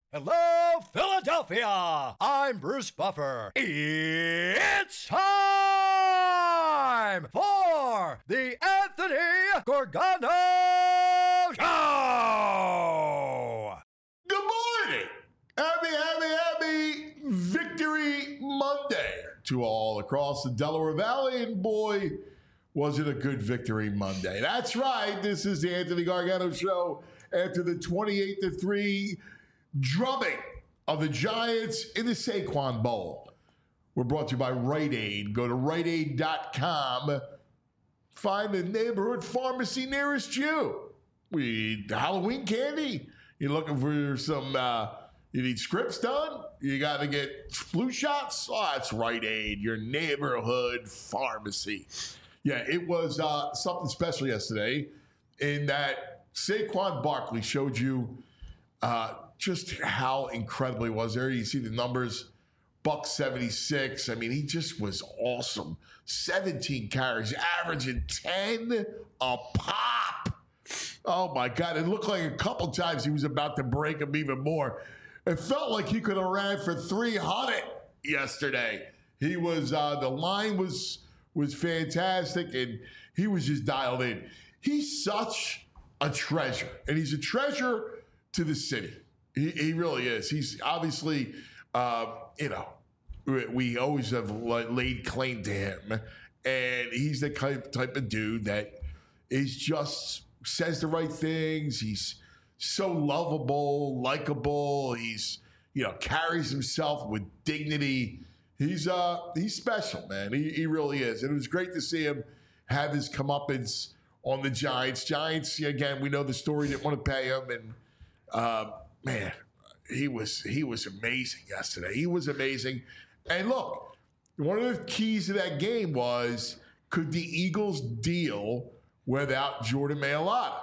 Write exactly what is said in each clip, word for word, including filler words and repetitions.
Hello, Philadelphia! I'm Bruce Buffer. It's time for the Anthony Gorgano Show! Good morning! Happy, happy, happy Victory Monday to all across the Delaware Valley. And boy, was it a good Victory Monday. That's right. This is the Anthony Gargano Show after the twenty-eight to three drubbing of the Giants in the Saquon Bowl. We're brought to you by Rite Aid. Go to Rite Aid dot com. Find the neighborhood pharmacy nearest you. We need Halloween candy. You're looking for some, uh, you need scripts done? You got to get flu shots? Oh, that's Rite Aid, your neighborhood pharmacy. Yeah, it was uh, something special yesterday in that Saquon Barkley showed you uh, just how incredible he was there. You see the numbers, buck seventy-six. I mean, he just was awesome. seventeen carries, averaging ten a pop. Oh, my God. It looked like a couple times he was about to break him even more. It felt like he could have ran for three hundred yesterday. He was, uh, the line was, was fantastic, and he was just dialed in. He's such a treasure, and he's a treasure to the city. He, he really is. He's obviously, uh, you know, we, we always have laid claim to him, and he's the type, type of dude that is just says the right things. He's so lovable, likable. He's, you know, carries himself with dignity. He's uh he's special, man. He, he really is. And it was great to see him have his comeuppance on the Giants. Giants, again, we know the story, didn't want to pay him, and uh, man, he was he was amazing yesterday. He was amazing. And look, one of the keys to that game was, could the Eagles deal without Jordan Mailata?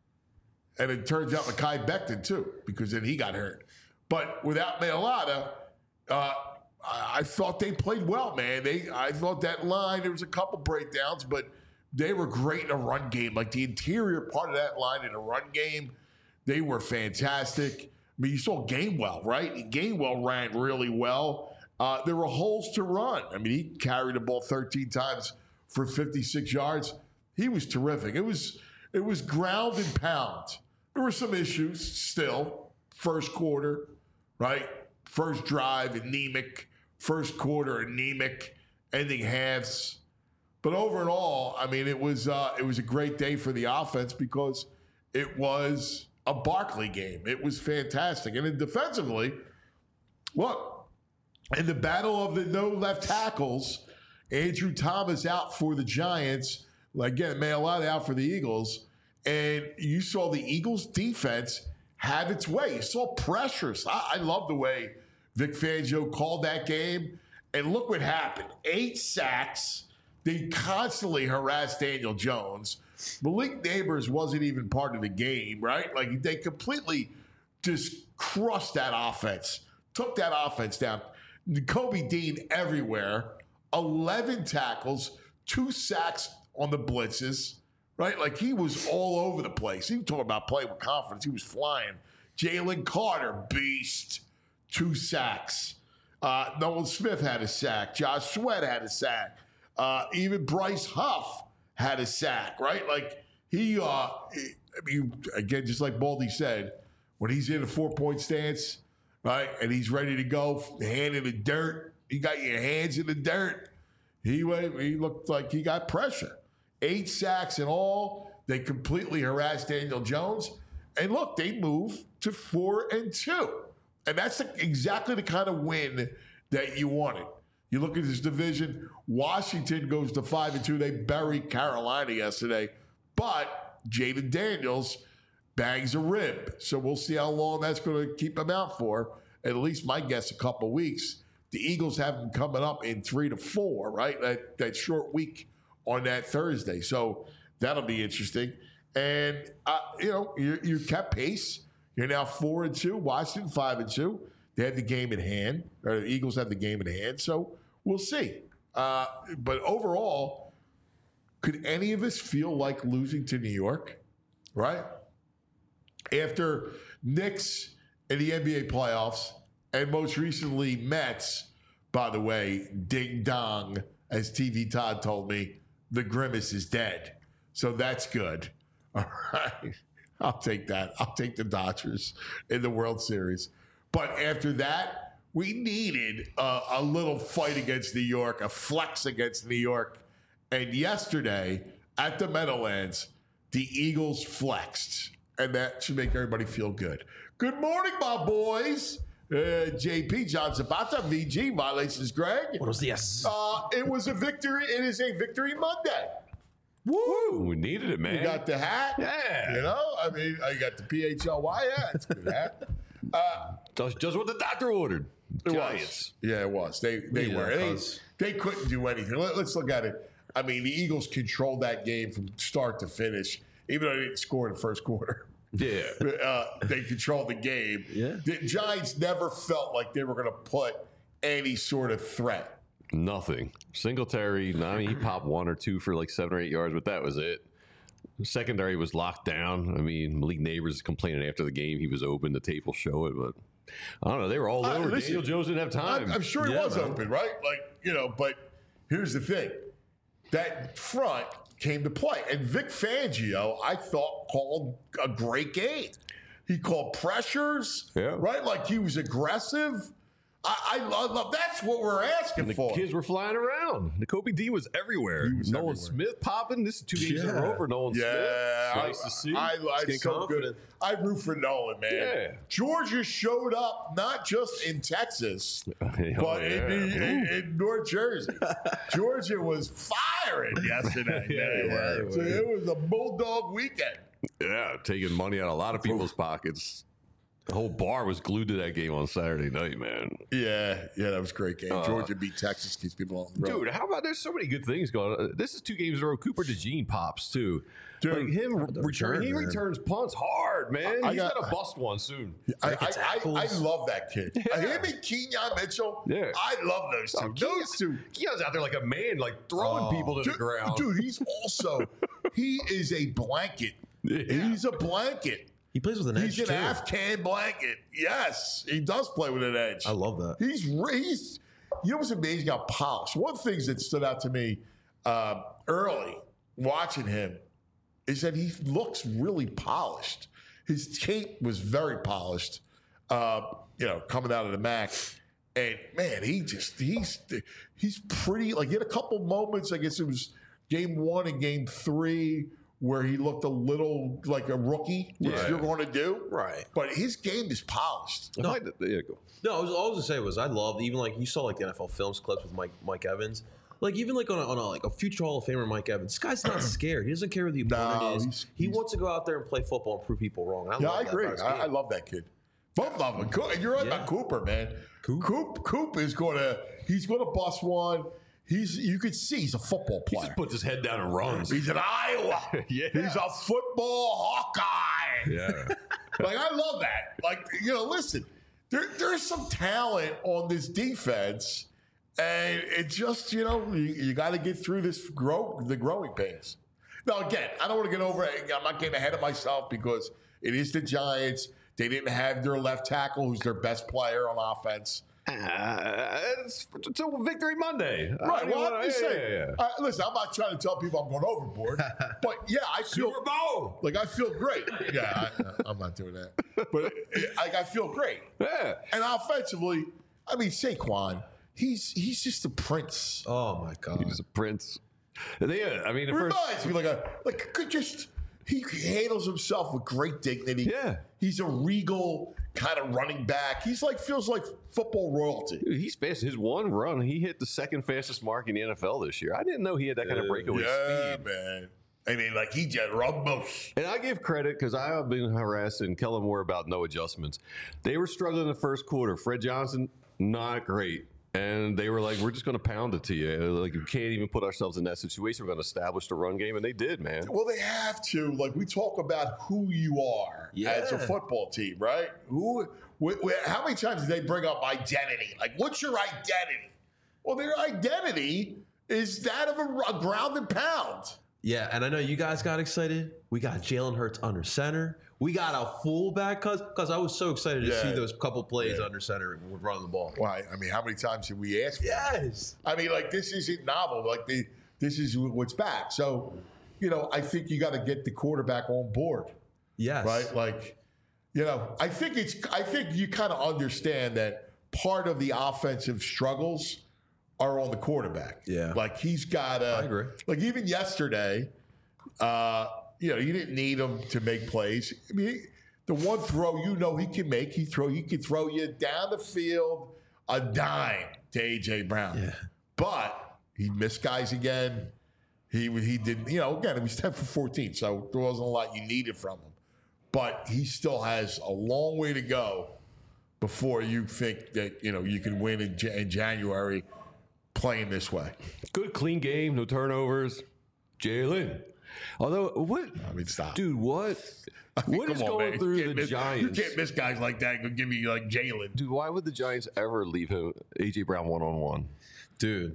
And it turns out Mekhi Becton too, because then he got hurt. But without Mailata, uh, I thought they played well, man. They, I thought that line, there was a couple breakdowns, but they were great in a run game. Like the interior part of that line in a run game, they were fantastic. I mean, you saw Gainwell, right? Gainwell ran really well. Uh, there were holes to run. I mean, he carried the ball thirteen times for fifty-six yards. He was terrific. It was it was ground and pound. There were some issues still. First quarter, right? First drive, anemic. First quarter, anemic. Ending halves. But overall, I mean, it was uh, it was a great day for the offense because it was a Barkley game. It was fantastic. And then defensively, look, in the battle of the no left tackles, Andrew Thomas out for the Giants. Again, Mailata out for the Eagles. And you saw the Eagles defense have its way. You saw pressures. I, I love the way Vic Fangio called that game. And look what happened. Eight sacks. They constantly harassed Daniel Jones. Malik Neighbors wasn't even part of the game, right? Like, they completely just crushed that offense. Took that offense down. Kobe Dean everywhere. eleven tackles. Two sacks on the blitzes, right? Like, he was all over the place. He was talking about playing with confidence. He was flying. Jalen Carter, beast. Two sacks. Uh, Nolan Smith had a sack. Josh Sweat had a sack. Uh, even Bryce Huff had a sack, right? Like, he, uh, I mean, again, just like Baldy said, when he's in a four-point stance, right, and he's ready to go, hand in the dirt, you got your hands in the dirt. He, he looked like he got pressure. Eight sacks in all. They completely harassed Daniel Jones. And look, they moved to four and two. And that's the, exactly the kind of win that you wanted. You look at this division, Washington goes to five and two. They buried Carolina yesterday. But Jaden Daniels bangs a rib. So we'll see how long that's going to keep him out for. At least my guess, a couple weeks. The Eagles have them coming up in three to four, right? That, that short week on that Thursday. So that'll be interesting. And, uh, you know, you, you kept pace. You're now four and two. Washington five and two. They had the game in hand. Or the Eagles have the game in hand. So we'll see. Uh, but overall, could any of us feel like losing to New York? Right? After Knicks in the N B A playoffs, and most recently Mets. By the way, ding dong, as T V Todd told me, the grimace is dead. So that's good. All right. I'll take that. I'll take the Dodgers in the World Series. But after that, we needed a, a little fight against New York, a flex against New York. And yesterday at the Meadowlands, the Eagles flexed. And that should make everybody feel good. Good morning, my boys. Uh, J P, John Zapata, V G, Violations Greg. Buenos dias. Uh, it was a victory. It is a victory Monday. Woo! We needed it, man. You got the hat. Yeah. You know, I mean, I got the P H L Y hat. It's a good hat. Uh, just, just what the doctor ordered. it Giants. was. Yeah, it was. They they Yeah, were. They, cause- they couldn't do anything. Let, let's look at it. I mean, the Eagles controlled that game from start to finish, even though they didn't score in the first quarter. Yeah. Uh, they controlled the game. Yeah. The Giants never felt like they were going to put any sort of threat. Nothing. Singletary, I mean, he popped one or two for like seven or eight yards, but that was it. The secondary was locked down. I mean, Malik Neighbors is complaining after the game he was open. The tape will show it, but I don't know. They were all Uh, over. listen, Daniel Jones didn't have time. I'm, I'm sure he Yeah, was man. open, right? Like, you know, but here's the thing. That front came to play. And Vic Fangio, I thought, called a great game. He called pressures, Yeah. right? Like he was aggressive. I, I love, love that's what we're asking And the for. kids were flying around. The Kobe Dean was everywhere. He was Nolan everywhere. Smith popping. This is two games in a Yeah. row for Nolan Yeah, Smith. It's I, nice to see. I, I, He's I getting so confident. good. I root for Nolan, man. Yeah. Georgia showed up not just in Texas, Oh, but yeah. in, the, in, in North Jersey. Georgia was firing yesterday. Yeah, man. they were. So it was a Bulldog weekend. Yeah, taking money out of a lot of people's pockets. The whole bar was glued to that game on Saturday night, man. Yeah, yeah, that was a great game. Uh, Georgia beat Texas, keeps people on the road. Dude, how about there's so many good things going on. This is two games in a row. Cooper DeJean pops too. Dude. like him The return, return, he man. returns punts hard, man. I He's got- gonna bust one soon. I, Breaking I, I, I tackles. love that kid. Yeah. Him and Kenyon Mitchell. Yeah. I love those two. Oh, those two. Keon's out there like a man, like throwing Oh. people to Dude, the ground. dude, he's also he is a blanket. Yeah. He's a blanket. He plays with an edge He's an too. Afghan blanket. Yes, he does play with an edge. I love that. He's re- he's you know what's amazing? How polished. One of the things that stood out to me uh, early watching him is that he looks really polished. His tape was very polished. Uh, you know, coming out of the M A C, and man, he just he's he's pretty. Like he had a couple moments. I guess it was game one and game three where he looked a little like a rookie, which Right. you're going to do. Right. But his game is polished. If I- yeah, go. No, I was, all I was gonna say was I loved even like you saw like the N F L films clips with Mike Mike Evans. Like even like on a, on a like a future Hall of Famer Mike Evans, this guy's not scared. He doesn't care who the opponent No, is. he's- he he's- wants to go out there and play football and prove people wrong. And I Yeah, love I that agree. about his I, game. I love that kid. Both of them. Co- You're right Yeah. about Cooper, man. Coop. Coop, Coop is going to. He's going to bust one. He's. You could see he's a football He player. just puts his head down and runs. He's an Iowa. Yeah. He's a football Hawkeye. Yeah. Like I love that. Like you know, listen, there there's some talent on this defense, and it just you know you, you got to get through this grow the growing pains. Now again, I don't want to get over it. I'm not getting ahead of myself because it is the Giants. They didn't have their left tackle, who's their best player on offense. Uh, it's, it's a victory Monday. I Right. don't Well, even I'm wanna- just yeah, saying. yeah, yeah. Uh, listen, I'm not trying to tell people I'm going overboard, but yeah, I feel Super Bowl. like I feel great. Yeah, I, I'm not doing that, but it, like I feel great. Yeah. And offensively, I mean Saquon, he's he's just a prince. Oh my god. He's a prince. They, uh, I mean, the first. Reminds me like a like could just he handles himself with great dignity. Yeah. He's a regal kind of running back. He's like feels like football royalty. Dude, he's fast. His one run, he hit the second fastest mark in the N F L this year. I didn't know he had that kind of breakaway Yeah, speed. man. I mean, like he just rumbles. And I give credit because I have been harassing Kellen Moore about no adjustments. They were struggling in the first quarter. Fred Johnson, not great. And they were like, we're just going to pound it to you. Like, we can't even put ourselves in that situation. We're going to establish the run game. And they did, man. Well, they have to. Like we talk about who you are as a Yeah. football team, right? Who? Wh- wh- how many times do they bring up identity? Like, what's your identity? Well, their identity is that of a, a ground and pound. Yeah, and I know you guys got excited. We got Jalen Hurts under center. We got a fullback because because I was so excited to Yeah. see those couple plays Yeah. under center with running the ball. Why? I mean, how many times did we ask for that? Yes. I mean, like, this isn't novel. Like, the, this is what's back. So, you know, I think you got to get the quarterback on board, Yes. right? Like, you know, I think it's, I think you kind of understand that part of the offensive struggles are on the quarterback. Yeah. Like, he's got to, I agree. like, even yesterday, uh, you know, you didn't need him to make plays. I mean, he, the one throw you know he can make, he throw, he can throw you down the field a dime to A J Brown. Yeah. But he missed guys again. He he didn't, you know, again, he was ten for fourteen, so there wasn't a lot you needed from him. But he still has a long way to go before you think that, you know, you can win in, in January playing this way. Good, clean game, no turnovers. Jalen. Although, what? I mean, stop. Dude, what? I mean, What is come on, going man. through You can't the miss- Giants? You can't miss guys like that and go give me like Jalen. Dude, why would the Giants ever leave him, A J Brown, one on one? Dude.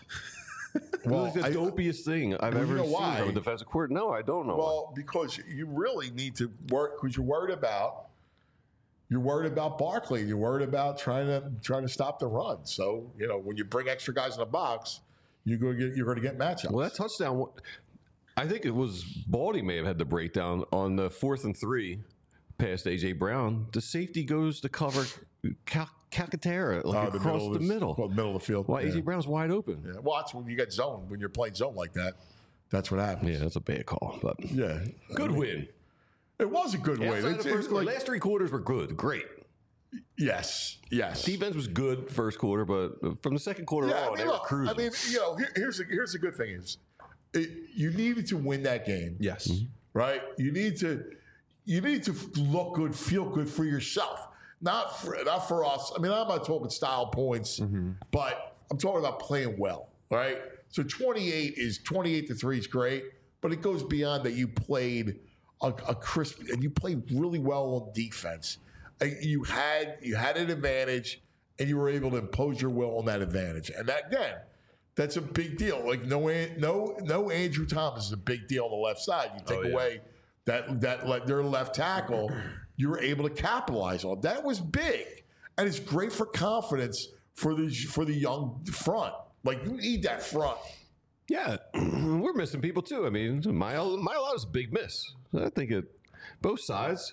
Well, It's the I- dopiest thing I've You ever know seen why? from a defensive coordinator. No, I don't know. why. Well, because you really need to work because you're worried about you're worried about Barkley. You're worried about trying to trying to stop the run. So you know when you bring extra guys in the box, you're going to get you're going to get matchups. Well, that touchdown, I think it was Baldy may have had the breakdown on the fourth and three past A J Brown. The safety goes to cover Cal- Calcaterra like Uh, across of the this- middle. well, middle of the field. Why yeah. A J Brown's wide open? Yeah. Well, that's when you get zone when you're playing zone like that. That's what happens. Yeah, that's a bad call, but Yeah, good win. it was a good win. Outside It's, the it's first quarter, like, last three quarters were good, great. yes, yes. Defense was good first quarter, but from the second quarter Yeah, on, I mean, they were look, cruising. I mean, you know, here, here's the, here's the good thing is, it, you needed to win that game. Yes. Right? You need to you need to look good, feel good for yourself, not for not for us. I mean, I'm not talking style points, but I'm talking about playing well. Right? So twenty-eight is twenty-eight to three is great, but it goes beyond that. You played a, a crisp and you played really well on defense. Uh, You had you had an advantage, and you were able to impose your will on that advantage. And that again, that's a big deal. Like no, no, no. Andrew Thomas is a big deal on the left side. You take Oh, yeah. away that that le- their left tackle, you were able to capitalize on. That was big, and it's great for confidence for the for the young front. Like you need that front. yeah, we're missing people too. I mean, Mile Mile is a big miss. I think it both sides.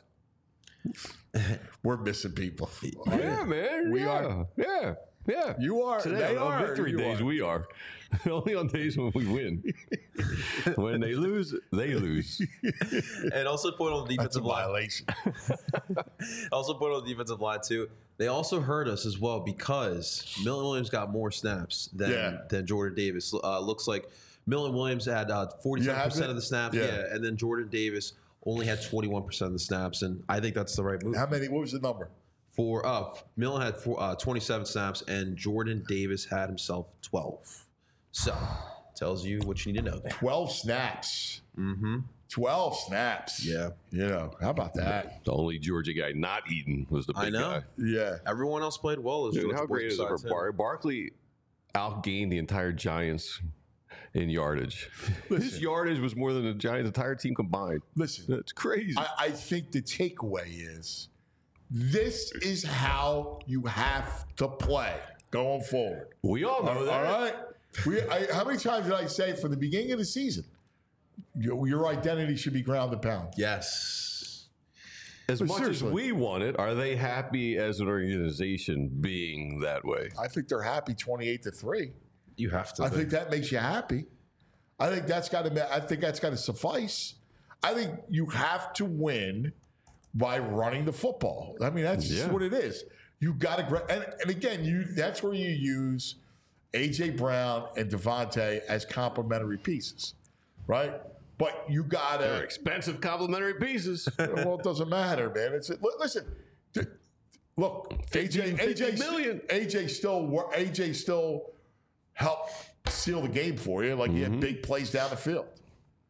We're missing people. Yeah, man. We yeah. are. Yeah, yeah. You are. Today They on are. victory You days, are. we are. Only on days when we win. When they lose, they lose. And also point on the That's a defensive line. violation. Also point on the defensive line too. They also hurt us as well because Milton Williams got more snaps than Yeah. than Jordan Davis. Uh, looks like Milton Williams had uh, forty-seven have percent it? of the snaps, Yeah. yeah. and then Jordan Davis only had twenty-one percent of the snaps, and I think that's the right move. How many? What was the number? For uh, Milton had four, uh, twenty-seven snaps, and Jordan Davis had himself twelve. So tells you what you need to know there. Twelve snaps. Mm-hmm. Twelve snaps. Yeah. You know how about that? The only Georgia guy not eating was the big I know. guy. Yeah. Everyone else played well. As Dude, Georgia how boys great is it for besides him. Bar- Barkley? Outgained the entire Giants in yardage. His yardage was more than the Giants' entire team combined. Listen, That's crazy. I, I think the takeaway is this is how you have to play going forward. we all know All that. right. We. I, how many times did I say from the beginning of the season, your, your identity should be ground and pound? Yes. As But much seriously. as we want it, are they happy as an organization being that way? I think they're happy twenty-eight to three. You have to. I think that makes you happy. I think that's got to. I think that's got to suffice. I think you have to win by running the football. I mean, that's just Yeah. what it is. You got to, and, and again, you that's where you use A J Brown and Devontae as complementary pieces, right? But you got They're to. expensive complimentary pieces. Well, it doesn't matter, man. It's li- listen. th- Look, A J, fifty, A J, fifty million. A J still, wor- A J still helped seal the game for you. Like he had big plays down the field.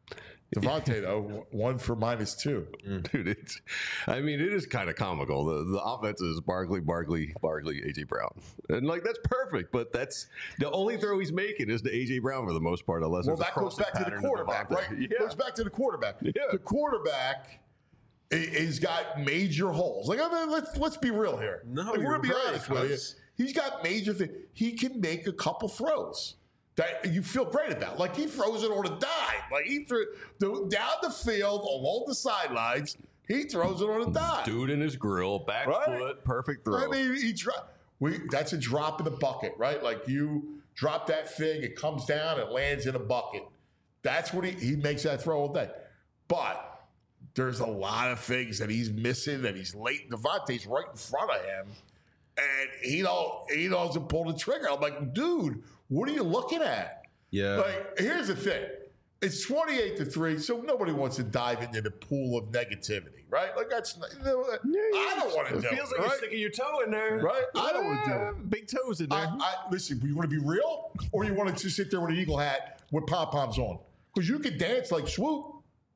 Devontae, though, one for minus two. Dude, it's, I mean, it is kind of comical. The the offense is Barkley, Barkley, Barkley, A J Brown. And, like, that's perfect, but that's the only throw he's making is to A J Brown for the most part, unless Well, it's a that goes crossing back to the pattern quarterback, Devontae. right? Yeah. Goes back to the quarterback. Yeah. The quarterback i- has got major holes. Like, I mean, let's let's be real here. No, if we're you're gonna be right, honest with you, because- he's got major things. He can make a couple throws that you feel great about. Like, he throws it on a dime. Like, he threw the, down the field, along the sidelines, he throws it on a dime. Dude in his grill, back Right. foot, perfect throw. I mean, he dro- we that's a drop in the bucket, right? Like, you drop that thing, it comes down, it lands in a bucket. That's what he he makes that throw all day. But there's a lot of things that he's missing, that he's late. Devontae's right in front of him, and he don't he doesn't pull the trigger. I'm like, dude, what are you looking at? Yeah. Like, here's the thing. It's twenty-eight to three, so nobody wants to dive into the pool of negativity, right? Like, that's you know, I don't want to It do feels it, like right? you're sticking your toe in there. Right? I don't wanna do Yeah, it. Big toes in there. I, I, listen, you want to be real, or you want to just sit there with an eagle hat with pom poms on? Because you can dance like Swoop.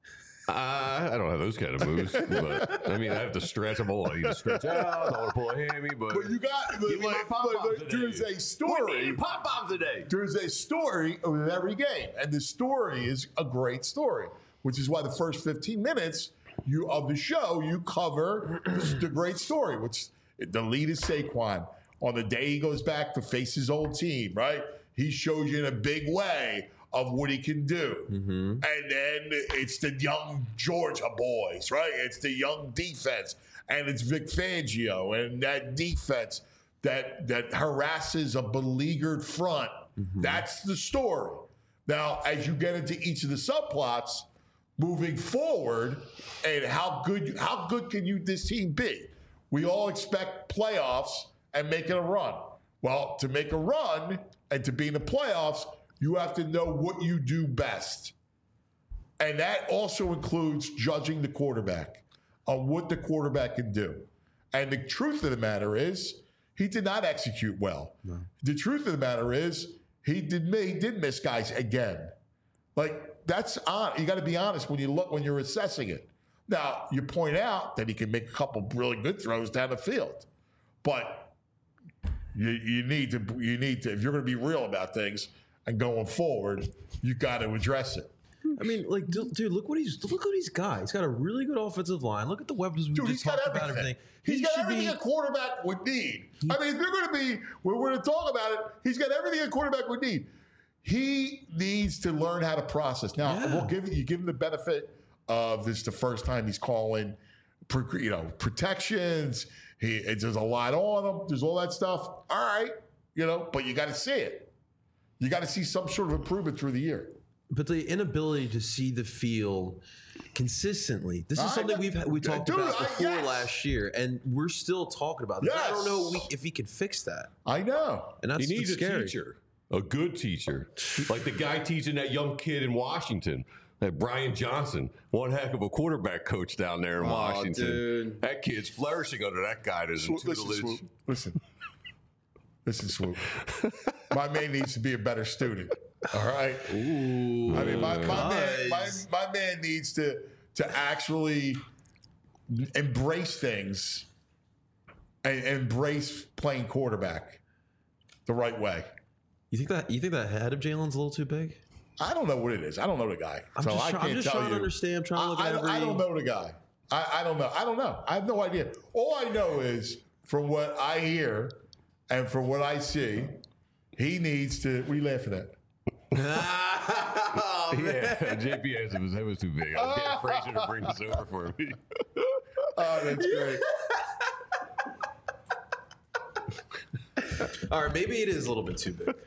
Uh, I don't have those kind of moves, but I mean, I have to stretch them all. I need to stretch out. I want to pull a hammy, but, But you got Give me my like, pom-poms like, today. there's a we story. need pop bombs today. There's a story of every game, and the story is a great story, which is why the first fifteen minutes you of the show you cover the great story, which the lead is Saquon. On the day he goes back to face his old team, right? He shows you in a big way of what he can do. And then it's the young Georgia boys, right? It's the young defense. And it's Vic Fangio and that defense that that harasses a beleaguered front. That's the story. Now, as you get into each of the subplots, moving forward, and how good how good can you this team be? We all expect playoffs and making a run. Well, to make a run and to be in the playoffs, you have to know what you do best. And that also includes judging the quarterback on what the quarterback can do. And the truth of the matter is, he did not execute well. No. The truth of the matter is, he did he did miss guys again. Like, that's on. You got to be honest when you look when you're assessing it. Now, you point out that he can make a couple really good throws down the field, but you, you need to you need to if you're going to be real about things and going forward, you got to address it. I mean, like, dude, look what he's look what he's got. He's got a really good offensive line. Look at the weapons we Dude, just he's got talked everything. about. Everything. He's He got should everything be- a quarterback would need. I mean, if you're going to be, when we're going to talk about it, he's got everything a quarterback would need. He needs to learn how to process. Now, Yeah. we'll give you give him the benefit of this the first time he's calling, you know, protections. He it, there's a lot on him. There's all that stuff. All right, you know, but you got to see it. You got to see some sort of improvement through the year. But the inability to see the field consistently. This is I something got- we've had, we talked Dude, about I- before yes. last year, and we're still talking about this. I don't Yes. know we, if he could fix that, I know. and that's He needs what's a scary. teacher, a good teacher, like the guy teaching that young kid in Washington, that Brian Johnson, one heck of a quarterback coach down there in Oh, Washington. dude. That kid's flourishing under that guy. There's Swoop, listen, tutelage. Swoop. Listen. Listen, Swoop. My man needs to be a better student. All right. Ooh, I mean, my, my man, my, guys. my man needs to to actually embrace things and embrace playing quarterback the right way. You think that you think that head of Jalen's a little too big? I don't know what it is. I don't know the guy, I'm so just, I try- can't I'm just tell trying you. to understand. I'm trying to look I, at I, every. I don't know the guy. I, I don't know. I don't know. I have no idea. All I know is from what I hear and from what I see, he needs to. What are you laughing at? Oh, man. Yeah, J P asked if his head was too big. I was getting Frazier to bring this over for me. Oh, that's great. All right, maybe it is a little bit too big.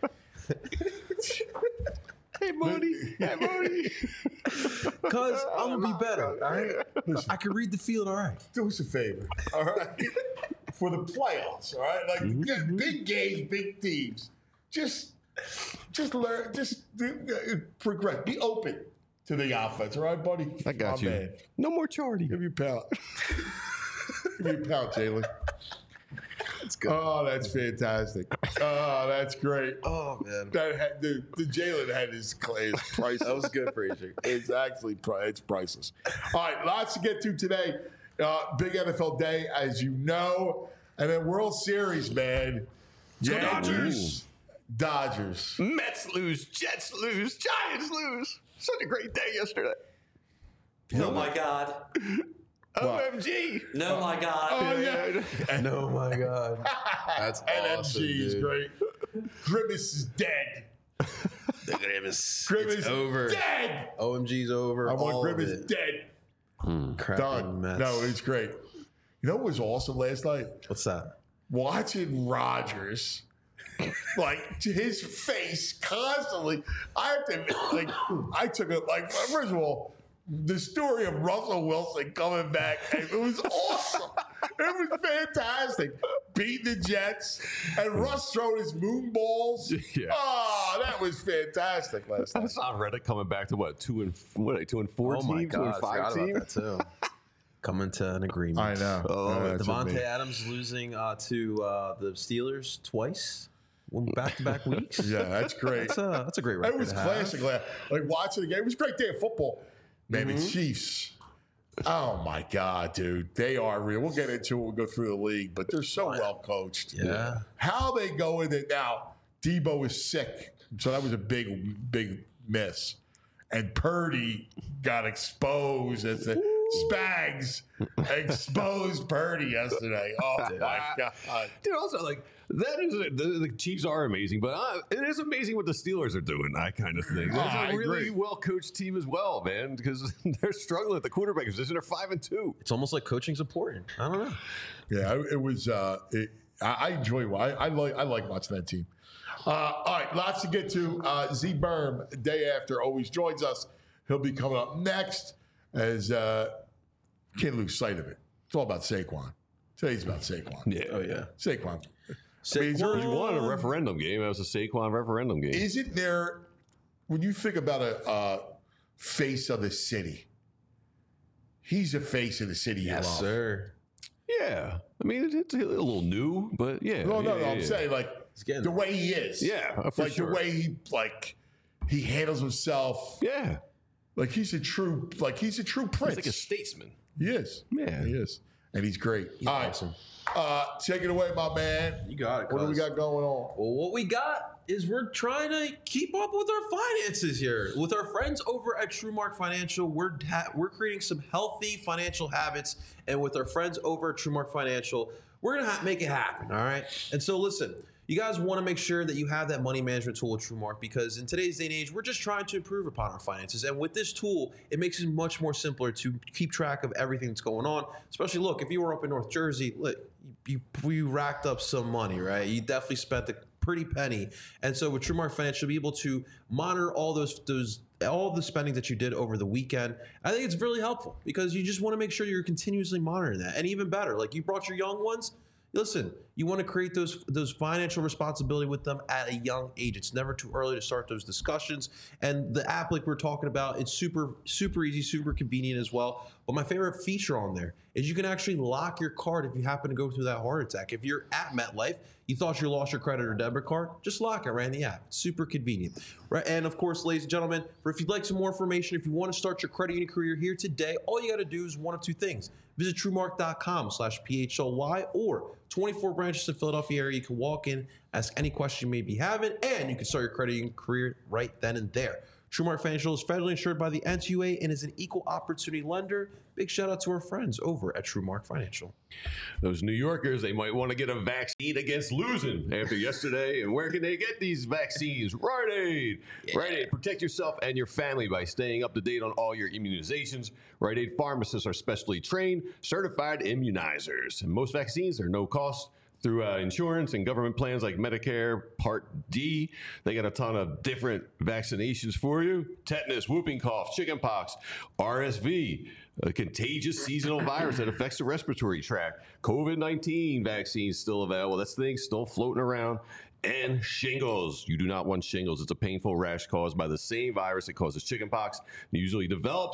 Hey, Moody. Hey, Moody. Cause I'm gonna be better. All right, I can read the field. All right. Do us a favor, all right? For the playoffs, all right? Like Mm-hmm. big games, big teams. Just, just learn. Just do, uh, progress. Be open to the offense, all right, buddy? I got My you. man. No more charting. Give me a pound. Give me a pound, Jalen. That's good. Oh, that's fantastic. Oh, that's great. Oh man, That had, the the Jalen had his his priceless. that was good, Frazier. It's actually pri- it's priceless. All right, lots to get to today. Uh, big N F L day, as you know, and then World Series, man. go Dodgers, Dodgers. Mets lose, Jets lose, Giants lose. Such a great day yesterday. Oh my God. O M G. No, my God. Oh yeah, No, my God, that's awesome, N M G is dude. great. Grimace is dead. The Grimace. Grimace It's over. dead. O M G's over. I want all of Grimace it. dead. Crapping Done. Mets. No, it's great. You know what was awesome last night? What's that? Watching Rodgers, like his face constantly. I have to like. I took it like first of all, the story of Russell Wilson coming back. It was awesome. It was fantastic. Beating the Jets and Russ throwing his moon balls. Yeah. Oh, that was fantastic last I night. saw Reddit coming back to what two and what are they, two and four Oh team, my two God, and I five forgot team. about that too. Coming to an agreement. I know. Oh, that's Devontae amazing. Adams losing uh, to uh, the Steelers twice, back to back weeks. Yeah, that's great. That's a that's a great record. It was to have. classic. Like, like watching the game. It was a great day of football. Man, Mm-hmm. the Chiefs. Oh my God, dude. They are real. We'll get into it when we go through the league, but they're so well coached. Yeah. How they go in it now, Debo is sick. So that was a big, big miss. And Purdy got exposed as the Spags exposed Purdy yesterday. Oh my God. Dude, also like that is the, the Chiefs are amazing, but uh, it is amazing what the Steelers are doing. That kind of thing. There's Oh, I a really agree. well coached team as well, man, because they're struggling at the quarterback position. They're five and two. It's almost like coaching's important. I don't know. Yeah, it was. Uh, it, I, I enjoy. I, I like. I like watching that team. Uh, all right, lots to get to. Uh, Z Berm, day after, always joins us. He'll be coming up next. As uh, can't lose sight of it. It's all about Saquon. Today's about Saquon. Yeah, Oh yeah. Saquon. I mean, he's Saquon. already He won a referendum game. That was a Saquon referendum game. Isn't there, when you think about a uh, face of the city, he's a face of the city you Yes, love. sir. Yeah, I mean it, it's a little new, but yeah. No, no, yeah, no. yeah, I'm yeah. saying like getting the there. way he is. Yeah, uh, for like sure. the way he like he handles himself. Yeah, Like he's a true, like he's a true he's prince. like a statesman. he is. Yeah. he is, and he's great. He's All right, awesome. uh, take it away, my man. You got it. What do we cuz. got going on? Well, what we got is we're trying to keep up with our finances here. With our friends over at TrueMark Financial, we're ha- we're creating some healthy financial habits, and with our friends over at TrueMark Financial, we're gonna ha- make it happen. All right. And so, listen, you guys want to make sure that you have that money management tool with TrueMark, because in today's day and age, we're just trying to improve upon our finances. And with this tool, it makes it much more simpler to keep track of everything that's going on. Especially, look, if you were up in North Jersey, look, you, you, you racked up some money, right? You definitely spent a pretty penny. And so with TrueMark Financial, you'll be able to monitor all those those all the spending that you did over the weekend. I think it's really helpful because you just want to make sure you're continuously monitoring that. And even better, like you brought your young ones, listen, you want to create those those financial responsibility with them at a young age. It's never too early to start those discussions. And the app, like we're talking about, it's super, super easy, super convenient as well. But my favorite feature on there is you can actually lock your card if you happen to go through that heart attack. If you're at MetLife, you thought you lost your credit or debit card, just lock it right in the app. It's super convenient. Right? And of course, ladies and gentlemen, for if you'd like some more information, if you want to start your credit union career here today, all you got to do is one of two things. Visit TrueMark.com slash PHLY or twenty-four branches in Philadelphia area. You can walk in, ask any question you may be having, and you can start your credit union career right then and there. TrueMark Financial is federally insured by the N C U A and is an equal opportunity lender. Big shout out to our friends over at TrueMark Financial. Those New Yorkers, they might want to get a vaccine against losing after yesterday. And where can they get these vaccines? Rite Aid. Yeah. Rite Aid. Protect yourself and your family by staying up to date on all your immunizations. Rite Aid pharmacists are specially trained, certified immunizers. And most vaccines are no cost through uh, insurance and government plans like Medicare Part D. They got a ton of different vaccinations for you. Tetanus, whooping cough, chickenpox, R S V, a contagious seasonal virus that affects the respiratory tract. COVID nineteen vaccines still available. That's the thing still floating around. And shingles. You do not want shingles. It's a painful rash caused by the same virus that causes chickenpox. It usually develops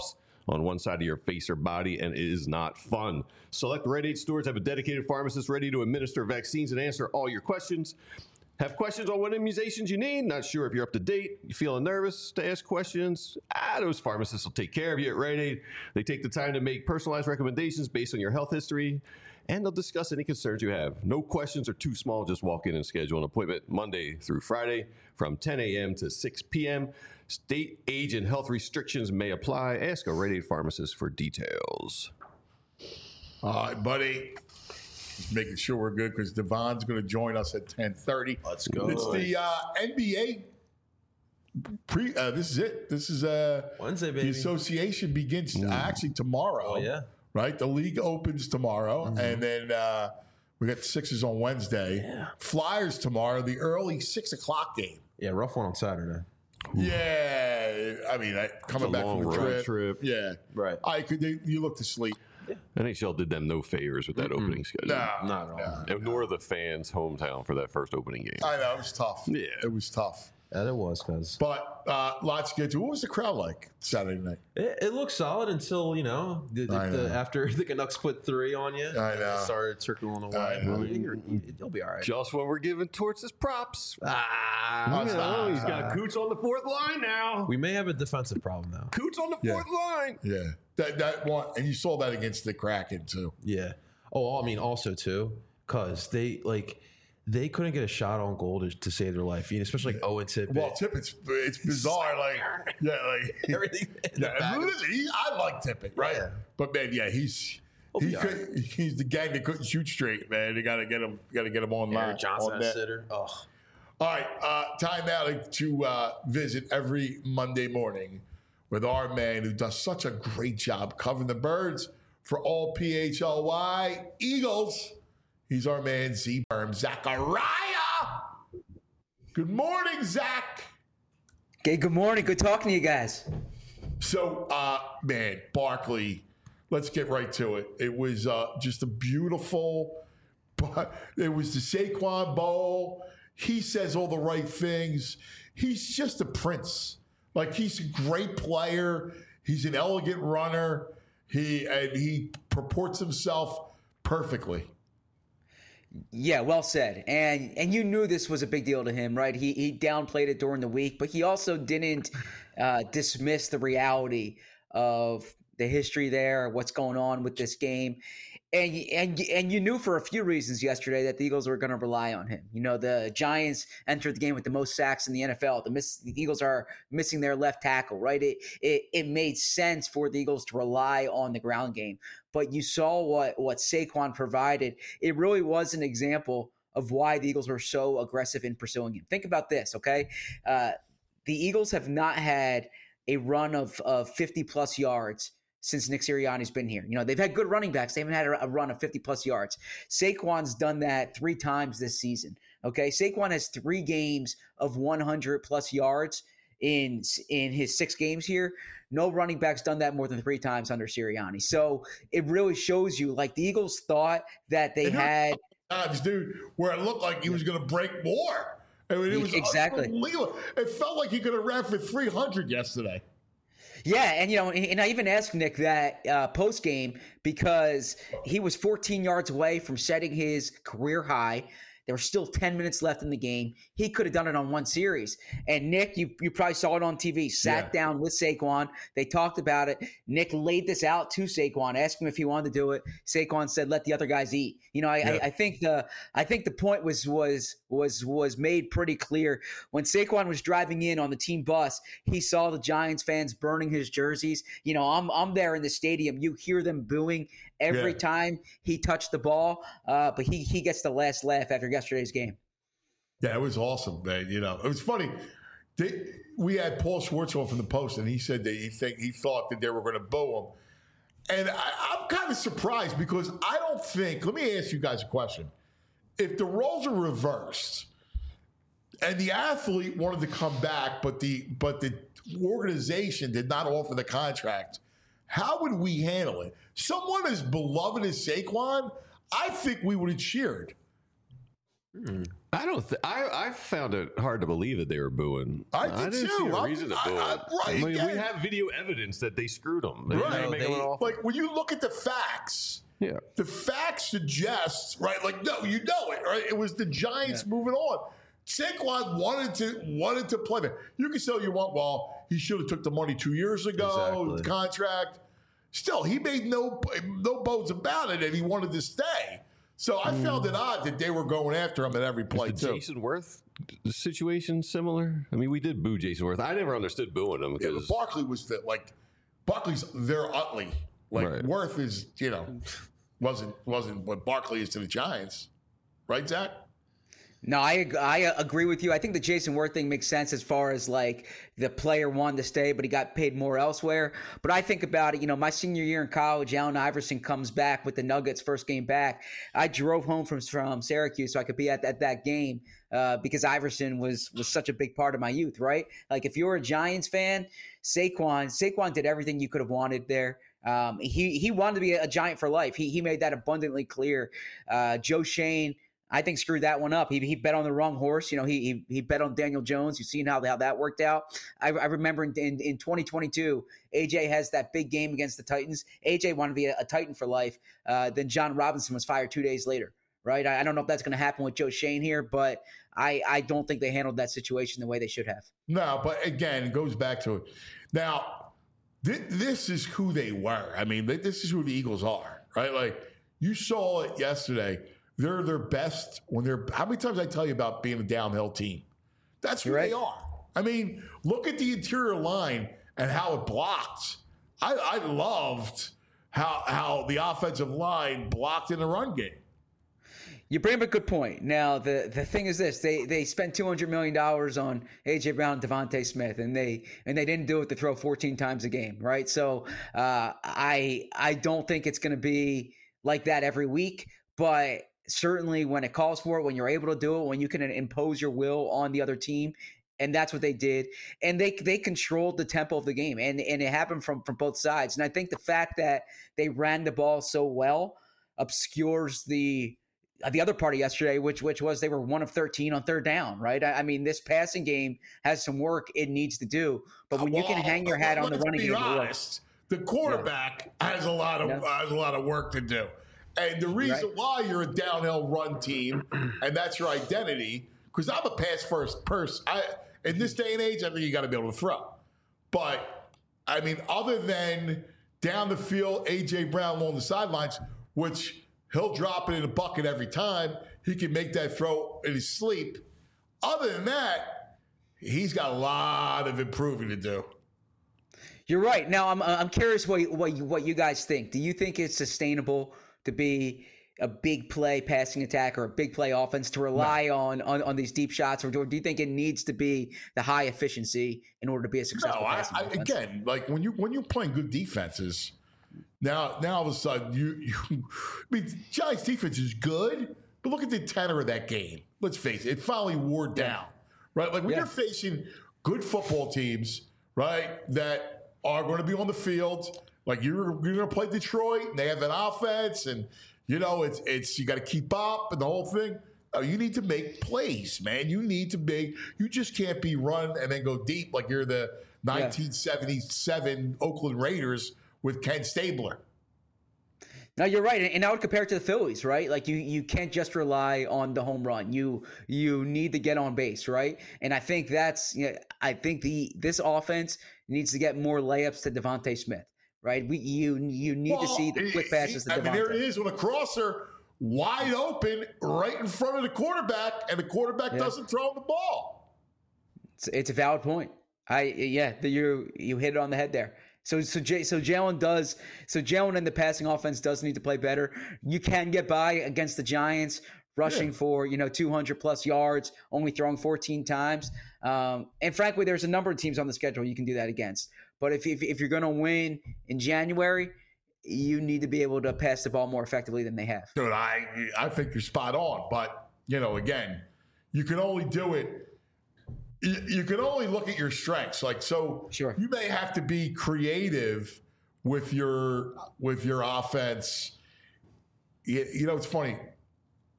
on one side of your face or body, and it is not fun. Select Rite Aid stores have a dedicated pharmacist ready to administer vaccines and answer all your questions. Have questions on what immunizations you need? Not sure if you're up to date? You feeling nervous to ask questions? Ah, those pharmacists will take care of you at Rite Aid. They take the time to make personalized recommendations based on your health history, and they'll discuss any concerns you have. No questions are too small. Just walk in and schedule an appointment Monday through Friday from ten a.m. to six p.m. State, age, and health restrictions may apply. Ask a Rite Aid pharmacist for details. All right, buddy. Just making sure we're good because Devon's going to join us at ten thirty. Let's go. It's the uh, N B A pre. Uh, this is it. This is uh, Wednesday, baby. The association begins uh, actually tomorrow. Oh, yeah. Right? The league opens tomorrow, mm-hmm. and then uh, we got the Sixers on Wednesday. Yeah. Flyers tomorrow, the early six o'clock game. Yeah, rough one on Saturday. Yeah. I mean, I, coming back from the trip. trip. Yeah. Right. I could. They, you look to sleep. N H L did them no favors with that mm-hmm. opening schedule. No, not at all. And nor the fans' hometown for that first opening game. I know, it was tough. Yeah. It was tough. Yeah, it was, cuz. But uh, lots to get to. What was the crowd like Saturday night? It, it looked solid until, you know, the, the, know. The, after the Canucks put three on you. I know. It started circling away. I know. You're, you'll be all right. Just when we're giving Torts his props. Ah, Oh, You know, he's got Coots on the fourth line now. we may have a defensive problem now. Coots on the Yeah. fourth line. Yeah. That that one, and you saw that against the Kraken too. Yeah. Oh, I mean, also too, because they like they couldn't get a shot on goal to, to save their life, you know, especially like Owen Tippett. Well, Tippett's it's bizarre. Like, yeah, like everything. in the yeah. back And of- listen, he, I like Tippett, right? Yeah. But man, yeah, he's He'll he be all could, he's the gang that couldn't shoot straight, man. They got to get him, got to get him online. Eric Johnson on at net. sitter. Oh, All right, uh, time out to uh, visit every Monday morning with our man who does such a great job covering the Birds for all P H L Y Eagles. He's our man, Z Berm Zachariah. Good morning, Zach. Okay, good morning. Good talking to you guys. So, uh, man, Barkley, let's get right to it. It was uh, just a beautiful, but it was the Saquon Bowl. He says all the right things. He's just a prince. Like, he's a great player. He's an elegant runner. He and he purports himself perfectly. Yeah, well said. And and you knew this was a big deal to him, right? He he downplayed it during the week, but he also didn't uh, dismiss the reality of the history there, what's going on with this game. And and and you knew for a few reasons yesterday that the Eagles were going to rely on him. You know, the Giants entered the game with the most sacks in the N F L. The, miss, the Eagles are missing their left tackle, right? It, it it made sense for the Eagles to rely on the ground game. But you saw what what Saquon provided. It really was an example of why the Eagles were so aggressive in pursuing him. Think about this, okay? Uh, the Eagles have not had a run of of fifty plus yards since Nick Sirianni's been here. You know, they've had good running backs. They haven't had a, a run of fifty plus yards. Saquon's done that three times this season. Okay. Saquon has three games of one hundred plus yards in, in his six games here. No running back's done that more than three times under Sirianni. So it really shows you, like, the Eagles thought that they And there had were times, dude, where it looked like he was going to break more. I mean, it was Exactly. unbelievable. It felt like he could have ran for three hundred yesterday. Yeah, and you know, and I even asked Nick that uh, post game because he was fourteen yards away from setting his career high. There were still ten minutes left in the game. He could have done it on one series. And Nick, you you probably saw it on T V, sat Yeah. down with Saquon. They talked about it. Nick laid this out to Saquon, asked him if he wanted to do it. Saquon said, "Let the other guys eat." You know, I, Yeah. I, I think the I think the point was was was was made pretty clear when Saquon was driving in on the team bus. He saw the Giants fans burning his jerseys. You know, I'm I'm there in the stadium. You hear them booing every Yeah. time he touched the ball, uh, but he he gets the last laugh after yesterday's game. Yeah, it was awesome, man. You know, it was funny. They, we had Paul Schwartz on from the Post, and he said that he think he thought that they were going to boo him. And I, I'm kind of surprised because I don't think. Let me ask you guys a question: if the roles are reversed, and the athlete wanted to come back, but the but the organization did not offer the contract, how would we handle it? Someone as beloved as Saquon, I think we would have cheered. I don't. Th- I I found it hard to believe that they were booing. I did didn't too. see a I'm- reason to I- boo I- it. right, I mean, again. we have video evidence that they screwed them. They Right. didn't make them They- an offer. Like when you look at the facts, yeah. the facts suggest, right? Like, no, you know it, right? It was the Giants moving on. Saquon wanted to wanted to play there. You can say you want, well, he should have took the money two years ago, Exactly. contract. Still, he made no no bones about it, and he wanted to stay. So I found it odd that they were going after him at every play Is the too. Jason Worth situation similar? I mean, we did boo Jason Worth. I never understood booing him Yeah, but because Barkley was the like Barkley's their Utley. Like Right. Worth is, you know, wasn't wasn't what Barkley is to the Giants, right, Zach? No, I ag- I uh, agree with you. I think the Jason Worth thing makes sense as far as like the player wanted to stay, but he got paid more elsewhere. But I think about it, you know, my senior year in college, Allen Iverson comes back with the Nuggets first game back. I drove home from from Syracuse so I could be at, at that game uh, because Iverson was was such a big part of my youth, right? Like if you're a Giants fan, Saquon Saquon did everything you could have wanted there. Um, he he wanted to be a, a Giant for life. He he made that abundantly clear. Uh, Joe Shane, I think, screwed that one up. He he bet on the wrong horse. You know, he he, he bet on Daniel Jones. You've seen how, how that worked out. I, I remember in, in, in twenty twenty-two, A J has that big game against the Titans. A J wanted to be a, a Titan for life. Uh, then John Robinson was fired two days later, right? I, I don't know if that's going to happen with Joe Shane here, but I, I don't think they handled that situation the way they should have. No, but again, it goes back to it. Now, th- this is who they were. I mean, th- this is who the Eagles are, right? Like you saw it yesterday. They're their best when they're. How many times I tell you about being a downhill team? That's who You're they right. are. I mean, look at the interior line and how it blocked. I, I loved how how the offensive line blocked in the run game. You bring up a good point. Now, the, the thing is this: they they spent two hundred million dollars on A J Brown, and Devontae Smith, and they and they didn't do it to throw fourteen times a game, right? So uh, I I don't think it's going to be like that every week, but certainly when it calls for it, when you're able to do it, when you can impose your will on the other team. And that's what they did. And they they controlled the tempo of the game. And, and it happened from, from both sides. And I think the fact that they ran the ball so well obscures the the other part of yesterday, which which was they were one of thirteen on third down, right? I, I mean, this passing game has some work it needs to do. But when you can Well, hang your hat on the let's running be game, it works. honest, the quarterback has a lot of Yeah. has a lot of work to do. And the reason Right. why you're a downhill run team, and that's your identity, because I'm a pass first person. I in this day and age, I think you got to be able to throw. But I mean, other than down the field, A J Brown along the sidelines, which he'll drop it in a bucket every time. He can make that throw in his sleep. Other than that, he's got a lot of improving to do. You're right. Now, I'm I'm curious what you- what you, what you guys think. Do you think it's sustainable to be a big play passing attack or a big play offense to rely on, on on these deep shots, or do, do you think it needs to be the high efficiency in order to be a No, successful I, passing I, offense? again, like when you when you're playing good defenses, now now all of a sudden you, you I mean, Giants defense is good, but look at the tenor of that game. Let's face it, it finally wore down, right? Like when Yeah. you're facing good football teams, right, that are going to be on the field, like you're you're going to play Detroit, and they have an offense, and you know it's it's you got to keep up and the whole thing. Oh, you need to make plays, man. You need to make. You just can't be run and then go deep like you're the nineteen seventy-seven Oakland Raiders with Ken Stabler. No, you're right, and I would compare it to the Phillies, right? Like you, you can't just rely on the home run. You, you need to get on base, right? And I think that's, you know, I think the this offense needs to get more layups to Devontae Smith, right? We, you, you need to see the quick passes to I mean, there it Devontae. is with a crosser wide open right in front of the quarterback, and the quarterback Yeah. doesn't throw him the ball. It's, it's a valid point. I yeah, the, you you hit it on the head there. So so J, so Jalen does so Jalen in the passing offense does need to play better. You can get by against the Giants rushing Yeah. for you know two hundred plus yards, only throwing fourteen times. Um, and frankly, there's a number of teams on the schedule you can do that against. But if if, if you're going to win in January, you need to be able to pass the ball more effectively than they have. Dude, I I think you're spot on, but you know, again, you can only do it. You, you can only look at your strengths. Like so, Sure. you may have to be creative with your with your offense. You, you know, it's funny.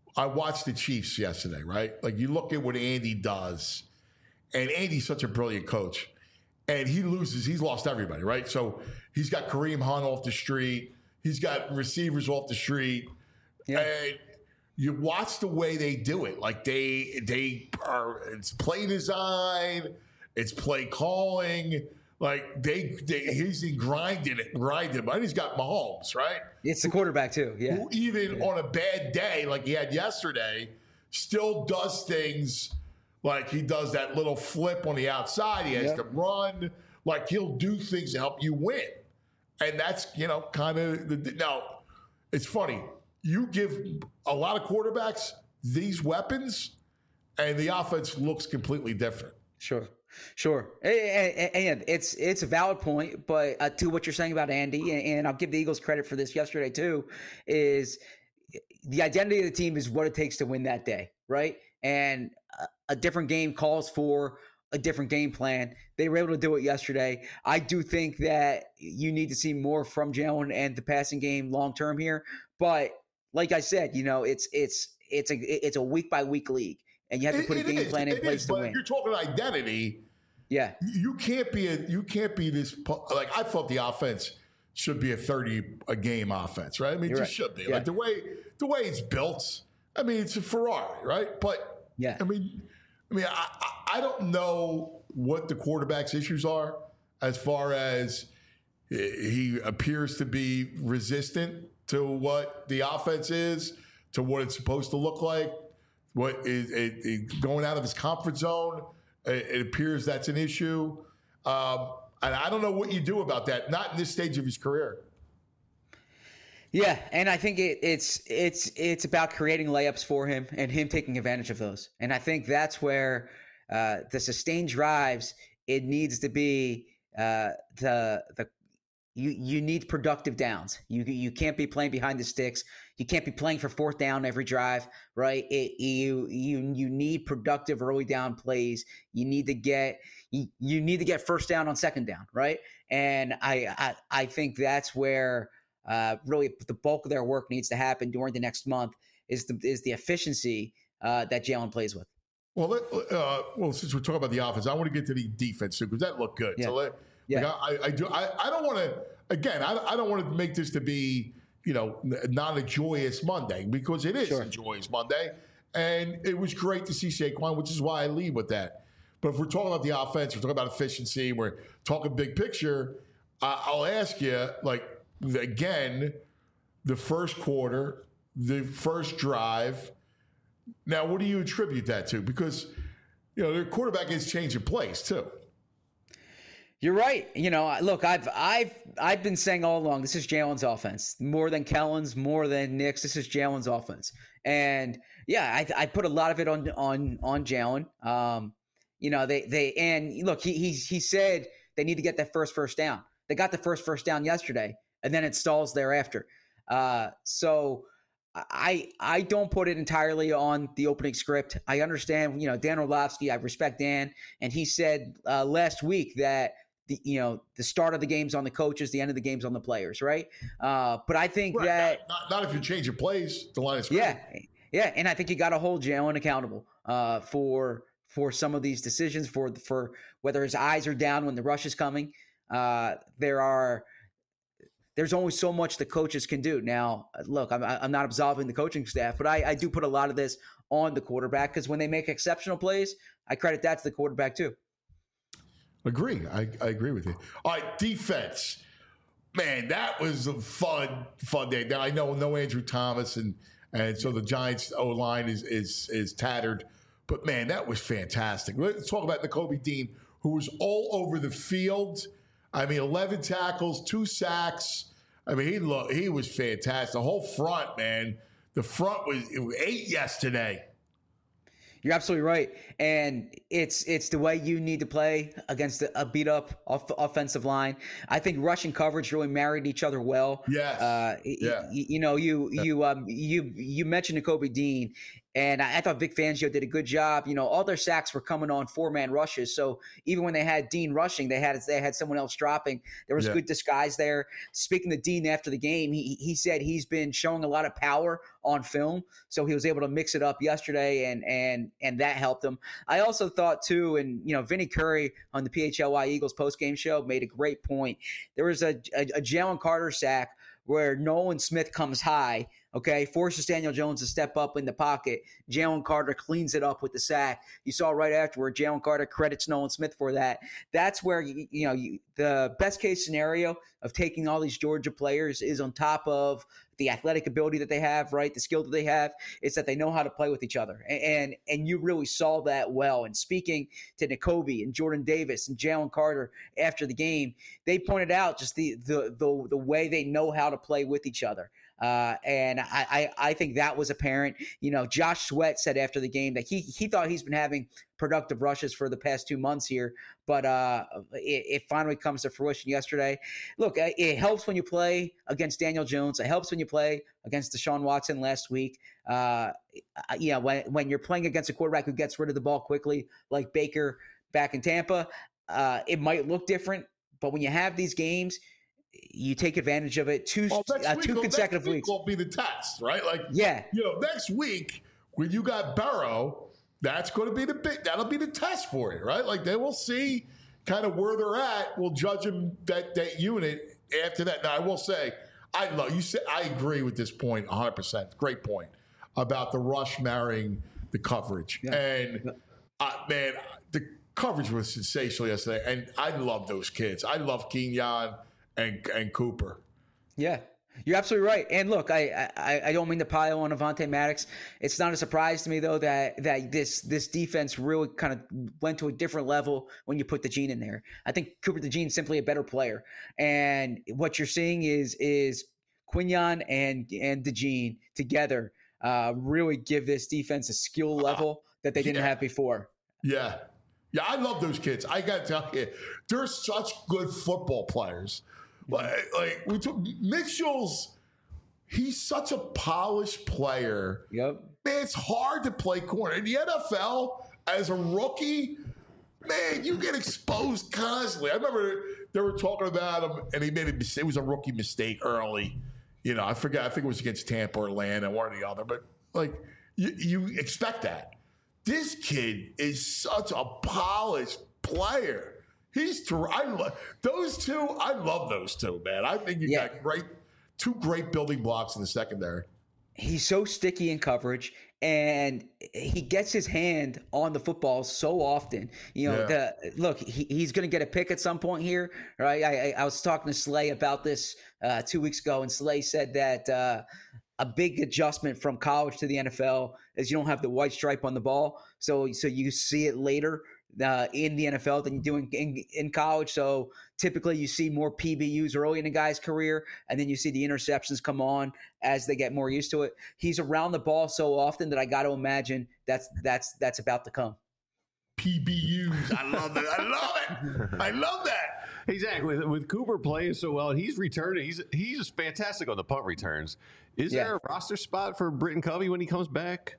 I watched the Chiefs yesterday, right? Like you look at what Andy does, and Andy's such a brilliant coach, and he loses. He's lost everybody, right? So he's got Kareem Hunt off the street. He's got receivers off the street, Yeah. and you watch the way they do it. Like they they are. It's play design. It's play calling. Like they, they he's in grinding it, grinding. But he's got Mahomes, right? It's the quarterback too. Yeah. Who even yeah. on a bad day like he had yesterday, still does things like he does that little flip on the outside. He has Yep. to run. Like he'll do things to help you win. And that's, you know, kind of the now it's funny. You give a lot of quarterbacks these weapons and the offense looks completely different. Sure, sure, and, and it's it's a valid point. But uh, to what you're saying about Andy, and, and I'll give the Eagles credit for this yesterday too, is the identity of the team is what it takes to win that day, right? And a, a different game calls for a different game plan. They were able to do it yesterday. I do think that you need to see more from Jalen and the passing game long term here. But like I said, you know, it's it's it's a it's a week by week league. And you have to put It- a it game is, plan in it place is, to but win. if you're talking identity, Yeah. you can't be a you can't be this like I thought the offense should be a thirty a game offense, right? I mean, it You're just right. should be Yeah. like the way the way it's built. I mean, it's a Ferrari, right? But Yeah. I mean, I mean, I, I I don't know what the quarterback's issues are as far as he appears to be resistant to what the offense is, to what it's supposed to look like. What is it, it, going out of his comfort zone? It, it appears that's an issue, um, and I don't know what you do about that. Not in this stage of his career. Yeah, and I think it, it's it's it's about creating layups for him and him taking advantage of those. And I think that's where uh, the sustained drives, it needs to be uh, the the you you need productive downs. You you can't be playing behind the sticks. You can't be playing for fourth down every drive, right? It, you you you need productive early down plays. You need to get you, you need to get first down on second down, right? And I I, I think that's where uh, really the bulk of their work needs to happen during the next month is the is the efficiency uh, that Jalen plays with. Well, let, uh, well, since we're talking about the offense, I want to get to the defense too because that looked good. Yeah. So, let, Yeah. like, I, I do. I, I don't want to. Again, I, I don't want to make this to be, you know, n- not a joyous Monday because it is Sure. a joyous Monday, and it was great to see Saquon, which is why I lead with that. But if we're talking about the offense, we're talking about efficiency, we're talking big picture. I, I'll ask you, like, again, the first quarter, the first drive. Now, what do you attribute that to? Because, you know, their quarterback is changing plays too. You're right. You know, look, I've I've I've been saying all along, this is Jalen's offense more than Kellen's, more than Nick's. This is Jalen's offense, and yeah, I, I put a lot of it on on on Jalen. Um, you know, they they and look, he he he said they need to get that first first down. They got the first first down yesterday, and then it stalls thereafter. Uh, so. I I don't put it entirely on the opening script. I understand, you know, Dan Orlovsky, I respect Dan, and he said uh, last week that the you know the start of the game's on the coaches, the end of the game's on the players, right? Uh, but I think Right. that Not, not if you change your plays, the line is yeah, yeah, and I think you got to hold Jalen accountable uh, for for some of these decisions, for for whether his eyes are down when the rush is coming. Uh, there are. There's only so much the coaches can do. Now, look, I'm, I'm not absolving the coaching staff, but I, I do put a lot of this on the quarterback because when they make exceptional plays, I credit that to the quarterback too. Agree. I, I agree with you. All right, defense. Man, that was a fun, fun day. Now, I know no Andrew Thomas, and and so the Giants' O-line is is is tattered. But, man, that was fantastic. Let's talk about Nakobe Dean, who was all over the field. I mean, eleven tackles, two sacks. I mean, he looked, he was fantastic. The whole front, man. The front was, it was eight yesterday. You're absolutely right, and it's it's the way you need to play against a beat up off, offensive line. I think rushing coverage really married each other well. Yes. Uh, Yeah. y- you know, you you um you you mentioned Nakobe Dean, And I, I thought Vic Fangio did a good job. You know, all their sacks were coming on four-man rushes. So even when they had Dean rushing, they had they had someone else dropping. There was Yeah. good disguise there. Speaking to Dean after the game, he he said he's been showing a lot of power on film. So he was able to mix it up yesterday, and and and that helped him. I also thought too, and you know, Vinny Curry on the P H L Y Eagles postgame show made a great point. There was a, a, a Jalen Carter sack where Nolan Smith comes high, okay, forces Daniel Jones to step up in the pocket. Jalen Carter cleans it up with the sack. You saw right afterward, Jalen Carter credits Nolan Smith for that. That's where, you, you know, you, the best case scenario of taking all these Georgia players is on top of the athletic ability that they have, right, the skill that they have, is that they know how to play with each other. And and, and you really saw that well. And speaking to Nakobe and Jordan Davis and Jalen Carter after the game, they pointed out just the the the, the way they know how to play with each other. Uh, and I, I, I think that was apparent. You know, Josh Sweat said after the game that he he thought he's been having productive rushes for the past two months here, but uh, it, it finally comes to fruition yesterday. Look, it helps when you play against Daniel Jones. It helps when you play against Deshaun Watson last week. Uh, yeah, when when you're playing against a quarterback who gets rid of the ball quickly, like Baker back in Tampa, uh, it might look different. But when you have these games, you take advantage of it. Two, Well, next uh, week, two well, consecutive next week weeks. will be the test, right? Like, Yeah. you know, next week when you got Burrow, that's going to be the big. That'll be the test for you, right? Like they will see kind of where they're at. We'll judge them that that unit after that. Now, I will say, I love you. Said I agree with this point one hundred percent. Great point about the rush marrying the coverage, Yeah. and uh, man, the coverage was sensational yesterday, and I love those kids. I love Kenyon and and Cooper. Yeah, you're absolutely right. And look, I, I I don't mean to pile on Avonte Maddox. It's not a surprise to me though that that this this defense really kind of went to a different level when you put the Gene in there. I think Cooper DeJean's simply a better player, and what you're seeing is is Quinyon and and DeJean together uh, really give this defense a skill level that they didn't Yeah. have before. Yeah. Yeah, I love those kids. I got to tell you, they're such good football players. Like, like we took Mitchell's, he's such a polished player. Yep. Man, it's hard to play corner. In the N F L, as a rookie, man, you get exposed constantly. I remember they were talking about him, and he made a mistake. It was a rookie mistake early. You know, I forgot. I think it was against Tampa or Atlanta, one or the other. But, like, you, you expect that. This kid is such a polished player. He's ter- I lo- those two. I love those two, man. I think you Yeah. got great, two great building blocks in the secondary. He's so sticky in coverage, and he gets his hand on the football so often. You know, Yeah. the look, he, he's going to get a pick at some point here, right? I, I, I was talking to Slay about this uh, two weeks ago, and Slay said that uh, a big adjustment from college to the N F L is you don't have the white stripe on the ball, so so you see it later uh, in the N F L than you do in, in, in college. So typically you see more P B Us early in a guy's career, and then you see the interceptions come on as they get more used to it. He's around the ball so often that I got to imagine that's that's that's about to come. P B Us. I love it. I love it. I love that. Exactly. With, with Cooper playing so well, and he's returning. He's he's fantastic on the punt returns. Is Yeah. there a roster spot for Britton Covey when he comes back?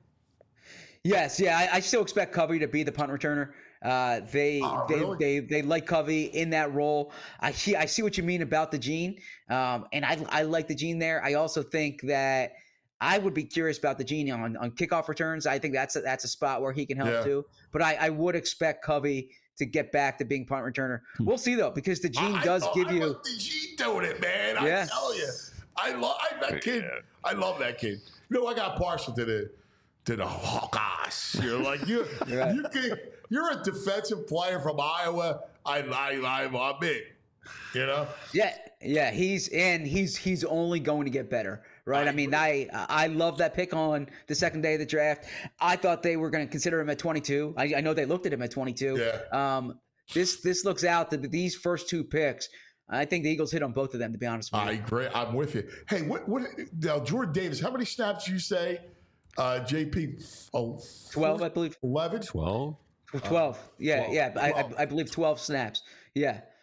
Yes, yeah, I, I still expect Covey to be the punt returner. Uh, they, Oh, they, really? they they like Covey in that role. I see I see what you mean about the Gene, um, and I I like the Gene there. I also think that I would be curious about the Gene on, on kickoff returns. I think that's a, that's a spot where he can help Yeah. too. But I, I would expect Covey to get back to being punt returner. We'll see though, because the Gene I- does I, give I you. want the Gene doing it, man. I Yeah. tell you, I love that kid. I love that kid. You know, I got partial to the to the Hawkeyes. You're like you. Right. You can, you're a defensive player from Iowa. I I I I'm in. You know. Yeah, yeah, he's and he's he's only going to get better, right? I I, mean, I I love that pick on the second day of the draft. I thought they were going to consider him at twenty-two. I, I know they looked at him at twenty-two. Yeah. Um, this this looks out that these first two picks, I think the Eagles hit on both of them. To be honest with I you, agree. I'm with you. Hey, what what now? Jordan Davis. How many snaps did you say? Uh, J P. Oh, twelve, I believe. eleven. Well, twelve. Yeah, twelve, yeah. I, I twelve. I believe twelve snaps. Yeah.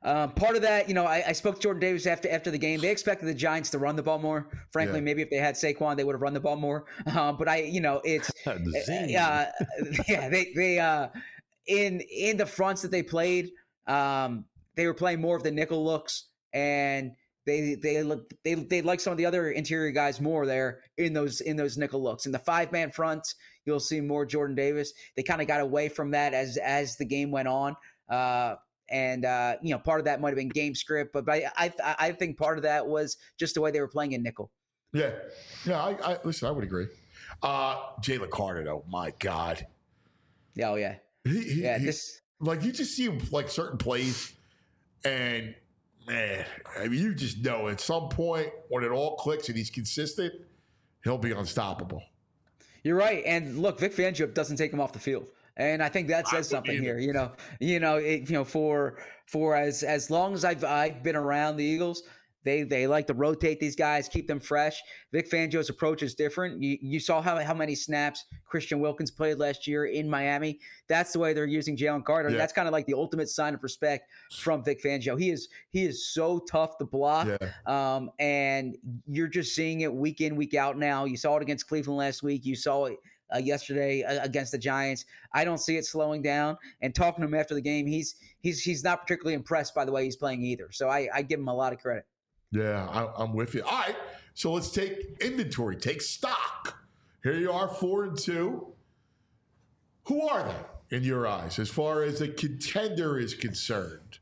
Um, part of that, you know, I, I spoke to Jordan Davis after after the game. They expected the Giants to run the ball more. Frankly, Yeah. maybe if they had Saquon, they would have run the ball more. Uh, but I, you know, it's uh, yeah, they they uh, in in the fronts that they played, um, they were playing more of the nickel looks, and they they look they they like some of the other interior guys more there in those in those nickel looks. In the five man fronts, you'll see more Jordan Davis. They kind of got away from that as as the game went on. Uh, And, uh, you know, part of that might have been game script, but, but I, I I think part of that was just the way they were playing in nickel. Yeah. Yeah, I, I listen, I would agree. Uh, Jalen Carter, though, my God. Yeah, oh, yeah. He, he, Yeah, he- this like, you just see him, like, certain plays, and, man, I mean, you just know at some point when it all clicks and he's consistent, he'll be unstoppable. you're right. And look, Vic Fangio doesn't take him off the field. And I think that says something either. here. You know, you know, it, you know, for for as as long as I've I've been around the Eagles, they they like to rotate these guys, keep them fresh. Vic Fangio's approach is different. You you saw how how many snaps Christian Wilkins played last year in Miami. That's the way they're using Jalen Carter. Yeah. That's kind of like the ultimate sign of respect from Vic Fangio. He is he is so tough to block. Yeah. Um, and you're just seeing it week in, week out now. You saw it against Cleveland last week. You saw it uh, yesterday uh, against the Giants. I don't see it slowing down. And talking to him after the game, he's he's he's not particularly impressed by the way he's playing either. So I, I give him a lot of credit. Yeah, I, I'm with you. All right, so let's take inventory, take stock. Here you are, four and two. Who are they in your eyes as far as a contender is concerned?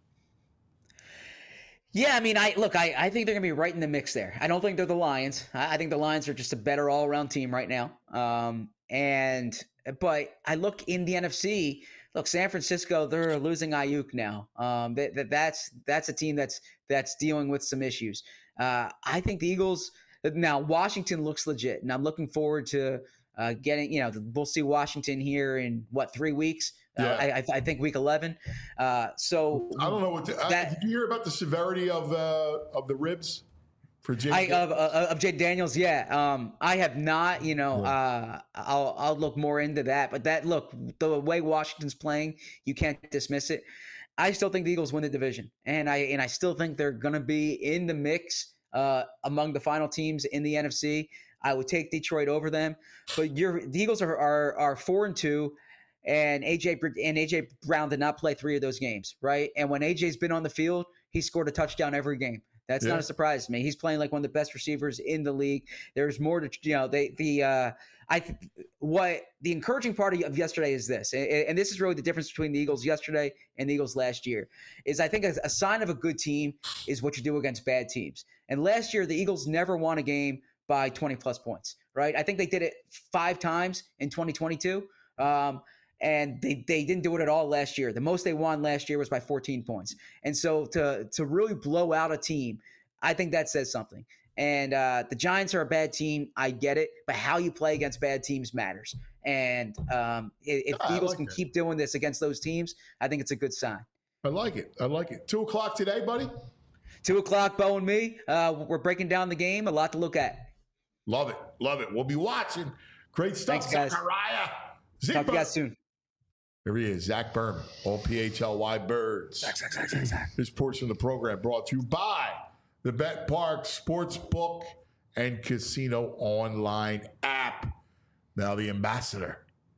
Yeah, I mean, I look, I, I think they're going to be right in the mix there. I don't think they're the Lions. I, I think the Lions are just a better all-around team right now. Um, and but I look in the N F C. Look, San Francisco, they're losing Ayuk now. Um, that, that that's that's a team that's that's dealing with some issues. Uh, I think the Eagles now. Washington looks legit, and I'm looking forward to uh, getting. You know, we'll see Washington here in what three weeks. Yeah. Uh, I, I, I think week eleven. Uh, so I don't know what. To, That- uh, did you hear about the severity of uh, of the ribs for Jim? I of uh, of Jay Daniels, yeah. Um, I have not, you know. Uh, I'll I'll look more into that. But that look, the way Washington's playing, you can't dismiss it. I still think the Eagles win the division, and I and I still think they're going to be in the mix uh, among the final teams in the N F C. I would take Detroit over them, but you're, the Eagles are are are four and two. And A J and A J Brown did not play three of those games, right? And when A J's been on the field, he scored a touchdown every game. That's Yeah. not a surprise to me. He's playing like one of the best receivers in the league. There's more to, you know, they the uh, I th- what the encouraging part of yesterday is this, and, and this is really the difference between the Eagles yesterday and the Eagles last year. Is I think a, a sign of a good team is what you do against bad teams. And last year, the Eagles never won a game by twenty plus points, right? I think they did it five times in twenty twenty-two. Um, And they, they didn't do it at all last year. The most they won last year was by fourteen points. And so to to really blow out a team, I think that says something. And uh, the Giants are a bad team. I get it. But how you play against bad teams matters. And um, if, if Ah, the I Eagles like can that. keep doing this against those teams, I think it's a good sign. I like it. I like it. Two o'clock today, buddy. Two o'clock, Bo and me. Uh, we're breaking down the game. A lot to look at. Love it. Love it. We'll be watching. Great stuff, Thanks, guys. Zachariah. Zig Talk to you Bur- guys soon. Here he is, Zach Berman, all P H L Y Birds. This portion of the program brought to you by the Bet Park Sportsbook and Casino Online app. Now the ambassador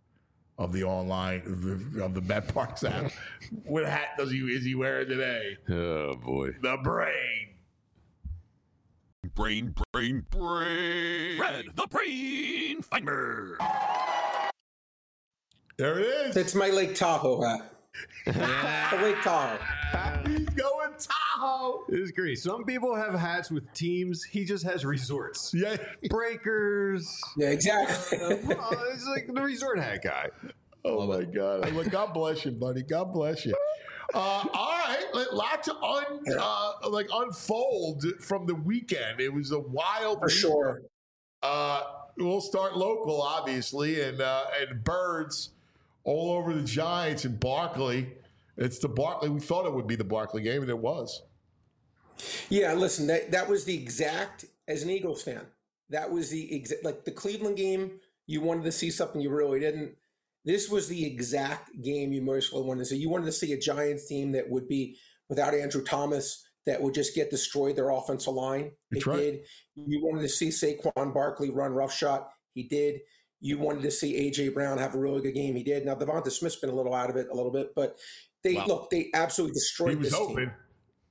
of the online of the, of the Bet Parks app. What hat does he is he wearing today? Oh boy. The brain. Brain, brain, brain. Red, the brain finder. There it is. It's my Lake Tahoe hat. The Lake Tahoe. He's going Tahoe. It's great. Some people have hats with teams. He just has resorts. Yeah. Breakers. Yeah, exactly. Well, it's like the resort hat guy. Oh my God! I'm like, God bless you, buddy. God bless you. Uh, all right, a lot to un, uh, like unfold from the weekend. It was a wild. For week. sure. Uh, we'll start local, obviously, and uh, and birds all over the Giants in Barkley. It's the Barkley. We thought it would be the Barkley game, and it was. Yeah, listen, that, that was the exact, as an Eagles fan, that was the exact, like the Cleveland game, you wanted to see something you really didn't. This was the exact game you most wanted to see. You wanted to see a Giants team that would be without Andrew Thomas that would just get destroyed, their offensive line. That's It right. did. You wanted to see Saquon Barkley run roughshod. He did. You wanted to see A J Brown have a really good game. He did. Now, Devonta Smith's been a little out of it a little bit, but they Wow. look, they absolutely destroyed He was this open. team.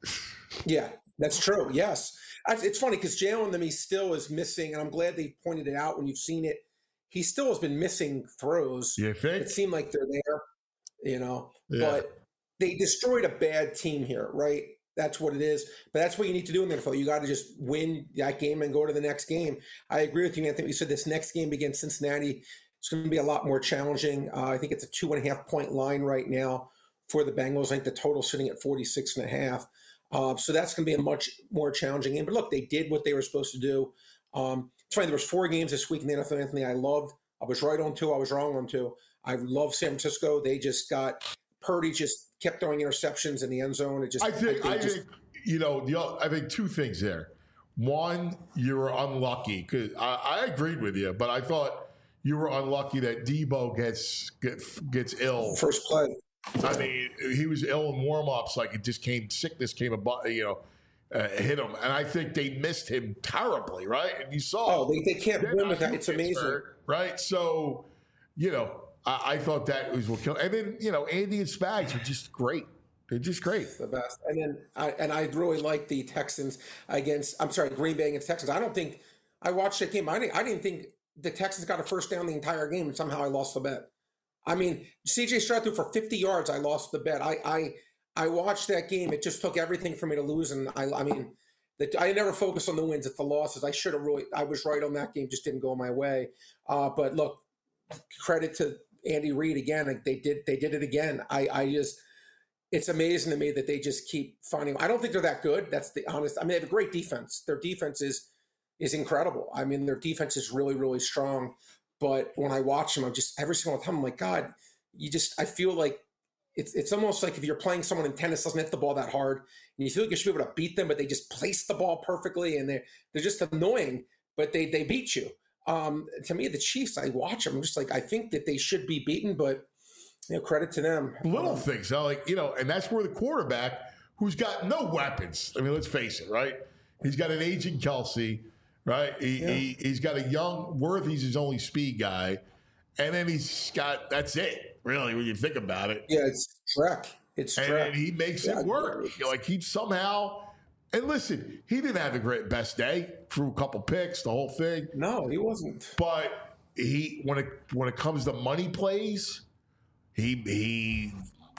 Yeah, that's true. Yes. I- It's funny because Jalen to me still is missing, and I'm glad they pointed it out when you've seen it. He still has been missing throws. You think? It seemed like they're there, you know, Yeah. but they destroyed a bad team here, right? That's what it is. But that's what you need to do in the N F L. You got to just win that game and go to the next game. I agree with you, Anthony. You said this next game against Cincinnati, it's going to be a lot more challenging. Uh, I think it's a two and a half point line right now for the Bengals. I think the total sitting at forty-six and a half. Uh, so that's going to be a much more challenging game. But look, they did what they were supposed to do. Um, it's funny, there was four games this week in the N F L, Anthony, I loved. I was right on two. I was wrong on two. I love San Francisco. They just got – Purdy just kept throwing interceptions in the end zone. It just I think, they I just, think, you know, the, I think two things there. One, you were unlucky because I, I agreed with you, but I thought you were unlucky that Debo gets gets, gets ill. first play. I mean, he was ill in warm-ups, like it just came, sickness came about, you know, uh, hit him. And I think they missed him terribly, right? And you saw. Oh, they, they can't Then win with I that. It's gets amazing. hurt, right? So, you know, I, I thought that was what killed. And then, you know, Andy and Spags were just great. They're just great. The best. And then I and I really like the Texans against I'm sorry, Green Bay against Texans. I don't think I watched that game. I didn't I didn't think the Texans got a first down the entire game and somehow I lost the bet. I mean, C J Stroud threw for fifty yards. I lost the bet. I I I watched that game. It just took everything for me to lose. And I I mean, the, I never focus on the wins. It's the losses. I should have really. I was right on that game. Just didn't go my way. Uh, but look, credit to Andy Reid again. Like they did. They did it again. I I just. It's amazing to me that they just keep finding. I don't think they're that good. That's the honest. I mean, they have a great defense. Their defense is is incredible. I mean, their defense is really, really strong. But when I watch them, I'm just every single time I'm like, God, you just. I feel like it's it's almost like if you're playing someone in tennis doesn't hit the ball that hard, and you feel like you should be able to beat them, but they just place the ball perfectly, and they're they're just annoying, but they they beat you. Um, to me, the Chiefs, I watch them. I'm just like, I think that they should be beaten, but. You know, credit to them. Little things, huh? Like, you know, and that's where the quarterback, who's got no weapons. I mean, let's face it, right? He's got an aging Kelsey, right? He, Yeah. he, he's got a young Worthy's his only speed guy. And then he's got, that's it, really, when you think about it. Yeah, it's Shrek. It's And, Shrek. and he makes Yeah, it work. You know, like, he somehow, and listen, he didn't have the great best day, threw a couple picks, the whole thing. No, he wasn't. But he, when it when it comes to money plays, He he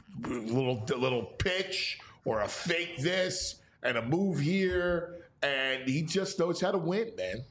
little little pitch or a fake this and a move here, and he just knows how to win, man.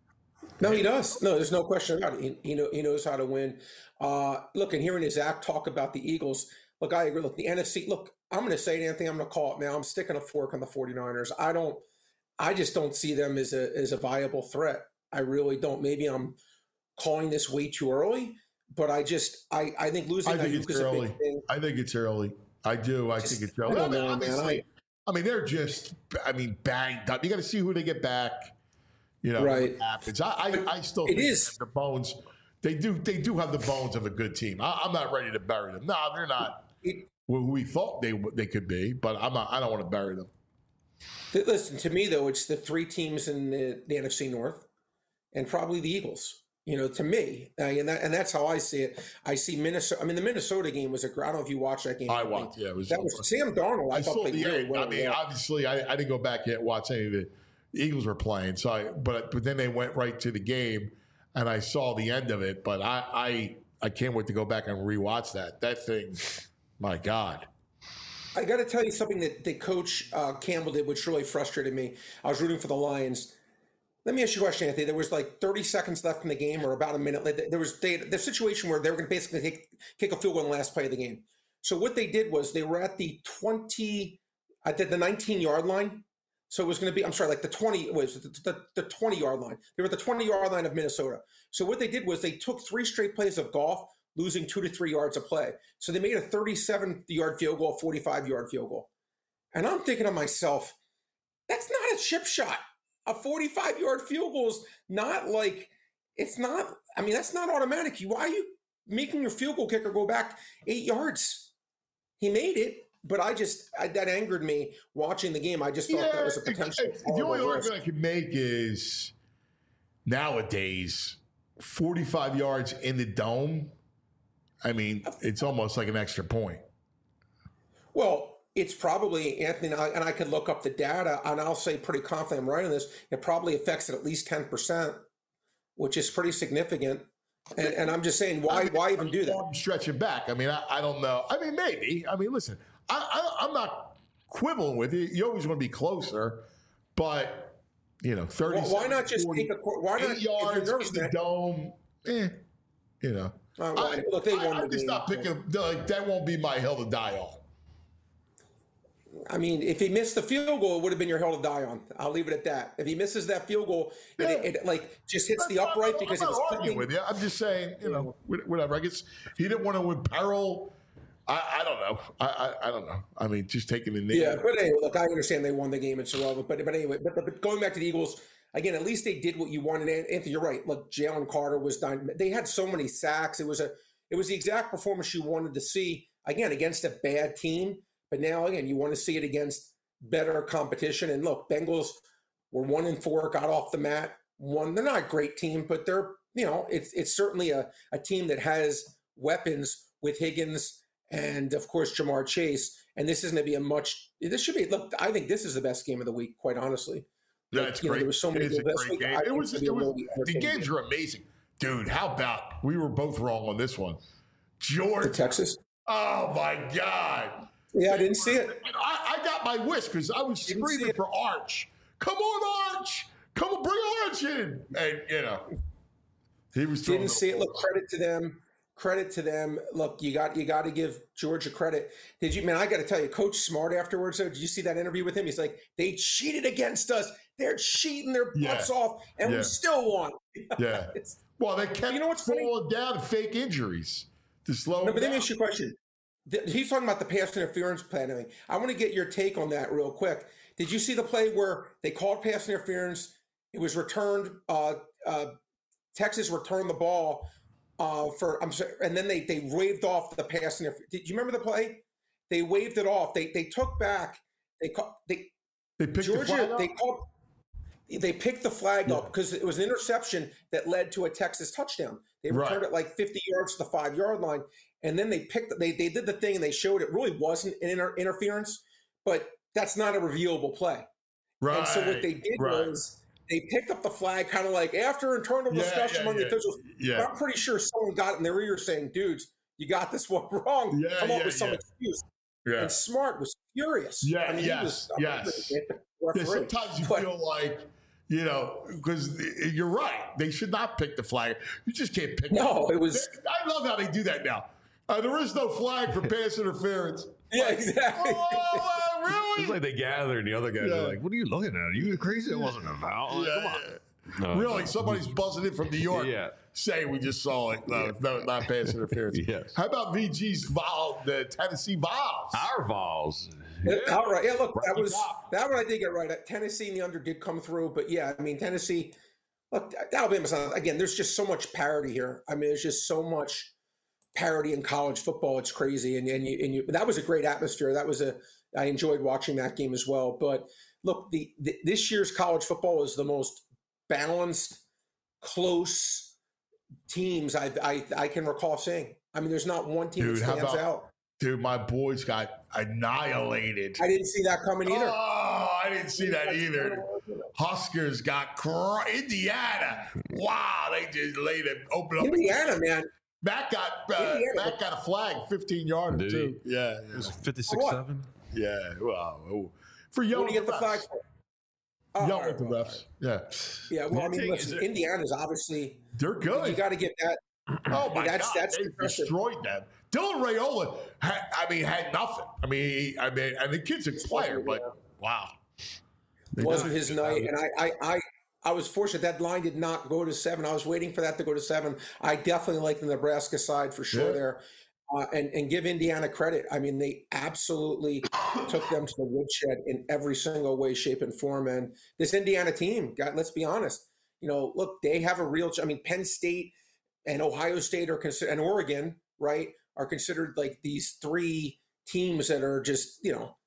No, he does. No, there's no question about it. He, he, know, he knows how to win. Uh, look, and hearing Zach talk about the Eagles, look, I agree. Look, the N F C, look, I'm going to say it, Anthony, I'm going to call it now. I'm sticking a fork on the 49ers. I don't, I just don't see them as a, as a viable threat. I really don't. Maybe I'm calling this way too early, but I just, I, I think losing I think Ayuk it's is a early. big thing. I think it's early. I do. I Just- think it's I early. don't I mean, know, man. obviously, I mean, they're just, I mean, banged up. You got to see who they get back. You know, Right. what happens. I, I, I still It think is- they have the bones. They do. They do have the bones of a good team. I, I'm not ready to bury them. No, they're not It- who we thought they they could be. But I'm not. I don't want to bury them. Th- Listen, to me, though, it's the three teams in the, the N F C North and probably the Eagles. You know, to me, uh, and, that, and that's how I see it. I see Minnesota. I mean, the Minnesota game was a great. I don't know if you watched that game. I watched. Yeah, it was. That was Sam Darnold. I, I thought saw played the really end. well. I mean, yeah. obviously, I, I didn't go back yet and watch any of the Eagles were playing. So, I, but but then they went right to the game, and I saw the end of it. But I I, I can't wait to go back and rewatch that. That thing, my God. I got to tell you something that, that Coach uh, Campbell did, which really frustrated me. I was rooting for the Lions. Let me ask you a question, Anthony. There was like thirty seconds left in the game, or about a minute. There was they, the situation where they were going to basically take, kick a field goal in the last play of the game. So what they did was they were at the twenty, I did the nineteen yard line. So it was going to be, I'm sorry, like the twenty, it was the, the, the twenty yard line. They were at the twenty yard line of Minnesota. So what they did was they took three straight plays of golf, losing two to three yards a play. So they made a thirty-seven yard field goal, forty-five yard field goal. And I'm thinking to myself, that's not a chip shot. A forty-five yard field goal is not like, it's not, I mean, that's not automatic. Why are you making your field goal kicker go back eight yards? He made it. but I just I, that angered me watching the game. I just thought that was a potential. it- the only argument I can make is nowadays forty-five yards in the dome. I mean, it's almost like an extra point. Well, it's probably, Anthony, and I, and I could look up the data, and I'll say pretty confident I'm right on this. It probably affects it at least ten percent, which is pretty significant. And, and I'm just saying, why I mean, why even do that? I'm stretching back. I mean, I, I don't know. I mean, maybe. I mean, listen, I, I, I'm not quibbling with you. You always want to be closer, but you know, thirty. Well, why not just take a why not eight yards nervous, in the man, dome? Eh, you know. uh, well, I, look, they I, won I'm the just game. not picking. Like, that won't be my hill to die on. I mean, if he missed the field goal, it would have been your hill to die on. I'll leave it at that. If he misses that field goal, and Yeah. it, it like just hits That's the not- upright I'm because not it was arguing clicking. with you. I'm just saying, you know, whatever. I guess he didn't want to imperil. I, I don't know. I, I I don't know. I mean, just taking the name. Yeah, but anyway, look, I understand they won the game. It's irrelevant. But but anyway, but, but going back to the Eagles again, at least they did what you wanted. And Anthony, you're right. Look, Jalen Carter was done. They had so many sacks. It was a it was the exact performance you wanted to see again against a bad team. But now again, you want to see it against better competition. And look, Bengals were one and four, got off the mat. One, they're not a great team, but they're you know it's it's certainly a a team that has weapons with Higgins. And of course, Jamar Chase. And this isn't going to be a much. This should be. Look, I think this is the best game of the week. Quite honestly, Yeah, Like, it's you know, great. there was so many It's a good- great game. I It think was. it'll be It a was. really The entertaining games game. were amazing, dude. How about we were both wrong on this one, George? To Texas. Oh my God! Yeah, I didn't see it. I, I got my wish because I was Didn't see screaming it. for Arch. Come on, Arch! Come on, bring Arch in. And you know, he was throwing Didn't the see it. ball. Look, credit to them. Credit to them. Look, you got you got to give Georgia credit. Did you, man? I got to tell you, Coach Smart afterwards. Though, did you see that interview with him? He's like, they cheated against us. They're cheating their Yeah. butts off, and Yeah. we still won. Yeah. It's- Well, they kept You know what's funny? falling down to fake injuries to slow no, him but let me down. ask you a question. Th- He's talking about the pass interference planning. I want to get your take on that real quick. Did you see the play where they called pass interference? It was returned. Uh, uh, Texas returned the ball uh, for. I'm sorry, and then they they waved off the pass interference. Did you remember the play? They waved it off. They they took back. They call, they They picked the flag Georgia. up? They called. They picked the flag up because it was an interception that led to a Texas touchdown. They returned Right. it like fifty yards to the five yard line, and then they picked. They they did the thing and they showed it really wasn't an inter- interference, but that's not a reviewable play. Right. And so what they did right. was they picked up the flag, kind of like after internal Yeah, discussion yeah, among the yeah. officials. Yeah. But I'm pretty sure someone got in their ear saying, "Dudes, you got this one wrong. Yeah, Come up yeah, with some yeah. excuse." Yeah. And Smart was furious. Yeah, I mean, yes, he was, yes. I'm Yeah, referee. sometimes you But- feel like, you know, because you're right. They should not pick the flag. You just can't pick No, it was. I love how they do that now. Uh, there is no flag for pass interference. Yeah, exactly. Oh, uh, really? It's like they gather and the other guys Yeah. are like, "What are you looking at? Are you crazy? It wasn't a foul. Like, Yeah, come on." yeah. No, Really, no. somebody's buzzing in from New York. Yeah. Say we just saw it. No, no, not pass interference. Yes. How about V G's Vol, the Tennessee Vols? Our Vols. Yeah. All right. Yeah, look, that Rocky was Top. that one I did get right. Tennessee in the under did come through, but yeah, I mean Tennessee. Look, Alabama's not, again. There's just so much parity here. I mean, there's just so much parity in college football. It's crazy, and and you and you. That was a great atmosphere. That was a. I enjoyed watching that game as well. But look, the, the this year's college football is the most balanced, close teams I I, I can recall seeing. I mean, there's not one team Dude, that how stands about- out. Dude, my boys got annihilated. I didn't see that coming either. Oh, I didn't see that either. Huskers got cr- Indiana. Wow, they just laid it open up. Indiana, man. Matt got uh, Indiana. Matt got a flag, fifteen yarder Did he? too. Yeah, It was fifty-six What? seven. yeah. Wow. Oh. For What yelling do you get the refs. flag for? Oh, Yelling all right, at the well, refs. Yeah, Yeah, well, I One mean, thing listen, is- Indiana's obviously they're you good. got to get that. Oh my that's- God, that's they impressive. destroyed them. Dylan Raiola, had, I mean, had nothing. I mean, he, I mean, and the kid's a player, but wow, They wasn't did. his night, and I, I, I, I was fortunate that line did not go to seven. I was waiting for that to go to seven. I definitely like the Nebraska side for sure Yeah. there, uh, and and give Indiana credit. I mean, they absolutely took them to the woodshed in every single way, shape, and form. And this Indiana team, God, let's be honest. You know, look, they have a real. I mean, Penn State and Ohio State are considered, and Oregon, right, are considered like these three teams that are just, you know,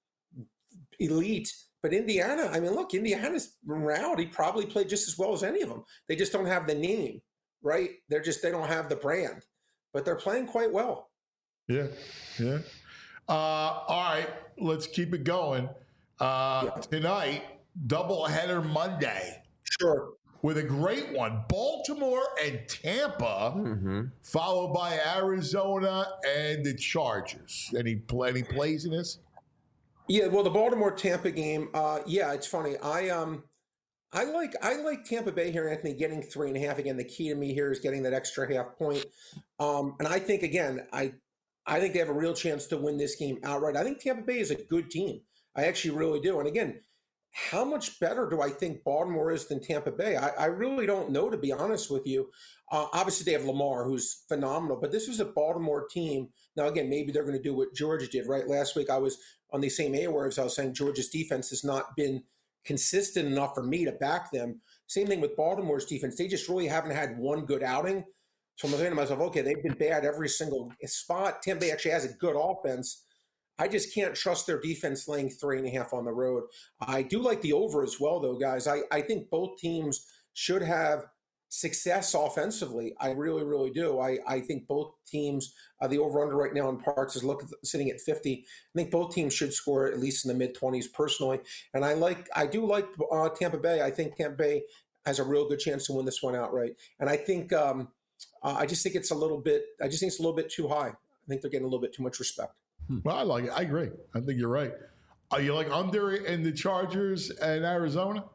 elite. But Indiana, I mean, look, Indiana's morality probably played just as well as any of them. They just don't have the name, right? They're just, they don't have the brand, but they're playing quite well. Yeah, yeah. Uh, all right, let's keep it going. Uh, Yeah. Tonight, doubleheader Monday Sure. with a great one. Baltimore and Tampa, Mm-hmm. followed by Arizona and the Chargers. Any, pl- any plays in this? Yeah, well, the Baltimore Tampa game, uh, yeah, it's funny. I um, I like I like Tampa Bay here, Anthony, getting three and a half. Again, the key to me here is getting that extra half point. Um, and I think again, I I think they have a real chance to win this game outright. I think Tampa Bay is a good team. I actually really do. And again, how much better do I think Baltimore is than Tampa Bay? I, I really don't know, to be honest with you. Uh, obviously, they have Lamar, who's phenomenal, but this is a Baltimore team. Now, again, maybe they're going to do what Georgia did, right? Last week, I was on the same airwaves. I was saying Georgia's defense has not been consistent enough for me to back them. Same thing with Baltimore's defense. They just really haven't had one good outing. So I'm saying to myself, okay, they've been bad every single spot. Tampa Bay actually has a good offense. I just can't trust their defense laying three and a half on the road. I do like the over as well, though, guys. I, I think both teams should have success offensively. I really, really do. I, I think both teams, uh, the over-under right now in parts is look, sitting at fifty. I think both teams should score at least in the mid-twenties personally. And I like, I do like uh, Tampa Bay. I think Tampa Bay has a real good chance to win this one outright. And I think, um, uh, I just think it's a little bit, I just think it's a little bit too high. I think they're getting a little bit too much respect. Well, I like it. I agree. I think you're right. Are you like under in the Chargers and Arizona?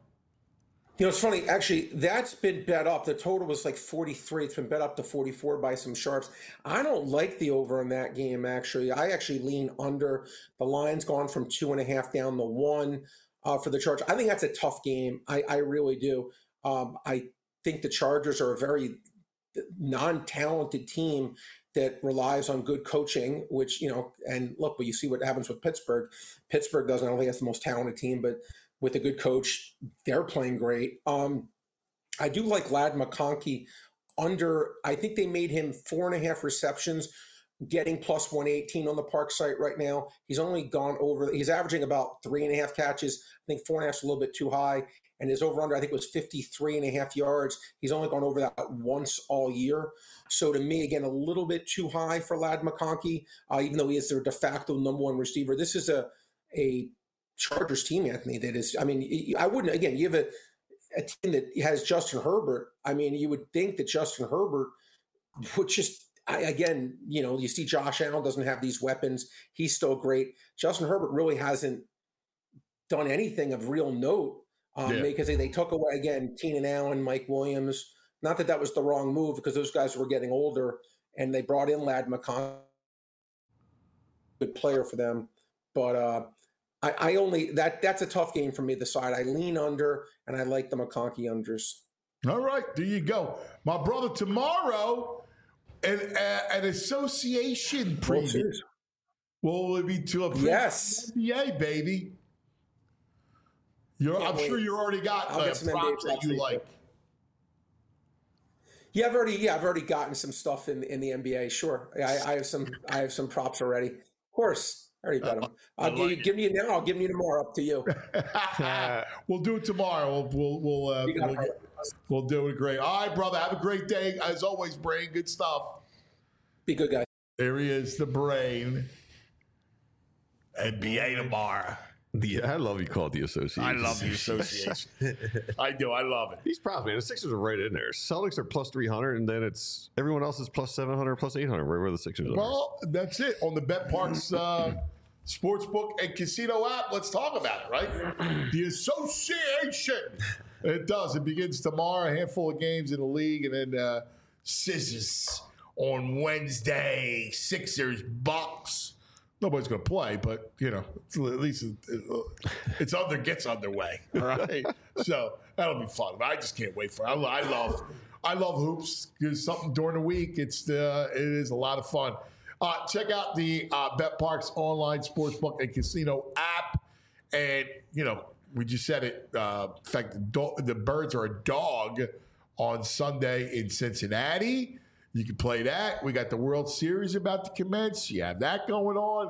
You know, it's funny. Actually, that's been bet up. The total was like forty-three. It's been bet up to forty-four by some sharps. I don't like the over in that game, actually. I actually lean under. The line's gone from two and a half down to one uh, for the Chargers. I think that's a tough game. I, I really do. Um, I think the Chargers are a very non-talented team that relies on good coaching, which, you know, and look, but you see what happens with Pittsburgh. Pittsburgh doesn't, I don't think that's the most talented team, but with a good coach, they're playing great. Um, I do like Ladd McConkey under, I think they made him four and a half receptions, getting plus one eighteen on the Park site right now. He's only gone over, he's averaging about three and a half catches. I think four and a half is a little bit too high. And his over-under, I think, was fifty-three and a half yards. He's only gone over that once all year. So to me, again, a little bit too high for Ladd McConkey, uh, even though he is their de facto number one receiver. This is a a Chargers team, Anthony, that is, I mean, I wouldn't, again, you have a, a team that has Justin Herbert. I mean, you would think that Justin Herbert would just, I, again, you know, you see Josh Allen doesn't have these weapons. He's still great. Justin Herbert really hasn't done anything of real note. Um, Yeah. Because they, they took away, again, Keenan Allen, Mike Williams. Not that that was the wrong move because those guys were getting older, and they brought in Ladd McConkey, good player for them. But uh, I, I only that that's a tough game for me. The side I lean under, and I like the McConkey unders. All right, there you go. My brother, tomorrow, an, a, an association World preview. Series. Will it be to a preview Yes. N B A, baby? You're, Can't I'm wait. sure you already got I'll uh, get some N B A props that props you later. like. Yeah, I've already yeah I've already gotten some stuff in, in the N B A. Sure, I, I have some I have some props already. Of course, I already bet them. I'll give you like give me now. I'll give you tomorrow. Up to you. We'll do it tomorrow. We'll we'll we'll, uh, You got we'll, it. we'll do it great. All right, brother. Have a great day. As always, Brain. Good stuff. Be good, guys. There he is, the Brain. N B A tomorrow. The, I love you call it the association. I love the association. I do. I love it. These props, man. The Sixers are right in there. Celtics are plus three hundred, and then it's everyone else is plus seven hundred, plus eight hundred, right where the Sixers are. Well, that's it. On the BetParks uh, Sportsbook and Casino app, let's talk about it, right? The association. It does. It begins tomorrow. A handful of games in the league, and then uh, scissors on Wednesday. Sixers, Bucks. Nobody's going to play, but, you know, it's, at least it, it, it's under gets underway, all right? So that'll be fun. I just can't wait for it. I, lo- I love I love hoops. There's something during the week. It's uh, it is a lot of fun. Uh, check out the uh, BetParks online sportsbook and casino app. And, you know, we just said it. Uh, in fact, the, do- the Birds are a dog on Sunday in Cincinnati. You can play that. We got the World Series about to commence. You have that going on.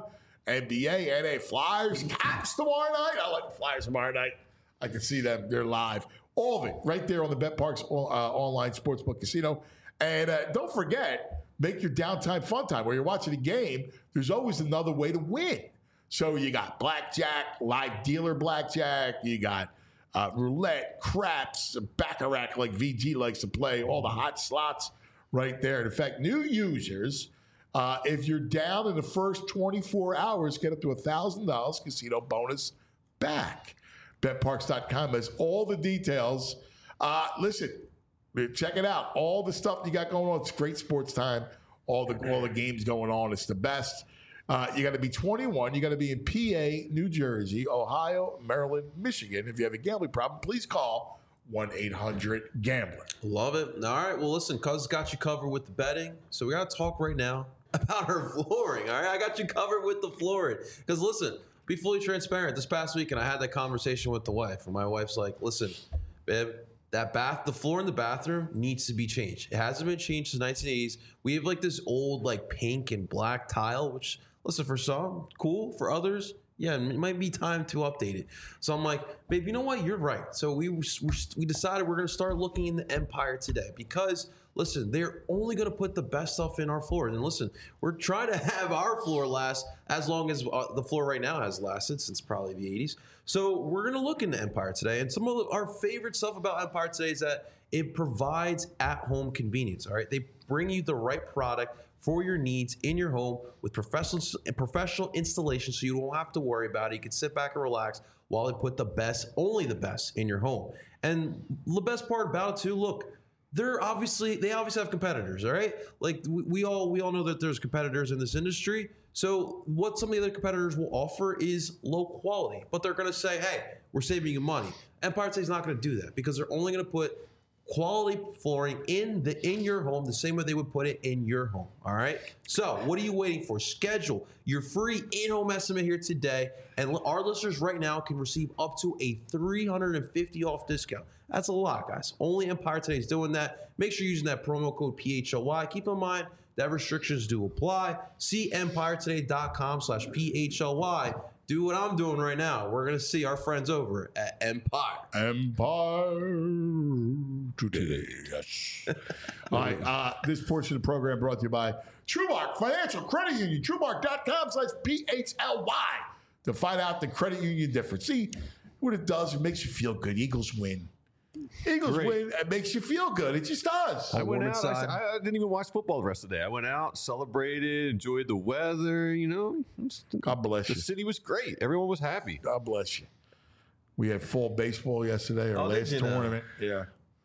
N B A, N A Flyers, Caps tomorrow night. I like the Flyers tomorrow night. I can see them. They're live. All of it right there on the BetParx uh, online sportsbook casino. And uh, don't forget, make your downtime fun time. Where you're watching a game, there's always another way to win. So you got blackjack, live dealer blackjack. You got uh, roulette, craps, baccarat like V G likes to play, all the hot slots right there. And in fact, new users, uh, if you're down in the first twenty-four hours, get up to one thousand dollars casino bonus back. Bet Parx dot com has all the details. Uh, listen, check it out. All the stuff you got going on. It's great sports time. All the all the games going on. It's the best. Uh, you got to be twenty-one. You got to be in P A, New Jersey, Ohio, Maryland, Michigan. If you have a gambling problem, please call one eight hundred gambler. Love it. All right. Well, listen, Cuz got you covered with the betting. So we got to talk right now about her flooring. All right. I got you covered with the flooring. Because listen, be fully transparent. This past week, and I had that conversation with the wife. And my wife's like, listen, babe, that bath, the floor in the bathroom needs to be changed. It hasn't been changed since nineteen eighties. We have like this old like pink and black tile, which, listen, for some, cool. For others, yeah, it might be time to update it. So I'm like, babe, you know what? You're right. So we we decided we're going to start looking in the Empire today because, listen, they're only going to put the best stuff in our floors. And listen, we're trying to have our floor last as long as uh, the floor right now has lasted since probably the eighties. So we're going to look into Empire today. And some of our favorite stuff about Empire today is that it provides at-home convenience, all right? They bring you the right product for your needs in your home with professional professional installation, so you don't have to worry about it. You can sit back and relax while they put the best, only the best, in your home. And the best part about it too, look, they're obviously they obviously have competitors, all right? Like we, we all we all know that there's competitors in this industry. So what some of the other competitors will offer is low quality, but they're going to say, "Hey, we're saving you money." Empire State is not going to do that because they're only going to put quality flooring in the in your home the same way they would put it in your home. All right. So what are you waiting for? Schedule your free in-home estimate here today, and our listeners right now can receive up to a three hundred fifty dollars off discount. That's a lot, guys. Only Empire Today is doing that. Make sure you're using that promo code P H L Y. Keep in mind that restrictions do apply. See empire today dot com slash P H L Y. Do what I'm doing right now. We're going to see our friends over at Empire. Empire Today. Yes. All right. Uh, this portion of the program brought to you by TrueMark Financial Credit Union. TrueMark dot com slash P H L Y to find out the credit union difference. See what it does. It makes you feel good. Eagles win. Eagles Great. win. It makes you feel good. It just does. I went warm out. inside. I, I didn't even watch football the rest of the day. I went out, celebrated, enjoyed the weather. You know, God bless the you. city was great. Everyone was happy. God bless you. We had fall baseball yesterday, our Oh, did last you now? tournament. Yeah.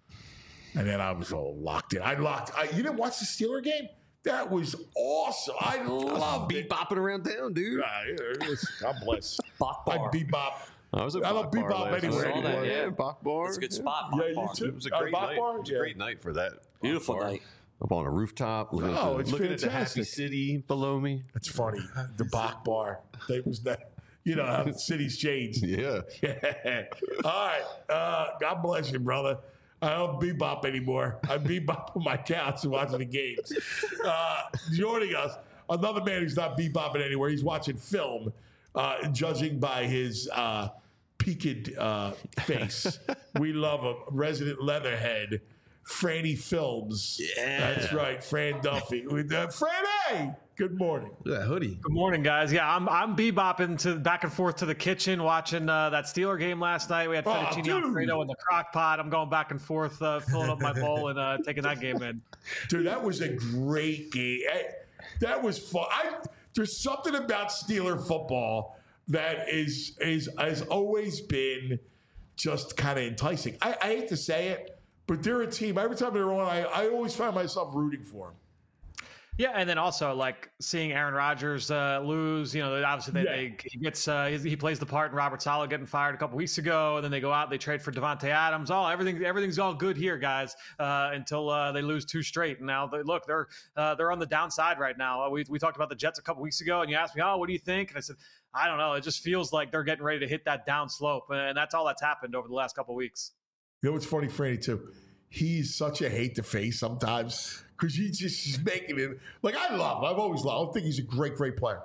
And then I was all locked in. I locked. I, you didn't watch the Steeler game? That was awesome. I loved Be it. bopping around town, dude. Ah, yeah, it was- God bless. Bach I bar. bebop. I was at I love Bach Bar bebop last anywhere night. anymore. Yeah, Yeah. Bach Bar. It's a good Yeah. spot. Yeah, Bach you bar. too. It was a Uh, great Bach night. Bar? It was a Yeah. great night for that. Beautiful Bach Bar. night. Up on a rooftop, looking, Oh, at, the, it's looking at the happy fantastic. city below me. That's funny. The Bach Bar. That was that. You know how the city's changed. Yeah. Yeah. All right. Uh, God bless you, brother. I don't bebop anymore. I bebop on my couch and watching the games. Uh, joining us, another man who's not bebopping anywhere. He's watching film, uh, judging by his uh, peaked uh, face. We love him. Resident Leatherhead, Franny Films. Yeah. That's right. Fran Duffy. With uh, Franny. Good morning. Look at that hoodie. Good morning, guys. Yeah, I'm I'm bebopping to back and forth to the kitchen, watching uh, that Steeler game last night. We had Oh, fettuccine dude. alfredo in the crock pot. I'm going back and forth, uh, filling up my bowl and uh, taking that game in. Dude, that was a great game. Eh, That was fun. I, there's something about Steeler football that is is has always been just kind of enticing. I, I hate to say it, but they're a team. Every time they're on, I, I always find myself rooting for them. Yeah, and then also like seeing Aaron Rodgers uh, lose. You know, obviously they, Yeah. they he gets uh, he, he plays the part in Robert Saleh getting fired a couple weeks ago, and then they go out and they trade for Devontae Adams. Oh, everything everything's all good here, guys, uh, until uh, they lose two straight. And now they, look, they're uh, they're on the downside right now. Uh, we we talked about the Jets a couple weeks ago, and you asked me, oh, what do you think? And I said, I don't know. It just feels like they're getting ready to hit that down slope, and that's all that's happened over the last couple weeks. You know what's funny, Franny, too? He's such a hate to face sometimes because he's just he's making it. Like, I love him. I've always loved him. I think he's a great, great player.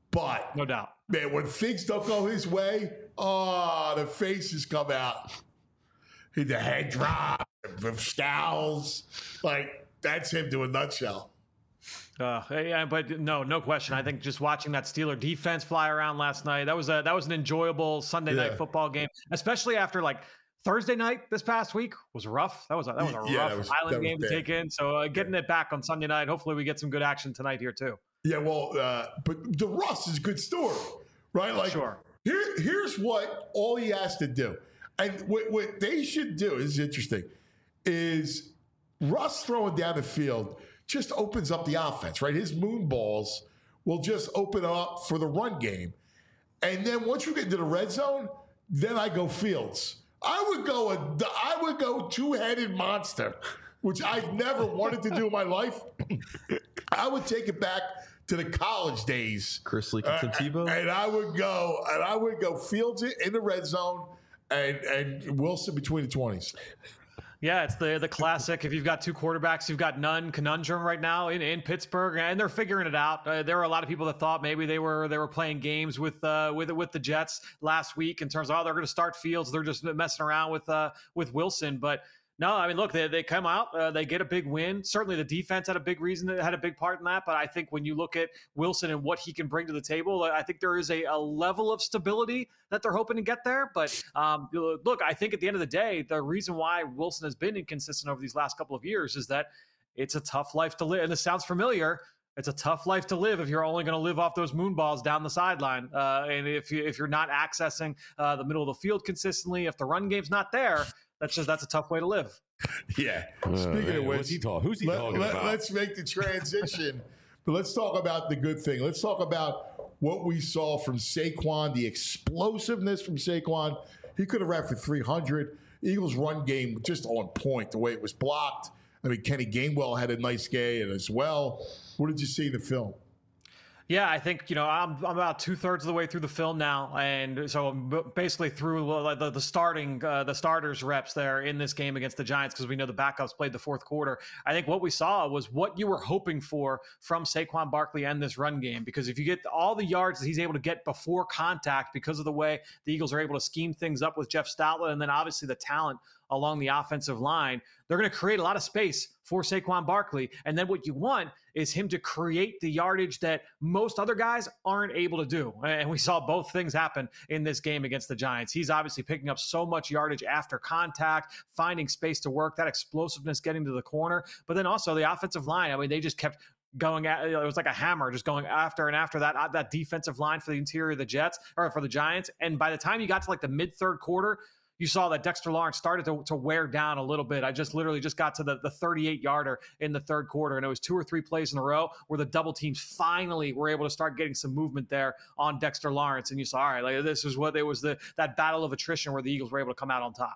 But No doubt. man, when things don't go his way, oh, the faces come out. The head drop, the scowls. Like, that's him to a nutshell. Uh, yeah, but no, no question. I think just watching that Steeler defense fly around last night, that was a that was an enjoyable Sunday Yeah. night football game, especially after like Thursday night this past week was rough. That was a, that was a Yeah, rough that was- Island that was game to bad. take in. So uh, getting it back on Sunday night, hopefully we get some good action tonight here too. Yeah, well, uh, but the Russ is a good story, right? Like, Sure. here, here's what all he has to do. And what, what they should do is interesting, is Russ throwing down the field just opens up the offense, right? His moon balls will just open up for the run game. And then once you get into the red zone, then I go Fields. I would go a, I would go two-headed monster, which I've never wanted to do in my life. I would take it back to the college days. Chris Lee and Tim Tebow. And I would go, and I would go Fields in the red zone, and and Wilson between the twenties. Yeah, it's the the classic. If you've got two quarterbacks, you've got none conundrum right now in, in Pittsburgh, and they're figuring it out. Uh, there were a lot of people that thought maybe they were they were playing games with uh, with with the Jets last week in terms of oh they're going to start Fields, they're just messing around with uh, with Wilson, but. No, I mean, look, they, they come out, uh, they get a big win. Certainly the defense had a big reason, that had a big part in that. But I think when you look at Wilson and what he can bring to the table, I think there is a, a level of stability that they're hoping to get there. But um, look, I think at the end of the day, the reason why Wilson has been inconsistent over these last couple of years is that it's a tough life to live. And this sounds familiar. It's a tough life to live if you're only going to live off those moon balls down the sideline. Uh, and if, you, if you're not accessing uh, the middle of the field consistently, if the run game's not there, That's just that's a tough way to live. Yeah. Uh, Speaking man, of which, what's he talk- who's he talking about? Let's make the transition. But let's talk about the good thing. Let's talk about what we saw from Saquon, the explosiveness from Saquon. He could have ran for three hundred. Eagles' run game just on point, the way it was blocked. I mean, Kenny Gainwell had a nice game as well. What did you see in the film? Yeah, I think, you know, I'm, I'm about two thirds of the way through the film now. And so I'm b- basically through the, the starting, uh, the starters reps there in this game against the Giants, because we know the backups played the fourth quarter. I think what we saw was what you were hoping for from Saquon Barkley and this run game, because if you get all the yards that he's able to get before contact because of the way the Eagles are able to scheme things up with Jeff Stoutland, and then obviously the talent along the offensive line, they're going to create a lot of space for Saquon Barkley. And then what you want is him to create the yardage that most other guys aren't able to do. And we saw both things happen in this game against the Giants. He's obviously picking up so much yardage after contact, finding space to work, that explosiveness getting to the corner. But then also the offensive line, I mean, they just kept going at it was like a hammer, just going after and after that that defensive line for the interior of the Jets or for the Giants. And by the time you got to like the mid third quarter, you saw that Dexter Lawrence started to, to wear down a little bit. I just literally just got to the, the thirty-eight yarder in the third quarter, and it was two or three plays in a row where the double teams finally were able to start getting some movement there on Dexter Lawrence. And you saw, all right, like this is what it was, the that battle of attrition where the Eagles were able to come out on top.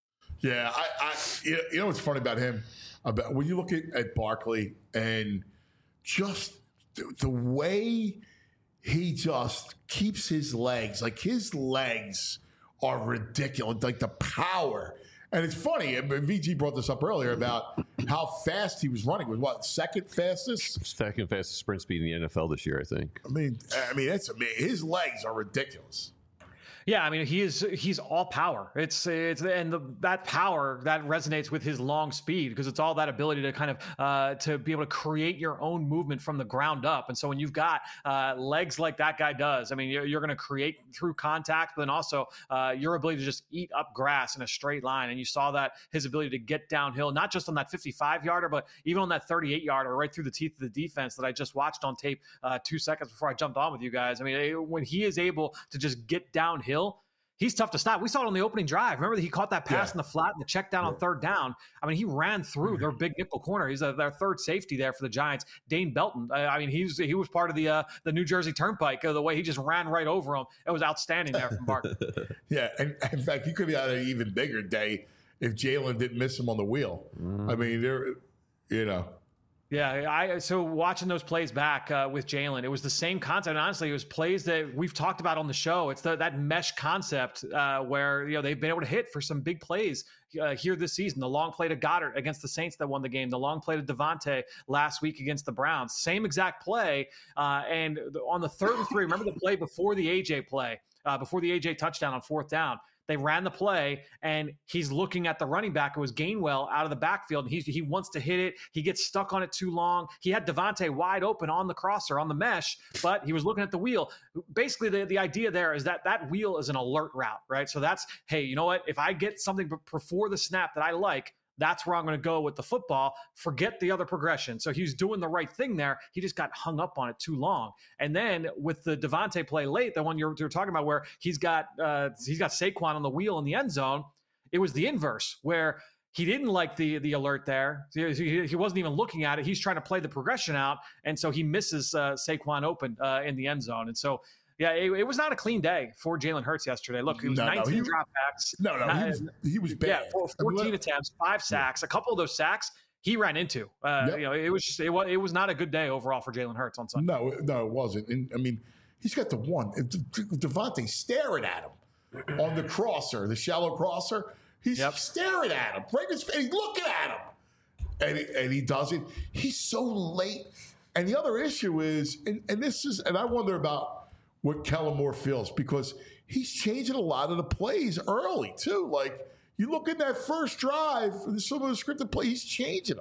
Yeah, I, I you know what's funny about him? About when you look at, at Barkley and just the, the way he just keeps his legs, like his legs are ridiculous, like the power. And it's funny, V G brought this up earlier about how fast he was running. Was what, second fastest? Second fastest sprint speed in the N F L this year, I think. I mean, I mean, it's amazing. His legs are ridiculous. Yeah, I mean, he is he's all power. It's it's and the, that power that resonates with his long speed, because it's all that ability to kind of uh, to be able to create your own movement from the ground up. And so when you've got uh, legs like that guy does, I mean, you're, you're going to create through contact, but then also uh, your ability to just eat up grass in a straight line. And you saw that his ability to get downhill, not just on that fifty-five yarder, but even on that thirty-eight yarder, right through the teeth of the defense that I just watched on tape uh, two seconds before I jumped on with you guys. I mean, when he is able to just get downhill, he's tough to stop. We saw it on the opening drive. Remember that he caught that pass Yeah. in the flat and the check down Yeah. on third down. I mean, he ran through their big nickel corner. He's a, their third safety there for the Giants. Dane Belton. I, I mean, he was he was part of the uh, the New Jersey Turnpike. Uh, the way he just ran right over him, it was outstanding there from Barkley. Yeah, and in fact, he could be on an even bigger day if Jalen didn't miss him on the wheel. I mean, there, you know, Yeah, I so watching those plays back uh, with Jalen, it was the same concept. And honestly, it was plays that we've talked about on the show. It's the, that mesh concept uh, where you know they've been able to hit for some big plays uh, here this season. The long play to Goddard against the Saints that won the game. The long play to Devontae last week against the Browns. Same exact play. Uh, and on the third and three, remember the play before the A J play, uh, before the A J touchdown on fourth down. They ran the play, and he's looking at the running back. It was Gainwell out of the backfield, and he, he wants to hit it. He gets stuck on it too long. He had Devontae wide open on the crosser, on the mesh, but he was looking at the wheel. Basically, the, the idea there is that that wheel is an alert route, right? So that's, hey, you know what? If I get something before the snap that I like, that's where I'm going to go with the football. Forget the other progression. So he's doing the right thing there. He just got hung up on it too long. And then with the Devontae play late, the one you're, you're talking about where he's got uh, he's got Saquon on the wheel in the end zone, it was the inverse where he didn't like the the alert there. He, he, he wasn't even looking at it. He's trying to play the progression out, and so he misses uh, Saquon open uh, in the end zone. And so yeah, it, it was not a clean day for Jalen Hurts yesterday. Look, it was No, no, nineteen he- dropbacks. No, no, he was, he was bad. Yeah, four- I mean, fourteen let- attempts, five sacks. A couple of those sacks he ran into. Uh, Yep. You know, it was just it was it was not a good day overall for Jalen Hurts on Sunday. No, no, it wasn't. And I mean, he's got the one. Devontae staring at him on the crosser, the shallow crosser. He's Yep. staring at him. Right in his face. He's looking at him. And he, and he doesn't. He's so late. And the other issue is, and, and this is, and I wonder about what Kellen Moore feels because he's changing a lot of the plays early too. Like you look at that first drive, some of the scripted play, he's changing them.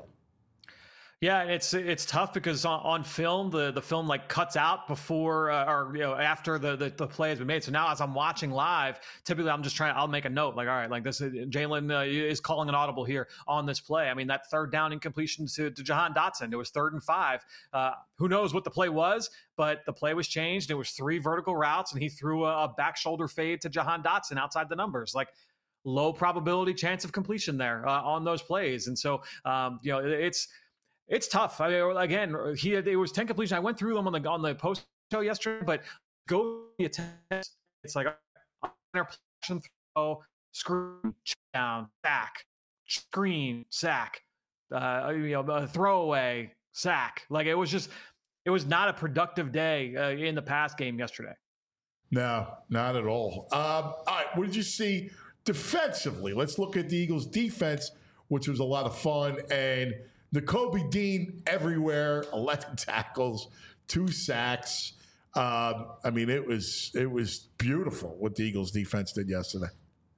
Yeah, and it's it's tough because on, on film the, the film like cuts out before uh, or you know after the, the the play has been made. So now as I'm watching live, typically I'm just trying. I'll make a note like, all right, like this is, Jalen uh, is calling an audible here on this play. I mean that third down incompletion to, to Jahan Dotson. It was third and five. Uh, who knows what the play was, but the play was changed. It was three vertical routes, and he threw a, a back shoulder fade to Jahan Dotson outside the numbers. Like low probability chance of completion there uh, on those plays, and so um, you know it's. It's tough. I mean, again, he had, it was ten completions. I went through them on the on the post show yesterday, but go the attempts. It's like interception throw, screen, down, sack, screen, sack, uh, you know, a throwaway, sack. Like it was just, it was not a productive day uh, in the pass game yesterday. No, not at all. Um, all right, what did you see defensively? Let's look at the Eagles' defense, which was a lot of fun. And Nakobe Dean everywhere, eleven tackles, two sacks. Um, I mean, it was it was beautiful what the Eagles' defense did yesterday.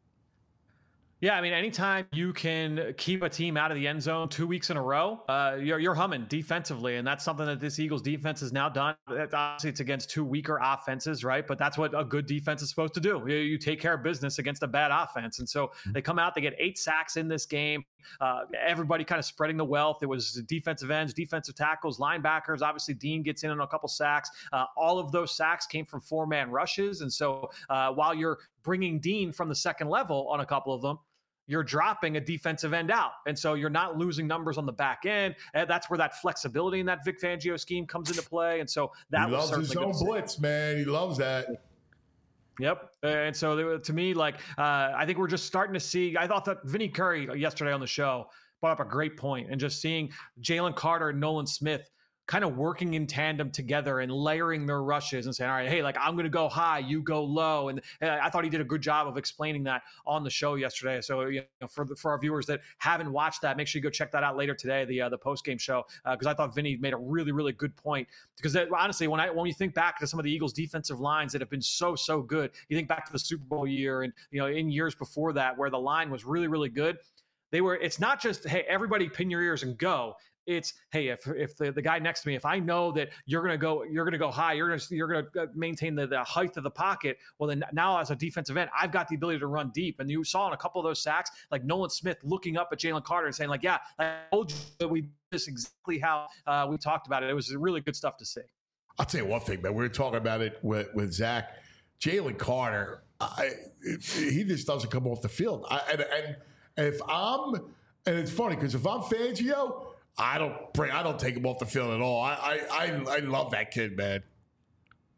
Yeah, I mean, anytime you can keep a team out of the end zone two weeks in a row, uh, you're, you're humming defensively, and that's something that this Eagles defense has now done. Obviously, it's against two weaker offenses, right? But that's what a good defense is supposed to do. You, you take care of business against a bad offense, and so they come out, they get eight sacks in this game. Uh, everybody kind of spreading the wealth. It was defensive ends, defensive tackles, linebackers. Obviously, Dean gets in on a couple sacks. Uh, all of those sacks came from four-man rushes, and so uh, while you're bringing Dean from the second level on a couple of them, you're dropping a defensive end out. And so you're not losing numbers on the back end. And that's where that flexibility in that Vic Fangio scheme comes into play. And so that he was loves certainly his own blitz, man. He loves that. Yep. And so there, to me, like, uh, I think we're just starting to see, I thought that Vinny Curry yesterday on the show brought up a great point, and just seeing Jalen Carter and Nolan Smith kind of working in tandem together and layering their rushes and saying, all right, hey, like I'm going to go high, you go low. And uh, I thought he did a good job of explaining that on the show yesterday. So, you know, for the, for our viewers that haven't watched that, make sure you go check that out later today, the uh, the post-game show, because uh, I thought Vinny made a really, really good point. Because that, honestly, when I when you think back to some of the Eagles defensive lines that have been so, so good, you think back to the Super Bowl year and, you know, in years before that where the line was really, really good. They were, it's not just, hey, everybody pin your ears and go. It's, hey, if if the, the guy next to me, if I know that you're gonna go, you're gonna go high, you're gonna you're gonna maintain the, the height of the pocket. Well, then now as a defensive end, I've got the ability to run deep. And you saw in a couple of those sacks, like Nolan Smith looking up at Jalen Carter and saying, like, yeah, I told you that we did this exactly how uh, we talked about it. It was really good stuff to see. I'll tell you one thing, man. We were talking about it with with Zach, Jalen Carter. I, it, he just doesn't come off the field. I, and, and and if I'm, and it's funny because if I'm Fangio, I don't bring. I don't take him off the field at all. I I I, I love that kid, man.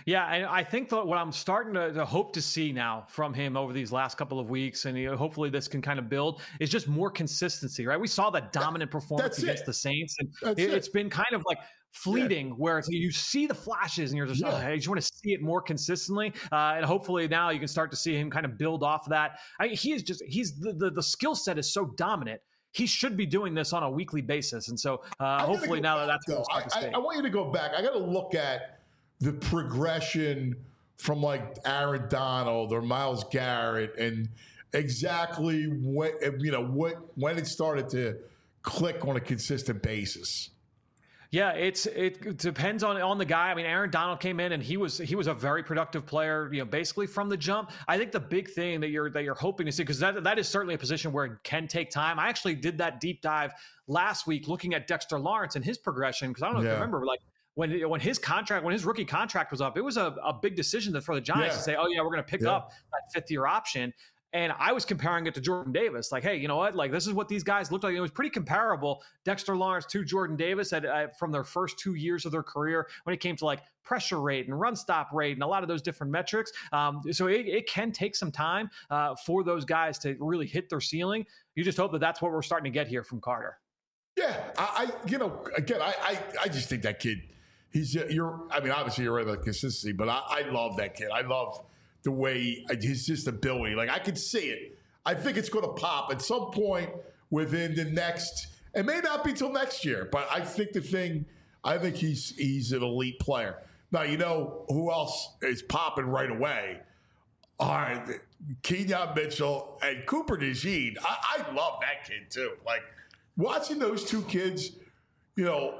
Yeah, and I think that what I'm starting to, to hope to see now from him over these last couple of weeks, and you know, hopefully this can kind of build, is just more consistency, right? We saw that dominant performance That's against it. the Saints, and That's it, it. it's been kind of like fleeting where it's, you see the flashes and you're just, Yeah. oh, I just want to see it more consistently. Uh, and hopefully now you can start to see him kind of build off of that. I, he is just, he's the, the, the skill set is so dominant. He should be doing this on a weekly basis. And so uh, I gotta hopefully go now that back, that's what though. we'll start to I, I, see. I want you to go back. I got to look at the progression from like Aaron Donald or Myles Garrett and exactly what, you know, what, when it started to click on a consistent basis. Yeah, it's it depends on on the guy. I mean, Aaron Donald came in and he was he was a very productive player, you know, basically from the jump. I think the big thing that you're that you're hoping to see, because that that is certainly a position where it can take time. I actually did that deep dive last week looking at Dexter Lawrence and his progression, because I don't know if Yeah. you remember, like when when his contract, when his rookie contract was up, it was a, a big decision for the Giants Yeah. to say, oh yeah, we're going to pick Yeah. up that fifth year option. And I was comparing it to Jordan Davis. Like, hey, you know what? Like, this is what these guys looked like. It was pretty comparable. Dexter Lawrence to Jordan Davis at, uh, from their first two years of their career when it came to like pressure rate and run stop rate and a lot of those different metrics. Um, so it, it can take some time uh, for those guys to really hit their ceiling. You just hope that that's what we're starting to get here from Carter. Yeah, I, I you know, again, I, I, I just think that kid, he's, you're, I mean, obviously you're right about consistency, but I, I love that kid. I love the way his just ability, like I can see it. I think it's going to pop at some point within the next, it may not be till next year, but I think the thing, I think he's, he's an elite player. Now, you know who else is popping right away? All right, Kenyon Mitchell and Cooper DeJean. I, I love that kid too. Like watching those two kids, you know,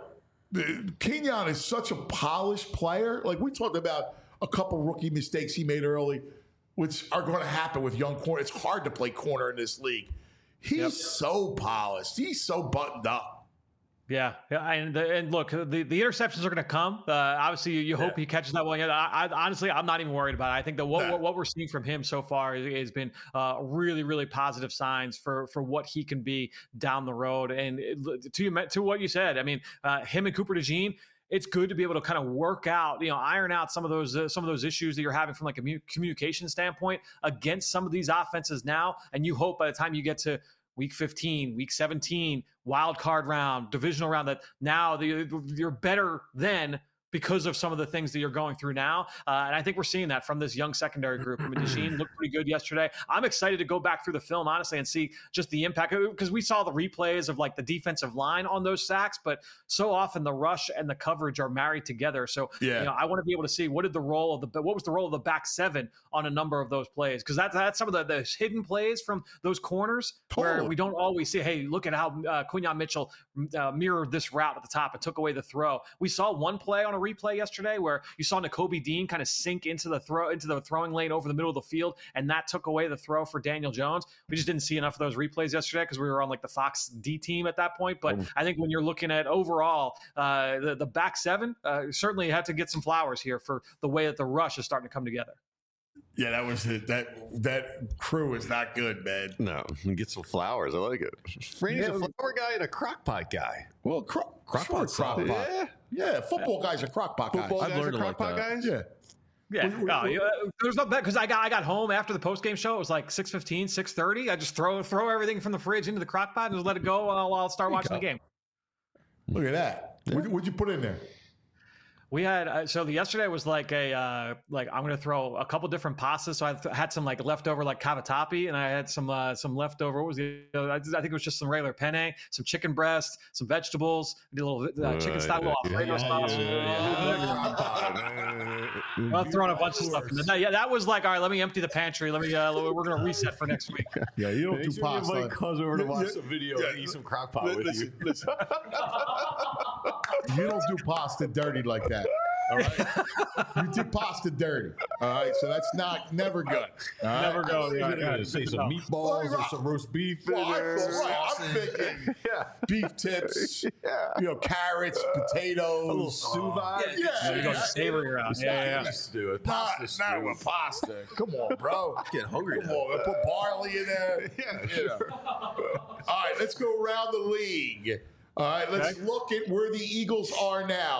Kenyon is such a polished player. Like we talked about a couple rookie mistakes he made early, which are going to happen with young corner. It's hard to play corner in this league. He's Yep. so polished. He's so buttoned up. Yeah, yeah, and the, and look, the, the interceptions are going to come. Uh, obviously, you, you hope Yeah. he catches that one. Yeah, I, I, honestly, I'm not even worried about it. I think that what Yeah. what, what we're seeing from him so far is, has been uh, really, really positive signs for for what he can be down the road. And it, to you, to what you said, I mean, uh, him and Cooper DeJean. It's good to be able to kind of work out, you know, iron out some of those uh, some of those issues that you're having from like a mu- communication standpoint against some of these offenses now. And you hope by the time you get to week fifteen, week seventeen, wild card round, divisional round, that now the, you're better then because of some of the things that you're going through now. Uh, and I think we're seeing that from this young secondary group. I mean, DeJean looked pretty good yesterday. I'm excited to go back through the film, honestly, and see just the impact, because we saw the replays of like the defensive line on those sacks, but so often the rush and the coverage are married together. So, Yeah. you know, I want to be able to see what did the role of the, what was the role of the back seven on a number of those plays? Because that's, that's some of the, the hidden plays from those corners where Totally. we don't always see, hey, look at how uh, Quinyon Mitchell uh, mirrored this route at the top and took away the throw. We saw one play on a replay yesterday where you saw Nakobe Dean kind of sink into the throw into the throwing lane over the middle of the field, and that took away the throw for Daniel Jones. We just didn't see enough of those replays yesterday because we were on like the Fox D team at that point. But I think when you're looking at overall uh, the the back seven, uh, certainly had to get some flowers here for the way that the rush is starting to come together. Yeah, that was it. That that crew is not good, man. No, get some flowers. I like it. Franny's a flower guy and a crock pot guy. Well, cro- Crock sure, pot's crock solid. pot. Yeah. Yeah, football guys are crock pot guys. Football I've guys are learned to crock like pot that. guys? Yeah. Yeah, We- we- no, we- you- uh, there's no bet because I got I got home after the post game show. It was like six fifteen, six thirty. I just throw throw everything from the fridge into the crock pot and just let it go while, while I'll start watching the game. Look at that. What'd, what'd you put in there? We had uh, so the yesterday was like a uh, like I'm gonna throw a couple different pastas. So I th- had some like leftover like cavatappi, and I had some uh, some leftover. What was the? Uh, I think it was just some regular penne, some chicken breast, some vegetables, I did a little uh, chicken style little Alfredo sauce. I'm throwing a bunch of stuff. In there. Yeah, that was like, all right, let me empty the pantry. Let me. Uh, we're gonna reset for next week. Yeah, you don't Make do sure you pasta. invite Cuz over to Yeah, watch yeah, some video yeah. and eat some crock pot with Listen, you. listen. You don't do pasta dirty like that. All right, you do pasta dirty. All right, so that's not never good. All right? Never go. You're Yeah, gonna yeah. say some Well, meatballs or right. some roast beef in Well, I there. feel right. I'm thinking Yeah. beef tips, Yeah. you know, carrots, potatoes, A little stew vibe. Yeah, So you go savory around. Yeah, yeah, yeah. Let's do it. Not, Pasta not stew. with pasta. Come on, bro. Getting hungry Come now. on, put barley in there. Yeah, You sure. know. All right, let's go around the league. All right, let's Okay. look at where the Eagles are now.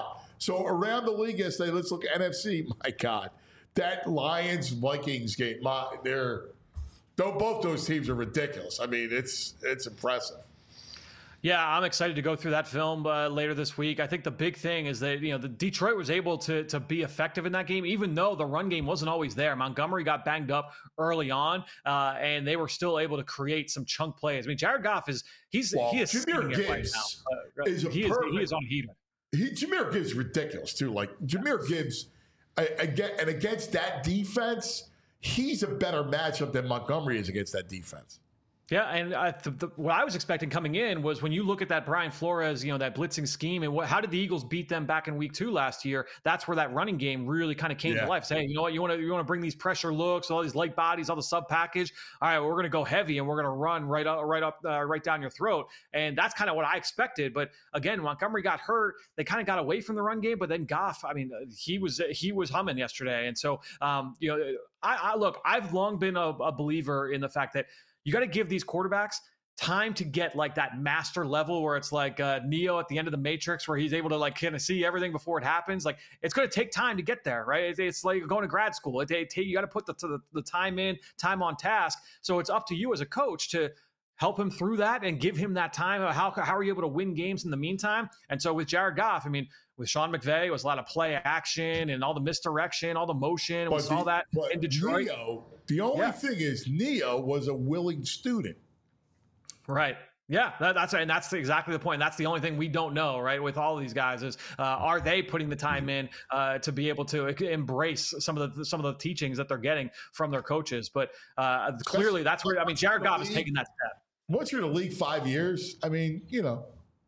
So around the league yesterday, let's look at N F C. My God, that Lions Vikings game, my, they're though both those teams are ridiculous. I mean, it's it's impressive. Yeah, I'm excited to go through that film uh, later this week. I think the big thing is that, you know, the Detroit was able to to be effective in that game, even though the run game wasn't always there. Montgomery got banged up early on, uh, and they were still able to create some chunk plays. I mean, Jared Goff is he's well, he is Jahmyr Gibbs right now. Uh, is a he, is, he perfect, is on heater. He, Jahmyr Gibbs is ridiculous too. Like Jahmyr Gibbs, I, I get, and against that defense, he's a better matchup than Montgomery is against that defense. Yeah, and I, the, the, what I was expecting coming in was when you look at that Brian Flores, you know, that blitzing scheme, and what, how did the Eagles beat them back in week two last year? That's where that running game really kind of came yeah. to life. Say, hey, you know what, you want to you want to bring these pressure looks, all these light bodies, all the sub package. All right, well, we're going to go heavy and we're going to run right up, right up, uh, right down your throat. And that's kind of what I expected. But again, Montgomery got hurt. They kind of got away from the run game. But then Goff, I mean, he was he was humming yesterday. And so, um, you know, I, I look, I've long been a, a believer in the fact that you got to give these quarterbacks time to get like that master level where it's like uh, Neo at the end of the Matrix, where he's able to like kind of see everything before it happens. Like it's going to take time to get there, right? It's, it's like going to grad school. It, it, you got to put the, the the time in, time on task. So it's up to you as a coach to help him through that and give him that time. How how are you able to win games in the meantime? And so with Jared Goff, I mean, with Sean McVay, it was a lot of play action and all the misdirection, all the motion. We saw that in Detroit. Neo, the only yeah. thing is Neo was a willing student. Right. Yeah, that, that's and that's exactly the point. That's the only thing we don't know, right? With all of these guys, is uh, are they putting the time in uh, to be able to embrace some of the some of the teachings that they're getting from their coaches? But uh, clearly, that's where I mean, Jared Goff is taking that step. Once you're in the league five years, I mean, you know.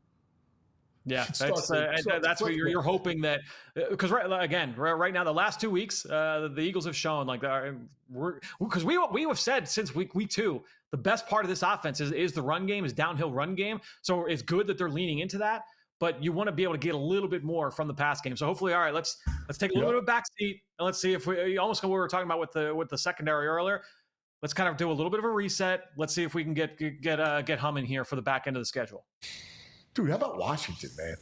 Yeah, that's, uh, and that's where you're, you're hoping that because right again right now the last two weeks uh, the Eagles have shown like we're because we we have said since week week two the best part of this offense is, is the run game, is downhill run game. So it's good that they're leaning into that, but you want to be able to get a little bit more from the pass game. So hopefully, all right, let's let's take a little yep. bit of a backseat and let's see if we almost what we were talking about with the with the secondary earlier. Let's kind of do a little bit of a reset. Let's see if we can get get uh, get humming here for the back end of the schedule. Dude, how about Washington, man?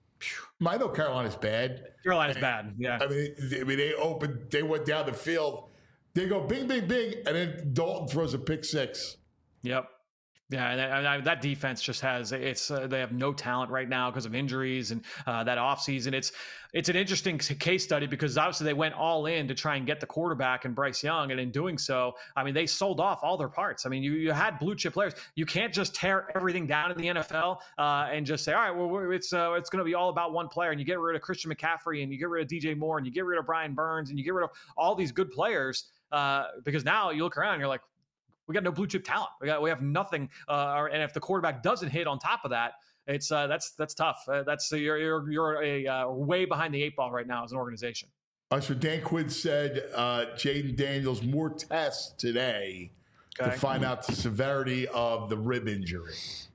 I know Carolina's bad. Carolina's bad, yeah. I mean, I mean, they opened, they went down the field. They go bing, bing, bing, and then Dalton throws a pick six. Yep. Yeah, and, and I, that defense just has it's uh, they have no talent right now because of injuries and uh, that offseason. It's it's an interesting case study because obviously they went all in to try and get the quarterback and Bryce Young, and in doing so, I mean they sold off all their parts. I mean you you had blue chip players. You can't just tear everything down in the N F L uh, and just say, all right, well it's uh, it's going to be all about one player, and you get rid of Christian McCaffrey and you get rid of D J Moore and you get rid of Brian Burns and you get rid of all these good players uh, because now you look around and you're like, we got no blue chip talent. We got we have nothing. Uh, and if the quarterback doesn't hit on top of that, it's uh, that's that's tough. Uh, that's uh, you're you're you're a uh, way behind the eight ball right now as an organization. Uh, so Dan Quinn said uh, Jaden Daniels more tests today okay. to find out the severity of the rib injury.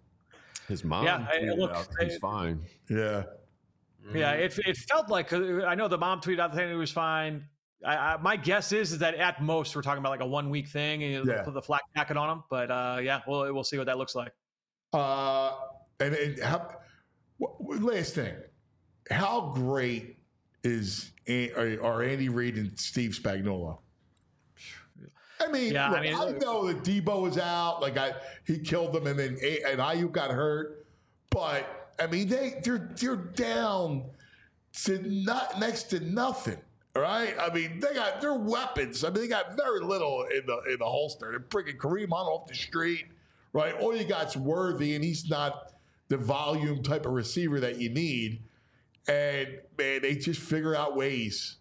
His mom, yeah, I, look, out he's I, fine. Yeah, yeah. It it felt like uh, I know the mom tweeted out saying he was fine. I, I, my guess is is that at most we're talking about like a one week thing and yeah. put the flak jacket on him. But uh, yeah, we'll we'll see what that looks like. Uh, and, and how, last thing, how great is are Andy Reid and Steve Spagnuolo? I mean, yeah, look, I, mean, I know that Debo was out, like I he killed them, and then and Ayuk got hurt. But I mean, they they're they're down to not next to nothing. All right, I mean they got their weapons. I mean they got very little in the in the holster. They're bringing Kareem Hunt off the street, right? All you got's Worthy, and he's not the volume type of receiver that you need. And man, they just figure out ways.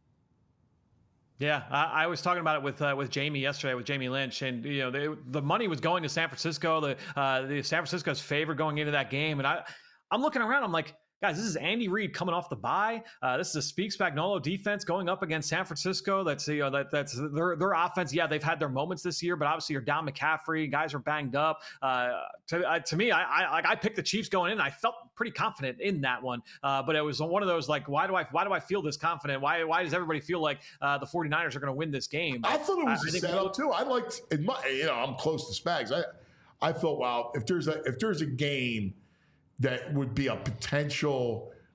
Yeah, I, I was talking about it with uh, with Jamie yesterday, with Jamie Lynch, and you know they, the money was going to San Francisco. The uh, the San Francisco's favor going into that game, and I I'm looking around. I'm like, guys, this is Andy Reid coming off the bye. Uh, this is a Speak Spagnuolo defense going up against San Francisco. That's you know that that's their their offense. Yeah, they've had their moments this year, but obviously you're down McCaffrey. Guys are banged up. Uh, to uh, to me, I I, like, I picked the Chiefs going in. I felt pretty confident in that one, uh, but it was one of those like, why do I why do I feel this confident? Why why does everybody feel like uh, the 49ers are going to win this game? I thought it was I, a setup too. I liked in my you know I'm close to Spags. I I thought wow if there's a if there's a game that would be a potential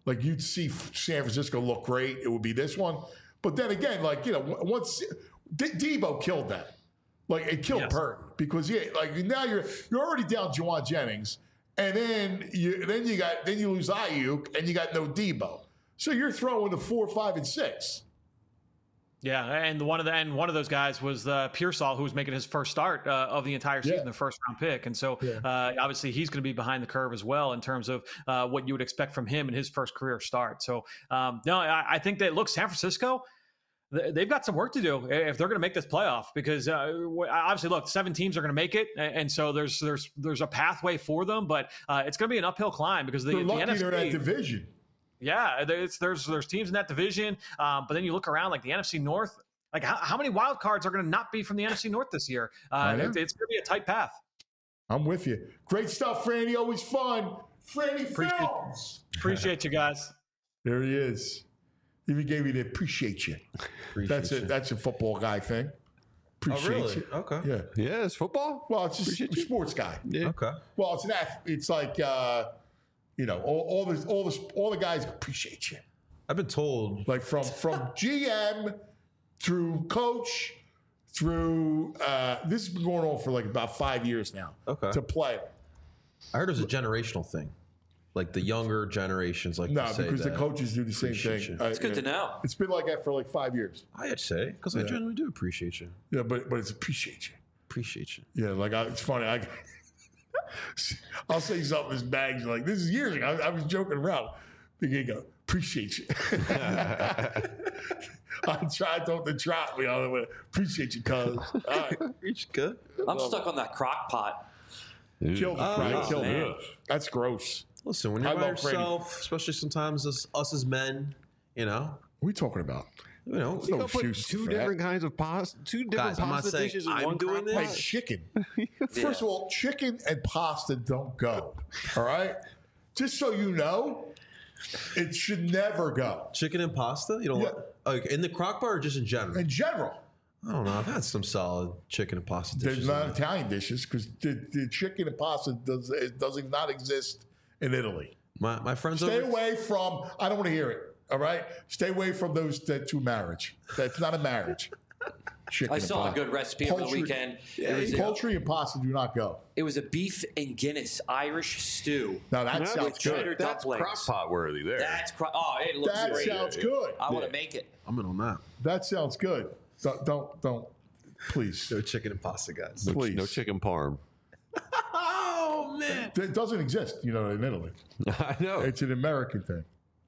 Like you'd see San Francisco look great. It would be this one. But then again, like, you know, once D- Debo killed that. Like it killed Yes. Purdy because yeah, like now you're you're already down Juwan Jennings, and then you then you got then you lose Ayuk and you got no Debo. So you're throwing the four, five, and six. Yeah, and one of the and one of those guys was uh, Pearsall, who was making his first start uh, of the entire season, Yeah. the first round pick, and so Yeah. uh, obviously he's going to be behind the curve as well in terms of uh, what you would expect from him in his first career start. So um, no, I, I think that look, San Francisco, th- they've got some work to do if they're going to make this playoff because uh, obviously, look, seven teams are going to make it, and so there's there's there's a pathway for them, but uh, it's going to be an uphill climb because the, They're the lucky N F C. they're in that division. Yeah, there's there's there's teams in that division, um, but then you look around like the N F C North. Like how, how many wild cards are going to not be from the N F C North this year? Uh, know. it, it's going to be a tight path. I'm with you. Great stuff, Franny. Always fun. Franny Appreciate- Films. Appreciate you guys. There he is. Even gave me the appreciate you. That's a you. that's a football guy thing. Oh, Appreciate really? you. Okay. Yeah. Yeah, it's football. Well, it's just Appreciate a you. sports guy. Yeah. Okay. Well, it's an ath- It's like uh, you know all, all the all the all the guys appreciate you. I've been told. Like from from G M through coach through uh, this has been going on for like about five years now. Okay. To player. I heard it was a generational thing. Like the younger generations like No, to say because that. the coaches do the same Appreciate thing. you. It's good to know. It's been like that for like five years. I'd say because I Yeah. genuinely do appreciate you. Yeah, but but it's appreciate you. Appreciate you. Yeah, like I, it's funny. I, I'll say something as bags like this is years ago. I, I was joking around. The guy go, appreciate you. I tried to to trot me on the way. Appreciate you, cuz. All right. Reach good. I'm stuck on that crock pot. Killed it, Oh, Frank. oh, Killed man. it. That's gross. Listen, when you're I by love Freddie. yourself, especially sometimes as, us as men, you know, What are we talking about? you know, There's you no know, Put excuse two for that. different kinds of pasta, two different Guys, I'm not pasta saying dishes in I'm one doing crock this. Like pot. chicken. Yeah. First of all, chicken and pasta don't go. All right? Just so you know, it should never go. chicken and pasta. You don't Yeah. like in the crock pot or just in general? In general. I don't know. I've had some solid chicken and pasta dishes. There's not in there. Italian dishes because the, the chicken and pasta does it does not exist in Italy. My my friends Stay over. away from. I don't want to hear it. All right, stay away from those that two marriage. That's not a marriage. Chicken I and saw a pasta. good recipe over the Poultry- weekend. Yeah, it, was a, poultry and pasta do not go. it was a beef and Guinness Irish stew. Now that No, sounds with cheddar good. That's dumplings. crock pot worthy there. That's cr- oh, it looks That great. sounds good. I want Yeah. to make it. I'm in on that. That sounds good. Don't don't, don't please. No chicken and pasta, guys. no, please. no chicken parm. Oh man. It doesn't exist, you know, in Italy. I know. It's an American thing.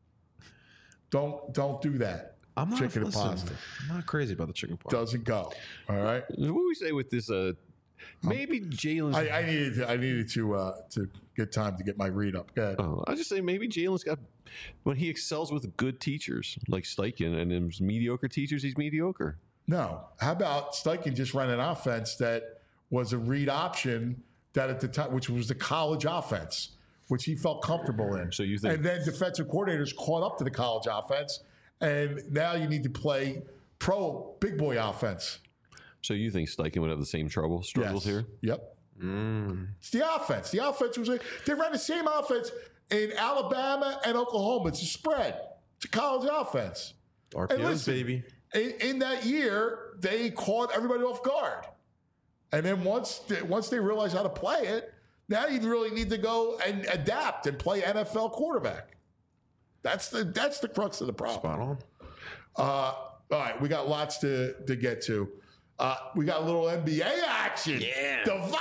Don't don't do that. I'm not Chicken and listen, pasta I'm not crazy about the chicken parm. doesn't go. All right. What do we say with this? Uh, maybe Jalen's. I, I needed to, I needed to uh, to get time to get my read up. Go ahead. Oh, I just say maybe Jalen's got when he excels with good teachers like Steichen, and then mediocre teachers, he's mediocre. No. How about Steichen just ran an offense that was a read option that at the time, which was the college offense, which he felt comfortable in. So you think- and then defensive coordinators caught up to the college offense, and now you need to play pro big boy offense. So you think Steichen would have the same trouble struggles Yes. here? Yep. Mm. It's the offense. The offense was a, they ran the same offense in Alabama and Oklahoma. It's a spread. It's a college offense. R And P Os, listen, baby. In, in that year, they caught everybody off guard. And then once they, once they realized how to play it, now you really need to go and adapt and play N F L quarterback. That's the that's the crux of the problem. Spot on. Uh, all right, we got lots to, to get to. Uh, we got a little N B A action. Yeah. Devon!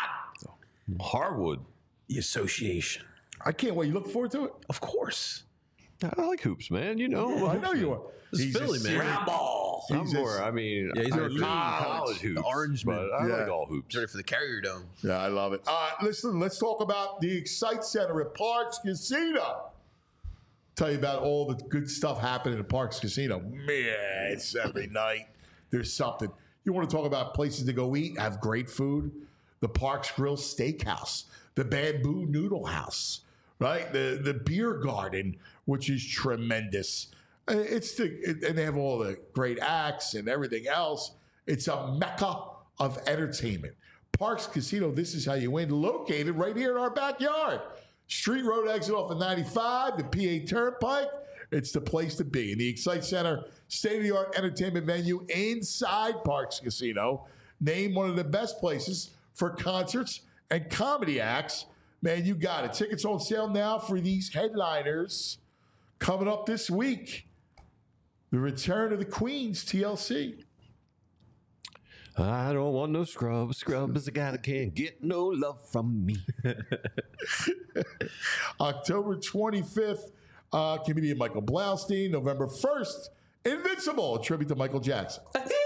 Harwood. The association. I can't wait. You look forward to it? Of course. I like hoops, man. You know, I know you are. This is He's a Philly, man. serious- Round ball. I'm He's more. a- I mean, Yeah, he's I a lean college- college hoops, the orange man. but I Yeah. like all hoops. He's ready for the Carrier Dome. Yeah, I love it. Uh, listen, let's talk about the Excite Center at Parks Casino. Tell you about all the good stuff happening at Parks Casino. Man, it's every night. There's something. You want to talk about places to go eat, have great food? The Parks Grill Steakhouse, the Bamboo Noodle House, right? The the beer garden, which is tremendous. Uh, It's the it, and they have all the great acts and everything else. It's a mecca of entertainment. Parks Casino, this is how you win. Located right here in our backyard. Street Road exit off of ninety-five, the P A Turnpike. It's the place to be. In the Excite Center, state-of-the-art entertainment venue inside Parx Casino. Named one of the best places for concerts and comedy acts. Man, you got it. Tickets on sale now for these headliners coming up this week. The return of the Queens, T L C. I don't want no scrub. Scrub is a guy that can't get no love from me. October twenty-fifth, uh, comedian Michael Blaustein. November first, Invincible, a tribute to Michael Jackson.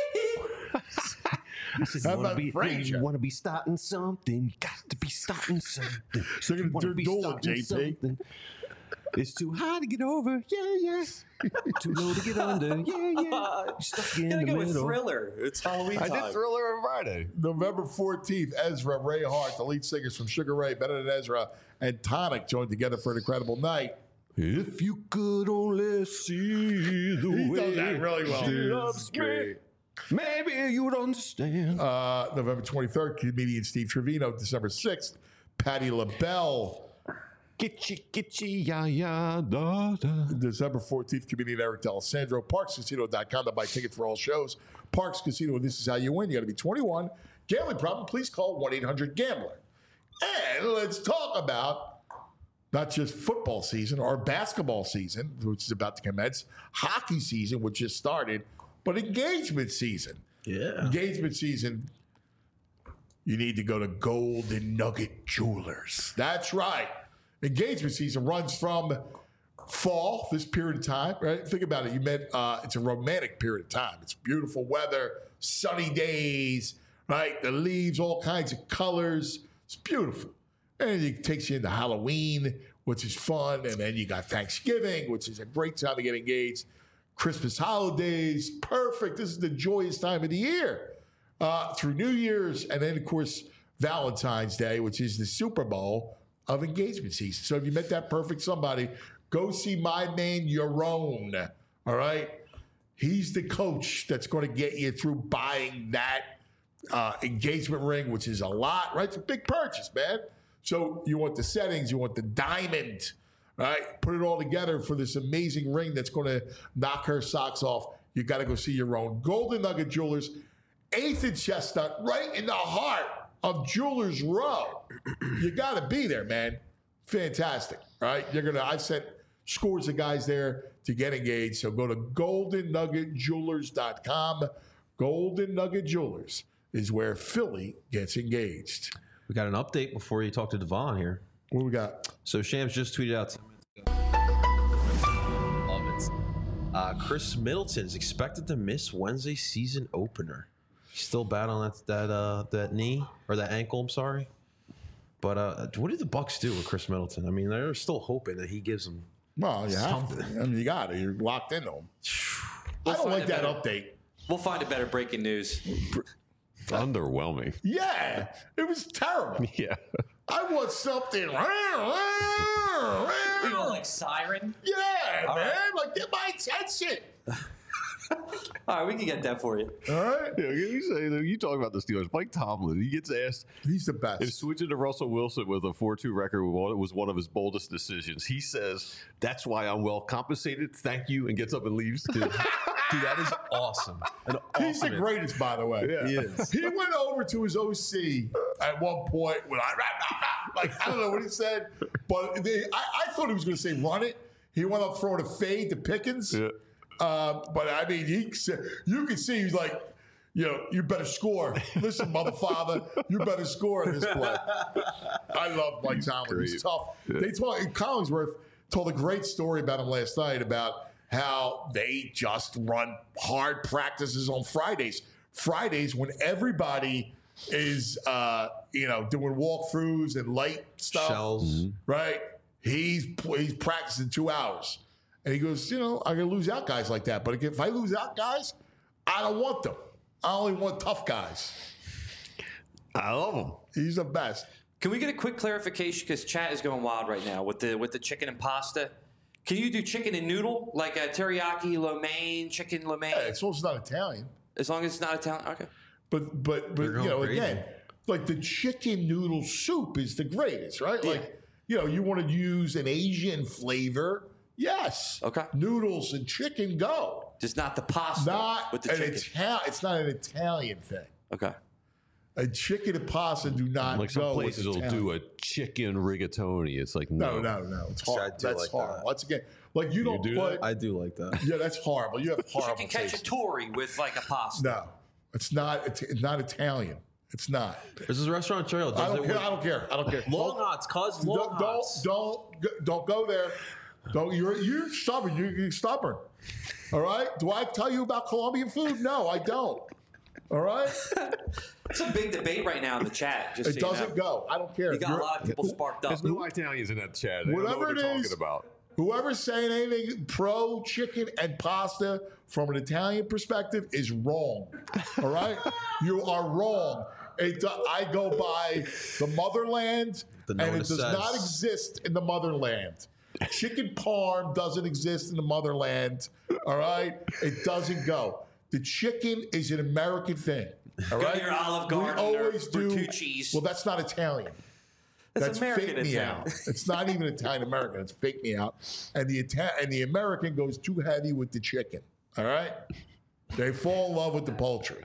I said, How you want about to be, Frasier? you want to be starting something. You got to be starting something. So you're You gonna wanna do be duel, starting J P. something. It's too high to get over. Yeah, yeah. Too low to get under. Yeah, yeah. You're stuck in Gotta the go with middle. Thriller. It's Halloween I time. did Thriller on Friday. November fourteenth, Ezra, Ray Hart, the lead singers from Sugar Ray, Better Than Ezra, and Tonic joined together for an incredible night. If you could only see the He way does that really well. she loves me, maybe you would understand. Uh, November twenty-third, comedian Steve Trevino. December sixth, Patti LaBelle. Gitchy, gitchy, ya, ya, da, da. December fourteenth, comedian Eric D'Alessandro. Parx Casino dot com to buy tickets for all shows. Parx Casino, this is how you win. You got to be twenty-one. Gambling problem, please call one eight hundred gambler. And let's talk about not just football season or basketball season, which is about to commence, hockey season, which just started, but engagement season. Yeah. Engagement season, you need to go to Golden Nugget Jewelers. That's right. Engagement season runs from fall, this period of time, right? Think about it. You meant uh, it's a romantic period of time. It's beautiful weather, sunny days, right? The leaves, all kinds of colors. It's beautiful. And it takes you into Halloween, which is fun. And then you got Thanksgiving, which is a great time to get engaged. Christmas holidays, perfect. This is the joyous time of the year. Uh, through New Year's, and then, of course, Valentine's Day, which is the Super Bowl of engagement season. So if you met that perfect somebody, go see my man, Yaron. All right? He's the coach that's going to get you through buying that uh, engagement ring, which is a lot, right? It's a big purchase, man. So you want the settings, you want the diamond, right? Put it all together for this amazing ring that's going to knock her socks off. You got to go see your own. Golden Nugget Jewelers, eighth and Chestnut, right in the heart of Jewelers Row. You got to be there, man. Fantastic, right? You're gonna. I've sent scores of guys there to get engaged. So go to golden nugget jewelers dot com. Golden Nugget Jewelers is where Philly gets engaged. We got an update before you talk to Devon here. What we got? So Shams just tweeted out ten minutes ago. Love it. Uh, Chris Middleton is expected to miss Wednesday season opener. He's still battling that that uh, that knee or that ankle. I'm sorry, but uh, what did the Bucks do with Chris Middleton? I mean, they're still hoping that he gives them. Well, you have to. I mean, you got it. You're locked into him. I don't like that update. We'll find a better breaking news. Underwhelming. Yeah, it was terrible. Yeah. I want something. We want like Siren. Yeah, All man. right. Like, get my attention. All right, we can get that for you. All right. Yeah, you say that you talk about the Steelers. Mike Tomlin, he gets asked He's the best. if switching to Russell Wilson with a four two record was one of his boldest decisions. He says, "That's why I'm well compensated. Thank you," and gets up and leaves. Dude, that is awesome. An He's the awesome- greatest, by the way. Yeah. He is. He went over to his O C at one point when I like I don't know what he said, but they, I, I thought he was going to say run it. He went up throwing a fade to Pickens. Yeah. Uh, but I mean, he said you can see he's like, you know, you better score. Listen, mother father, you better score in this play. I love Mike Tomlin. He's great. tough. Yeah. They talk. Collinsworth told a great story about him last night about how they just run hard practices on Fridays. Fridays when everybody is, uh, you know, doing walkthroughs and light stuff, Shells. right? He's he's practicing two hours. And he goes, you know, I'm going to lose out guys like that. But if I lose out guys, I don't want them. I only want tough guys. I love him. He's the best. Can we get a quick clarification? Because chat is going wild right now with the with the chicken and pasta. Can you do chicken and noodle like a teriyaki lo mein, chicken lo mein? Yeah, it's also not Italian. As long as it's not Italian. Okay. But, but, but They're you going know, crazy. again, like the chicken noodle soup is the greatest, right? Yeah. Like you know, you want to use an Asian flavor, yes. Okay. Noodles and chicken, go. Just not the pasta Not with the an chicken. Italian. It's not an Italian thing. Okay. A chicken and pasta do not Like some go places with will Italian. do a chicken rigatoni. It's like No, no, no, no. It's See, I horrible. do That's like horrible. that. Once again, like you don't do put. that? I do like that. Yeah, that's horrible. You have horrible Chicken taste. cacciatore with like a pasta. No, it's not. It's, it's not Italian. It's not. There's this restaurant in Trail. I don't care. I don't care. I don't care. Long hots, cause long don't, don't hots. don't don't go there. Don't you're you're stubborn. You're, you're stubborn. All right. Do I tell you about Colombian food? No, I don't. All right. It's a big debate right now in the chat. Just It so you doesn't know. go. I don't care. You got You're- a lot of people sparked up. There's no Italians in that chat. They don't know Whatever what it they're is. talking about. Whoever's saying anything pro chicken and pasta from an Italian perspective is wrong. All right? You are wrong. It, I go by the motherland, The and it Nona does not says. exist in the motherland. Chicken parm doesn't exist in the motherland. All right? It doesn't go. The chicken is an American thing. All Go right? to your Olive Garden We or always do. Bertucci's. Well, that's not Italian. That's That's American fake me Italian. out. It's not even Italian American. It's fake me out. And the Ita- and the American goes too heavy with the chicken. All right, they fall in love with the poultry.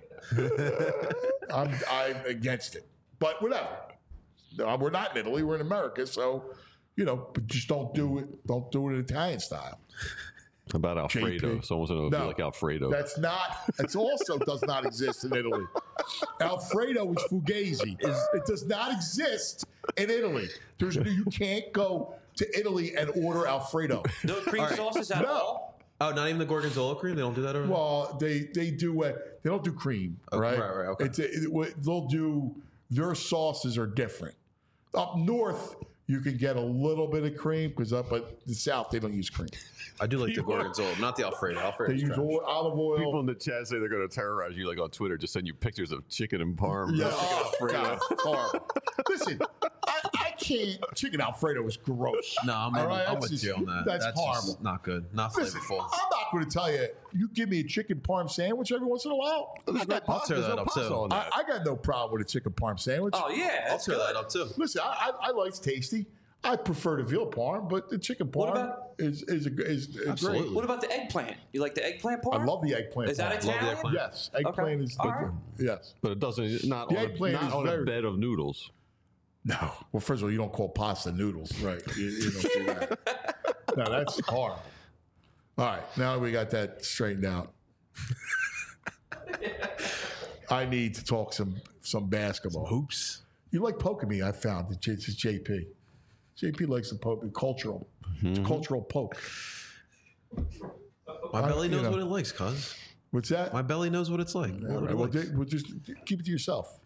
I'm I'm against it, but whatever. Uh, We're not in Italy. We're in America, so you know, but just don't do it. Don't do it in Italian style. How about Alfredo? J P. Someone's going to No, feel like Alfredo. That's not. It also does not exist in Italy. Alfredo is fugazi. It does not exist in Italy. There's you can't go to Italy and order Alfredo. No cream All right. sauces at No. all? Oh, not even the gorgonzola cream. They don't do that over there. Well, they they do uh, they don't do cream, Oh, right? right, right, okay. It's a, it, they'll do their sauces are different. Up north, you can get a little bit of cream because up at the south they don't use cream. I do like the gorgonzola, not the Alfredo. They Alfredo's use trash. oil, olive oil. People in the chat say they're going to terrorize you, like on Twitter, just send you pictures of chicken and parm. Yeah, Chicken oh, Alfredo. God, it's horrible. Listen, I, I can't. Chicken Alfredo is gross. No, I'm, All right, I'm that's with just- you on that. That's, just horrible. not good. Not Listen, flavorful. I'm not going to tell you. You give me a chicken parm sandwich every once in a while. I got, I'll tear There's that no up pasta too. on I, that. I got no problem with a chicken parm sandwich. Oh, yeah. I'll That's tear good. that up too. Listen, I, I, I like it's tasty. I prefer the veal parm, but the chicken What parm about- is is, a, is, is Absolutely. great. What about the eggplant? You like the eggplant I part? love the eggplant. Is that parm. Love the Italian? eggplant. Yes, eggplant is All different. Yes. But it doesn't, not The on, a, eggplant not is on a very- bed of noodles. No. Well, first of all, you don't call pasta noodles, right? You, you don't do that. No, that's horrible. All right, now we got that straightened out. I need to talk some some basketball. Hoops. You like poking me? I found it's J- it's J P. J P likes the poke, cultural. It's cultural poke. My I- belly you knows know. what it likes, cuz. What's that? My belly knows what it's like. All What right, it well, likes. di- well, just keep it to yourself.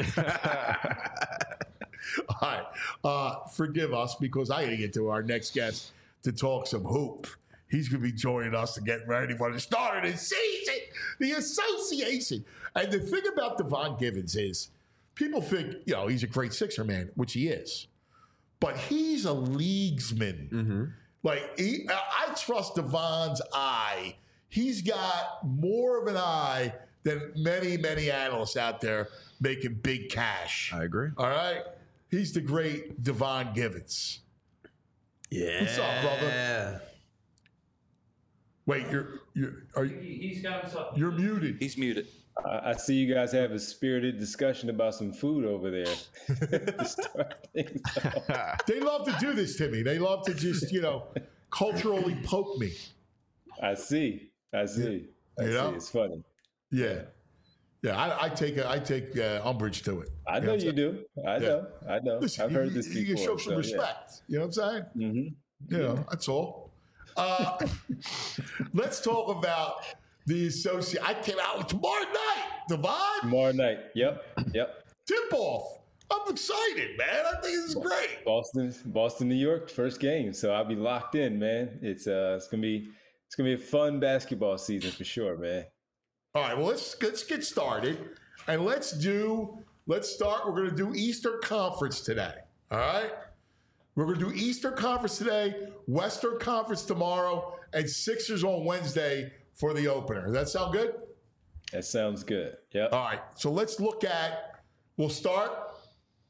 All right. Uh, forgive us because I got to get to our next guest to talk some hoop. He's going to be joining us to get ready for the start of the season, the association. And the thing about Devon Givens is people think, you know, he's a great Sixer man, which he is. But he's a leaguesman. Mm-hmm. Like, he, I I trust Devon's eye. He's got more of an eye than many, many analysts out there making big cash. I agree. All right? He's the great Devon Givens. Yeah. What's up, brother? Wait, you're you're are you, He's got himself. you're muted. He's muted. I I see you guys have a spirited discussion about some food over there to start things off. They love to do this to me. They love to just, you know, culturally poke me. I see. I see. I You see. know? It's funny. Yeah. Yeah, I, I take a, I take uh, umbrage to it. I You know what I'm you saying? do. I know. I know. Listen, I've you, heard this you, you before. can show some so, respect. You know what I'm saying? Yeah. Mm-hmm. You know, that's all. Uh, let's talk about the associate. I came out tomorrow night, Devon. Tomorrow night. Yep. Yep. Tip off. I'm excited, man. I think this is great. Boston, Boston, New York, first game. So I'll be locked in, man. It's uh, it's gonna be, it's gonna be a fun basketball season for sure, man. All right, well, let's let's get started. And let's do, let's start. We're going to do Eastern Conference today. All right? We're going to do Eastern Conference today, Western Conference tomorrow, and Sixers on Wednesday for the opener. Does that sound good? That sounds good. Yep. All right, so let's look at, we'll start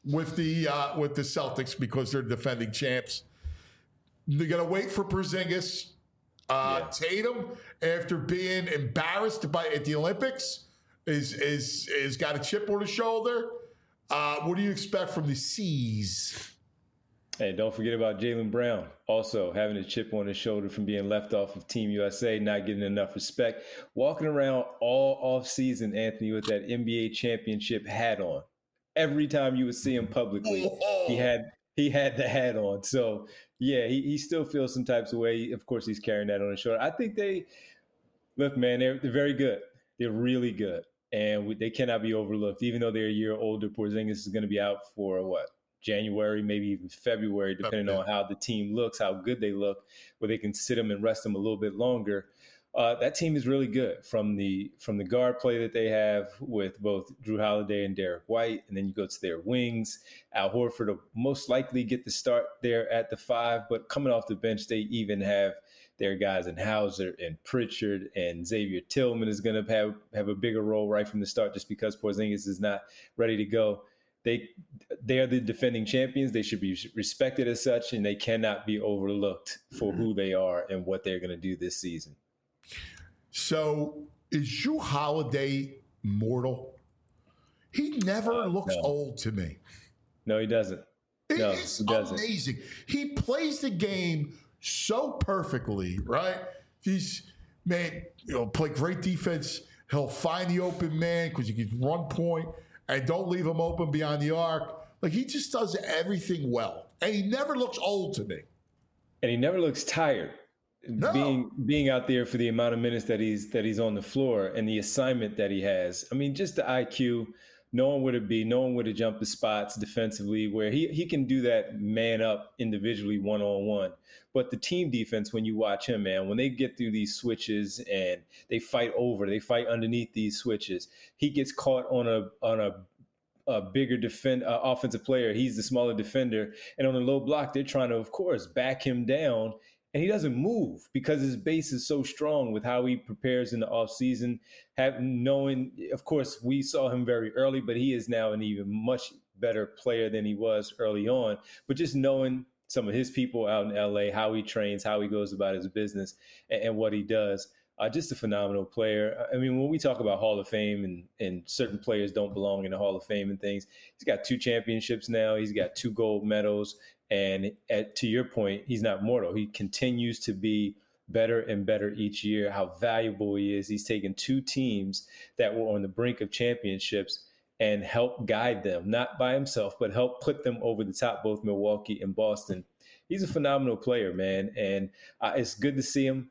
with the uh, with the Celtics because they're defending champs. They're gonna wait for Porzingis. Uh, Yeah. Tatum, after being embarrassed by at the Olympics, is is is got a chip on his shoulder. Uh, what do you expect from the C's? Hey, don't forget about Jaylen Brown, also having a chip on his shoulder from being left off of Team U S A, not getting enough respect. Walking around all off season, Anthony, with that N B A championship hat on. Every time you would see him publicly, he had he had the hat on. So, yeah, he, he still feels some types of way. Of course, he's carrying that on his shoulder. I think they, look, man, they're, they're very good. They're really good. And we, they cannot be overlooked. Even though they're a year older, Porzingis is going to be out for what? January, maybe even February, depending on how the team looks, how good they look, where they can sit them and rest them a little bit longer. Uh, that team is really good from the from the guard play that they have with both Drew Holiday and Derek White, and then you go to their wings. Al Horford will most likely get the start there at the five, but coming off the bench, they even have their guys in Hauser and Pritchard, and Xavier Tillman is going to have, have a bigger role right from the start just because Porzingis is not ready to go. They they are the defending champions. They should be respected as such, and they cannot be overlooked for who they are and what they're going to do this season. So is Drew Holiday mortal? He never Uh, looks no. old to me. No, he doesn't. It No, is he doesn't. amazing. He plays the game so perfectly, right? He's, man, you know, play great defense. He'll find the open man because he can run point and don't leave him open beyond the arc. Like, he just does everything well. And he never looks old to me. And he never looks tired. No. Being being out there for the amount of minutes that he's that he's on the floor and the assignment that he has. I mean, just the I Q, knowing where to be, knowing where to jump the spots defensively, where he, he can do that man up individually one-on-one. But the team defense, when you watch him, man, when they get through these switches and they fight over, they fight underneath these switches, he gets caught on a on a a bigger defend uh, offensive player. He's the smaller defender. And on a low block, they're trying to, of course, back him down. And he doesn't move because his base is so strong with how he prepares in the offseason. Have, knowing, of course, we saw him very early, but he is now an even much better player than he was early on. But just knowing some of his people out in L A, how he trains, how he goes about his business, and, and what he does, uh, just a phenomenal player. I mean, when we talk about Hall of Fame and, and certain players don't belong in the Hall of Fame and things, he's got two championships now. He's got two gold medals. And at, to your point, he's not mortal. He continues to be better and better each year, how valuable he is. He's taken two teams that were on the brink of championships and helped guide them, not by himself, but help put them over the top, both Milwaukee and Boston. He's a phenomenal player, man. And uh, it's good to see him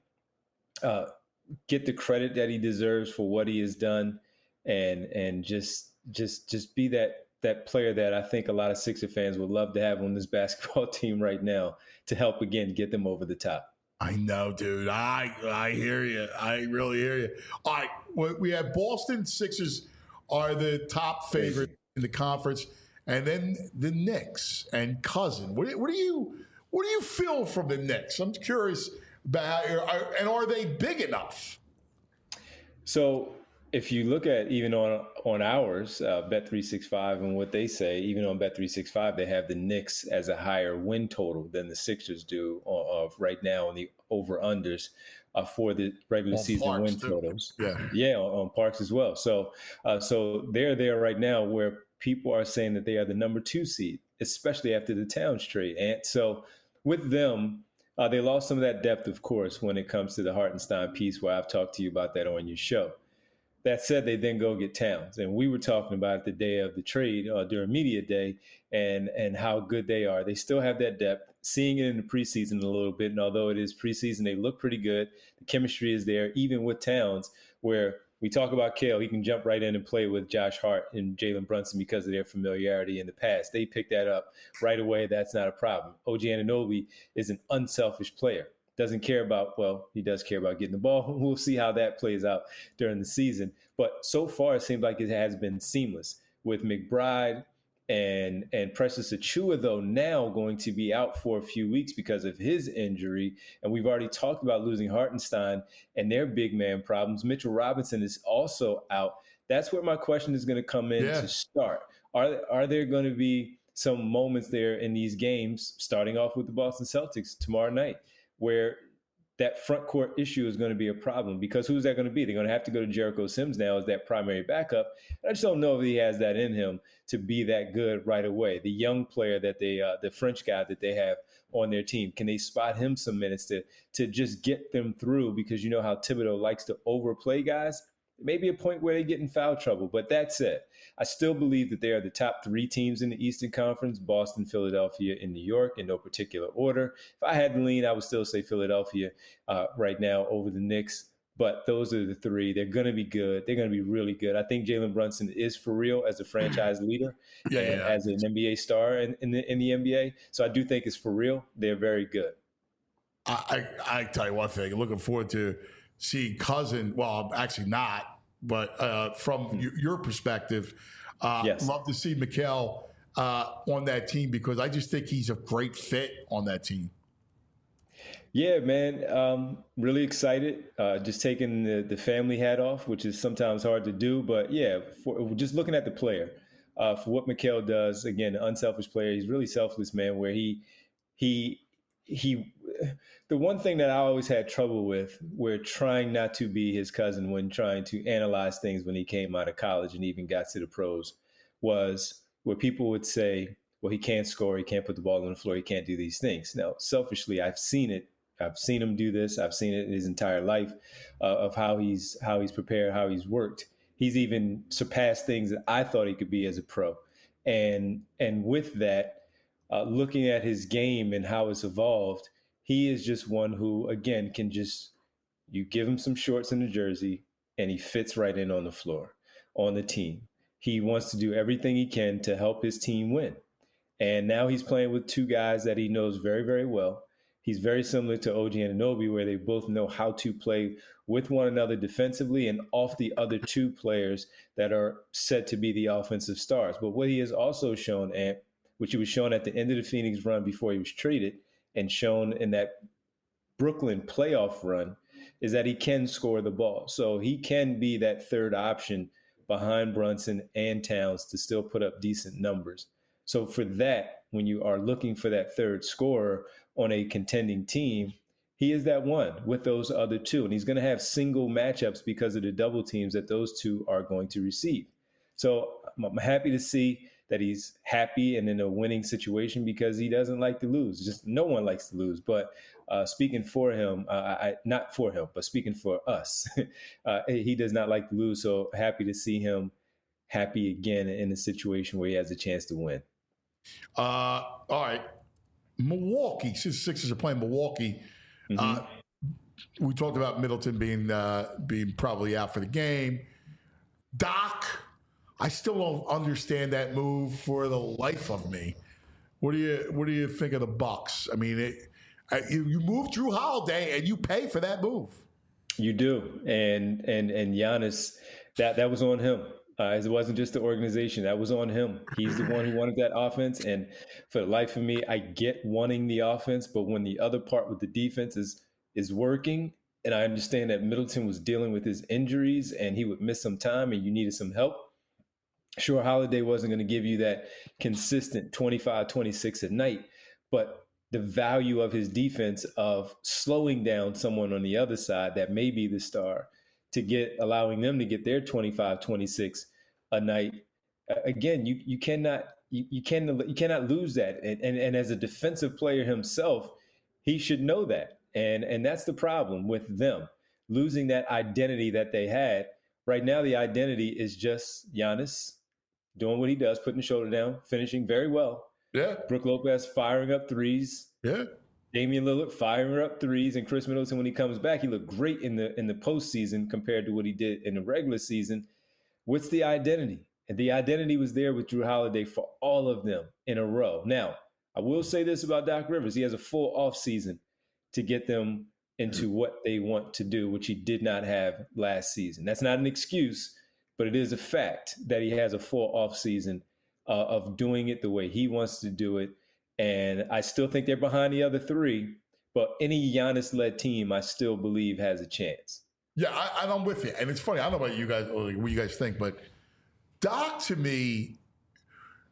uh, get the credit that he deserves for what he has done and and just just just be that that player that I think a lot of Sixer fans would love to have on this basketball team right now to help, again, get them over the top. I know, dude. I I hear you. I really hear you. All right, we- we have Boston Sixers are the top favorite in the conference, and then the Knicks and Cousin. What, do- what do you what do you feel from the Knicks? I'm curious about, are- and are they big enough? So if you look at even on on ours, uh, Bet three sixty-five, and what they say, even on Bet three sixty-five, they have the Knicks as a higher win total than the Sixers do uh, of right now on the over-unders uh, for the regular On season Parks, win too. totals. Yeah. Yeah, on, on Parks as well. So, uh, so they're there right now where people are saying that they are the number two seed, especially after the Towns trade. And so with them, uh, they lost some of that depth, of course, when it comes to the Hartenstein piece, where I've talked to you about that on your show. That said, they then go get Towns. And we were talking about it the day of the trade uh, during media day and, and how good they are. They still have that depth, seeing it in the preseason a little bit. And although it is preseason, they look pretty good. The chemistry is there, even with Towns, where we talk about Kale. He can jump right in and play with Josh Hart and Jalen Brunson because of their familiarity in the past. They picked that up right away. That's not a problem. O G Anunoby is an unselfish player. Doesn't care about, well, he does care about getting the ball. We'll see how that plays out during the season. But so far, it seems like it has been seamless with McBride and and Precious Achiuwa, though, now going to be out for a few weeks because of his injury. And we've already talked about losing Hartenstein and their big man problems. Mitchell Robinson is also out. That's where my question is going to come in Yeah. to start. Are, are there going to be some moments there in these games, starting off with the Boston Celtics tomorrow night, where that front court issue is going to be a problem, because who's that going to be? They're going to have to go to Jericho Sims now as that primary backup. I just don't know if he has that in him to be that good right away. The young player that they, uh, the French guy that they have on their team, can they spot him some minutes to to just get them through? Because you know how Thibodeau likes to overplay guys. Maybe a point where they get in foul trouble. But that said, I still believe that they are the top three teams in the Eastern Conference: Boston, Philadelphia, and New York, in no particular order. If I had to lean, I would still say Philadelphia uh, right now over the Knicks. But those are the three. They're going to be good. They're going to be really good. I think Jalen Brunson is for real as a franchise leader yeah, and yeah. as an N B A star in, in, the, in the N B A. So I do think it's for real. They're very good. I, I, I tell you one thing. Looking forward to seeing Cousin. Well, actually not. But uh, from mm-hmm. your, your perspective, uh, yes. love to see Mikal uh, on that team, because I just think he's a great fit on that team. Yeah, man. Um, really excited. Uh, just taking the, the family hat off, which is sometimes hard to do. But yeah, for, just looking at the player, uh, for what Mikal does, again, an unselfish player. He's really selfless, man, where he, he, he, the one thing that I always had trouble with, we're trying not to be his cousin when trying to analyze things when he came out of college and even got to the pros, was where people would say, well, he can't score, he can't put the ball on the floor, he can't do these things. Now, selfishly, I've seen it. I've seen him do this. I've seen it in his entire life uh, of how he's how he's prepared, how he's worked. He's even surpassed things that I thought he could be as a pro. And and with that, uh, looking at his game and how it's evolved, he is just one who, again, can just, you give him some shorts and a jersey, and he fits right in on the floor, on the team. He wants to do everything he can to help his team win. And now he's playing with two guys that he knows very, very well. He's very similar to O G Anunoby, where they both know how to play with one another defensively and off the other two players that are set to be the offensive stars. But what he has also shown, and which he was shown at the end of the Phoenix run before he was traded, and shown in that Brooklyn playoff run, is that he can score the ball. So he can be that third option behind Brunson and Towns to still put up decent numbers. So for that, when you are looking for that third scorer on a contending team, he is that one with those other two. And he's going to have single matchups because of the double teams that those two are going to receive. So I'm happy to see that he's happy and in a winning situation, because he doesn't like to lose. Just no one likes to lose. But uh, speaking for him, uh, I, not for him, but speaking for us, uh, he does not like to lose. So happy to see him happy again in a situation where he has a chance to win. Uh, all right. Milwaukee, since Sixers are playing Milwaukee, mm-hmm. uh, we talked about Middleton being uh, being probably out for the game. Doc, I still don't understand that move for the life of me. What do you What do you think of the Bucks? I mean, it, you, you move Drew Holiday and you pay for that move. You do, and and and Giannis, that that was on him. Uh, it wasn't just the organization. That was on him. He's the one who wanted that offense. And for the life of me, I get wanting the offense, but when the other part with the defense is is working, and I understand that Middleton was dealing with his injuries and he would miss some time and you needed some help. Sure, Holiday wasn't going to give you that consistent twenty-five, twenty-six a night, but the value of his defense of slowing down someone on the other side that may be the star, to get allowing them to get their twenty-five, twenty-six a night. Again, you you cannot you, you can you cannot lose that. And, and and as a defensive player himself, he should know that. And and that's the problem with them, losing that identity that they had. Right now, the identity is just Giannis doing what he does, putting the shoulder down, finishing very well. Yeah. Brook Lopez firing up threes. Yeah. Damian Lillard firing up threes, and Chris Middleton, when he comes back, he looked great in the in the postseason compared to what he did in the regular season. What's the identity? And the identity was there with Drew Holiday for all of them in a row. Now, I will say this about Doc Rivers. He has a full offseason to get them into what they want to do, which he did not have last season. That's not an excuse, but it is a fact that he has a full offseason uh, of doing it the way he wants to do it. And I still think they're behind the other three, but any Giannis-led team, I still believe, has a chance. Yeah, I, I'm with you. And it's funny, I don't know about you guys, or what you guys think, but Doc, to me,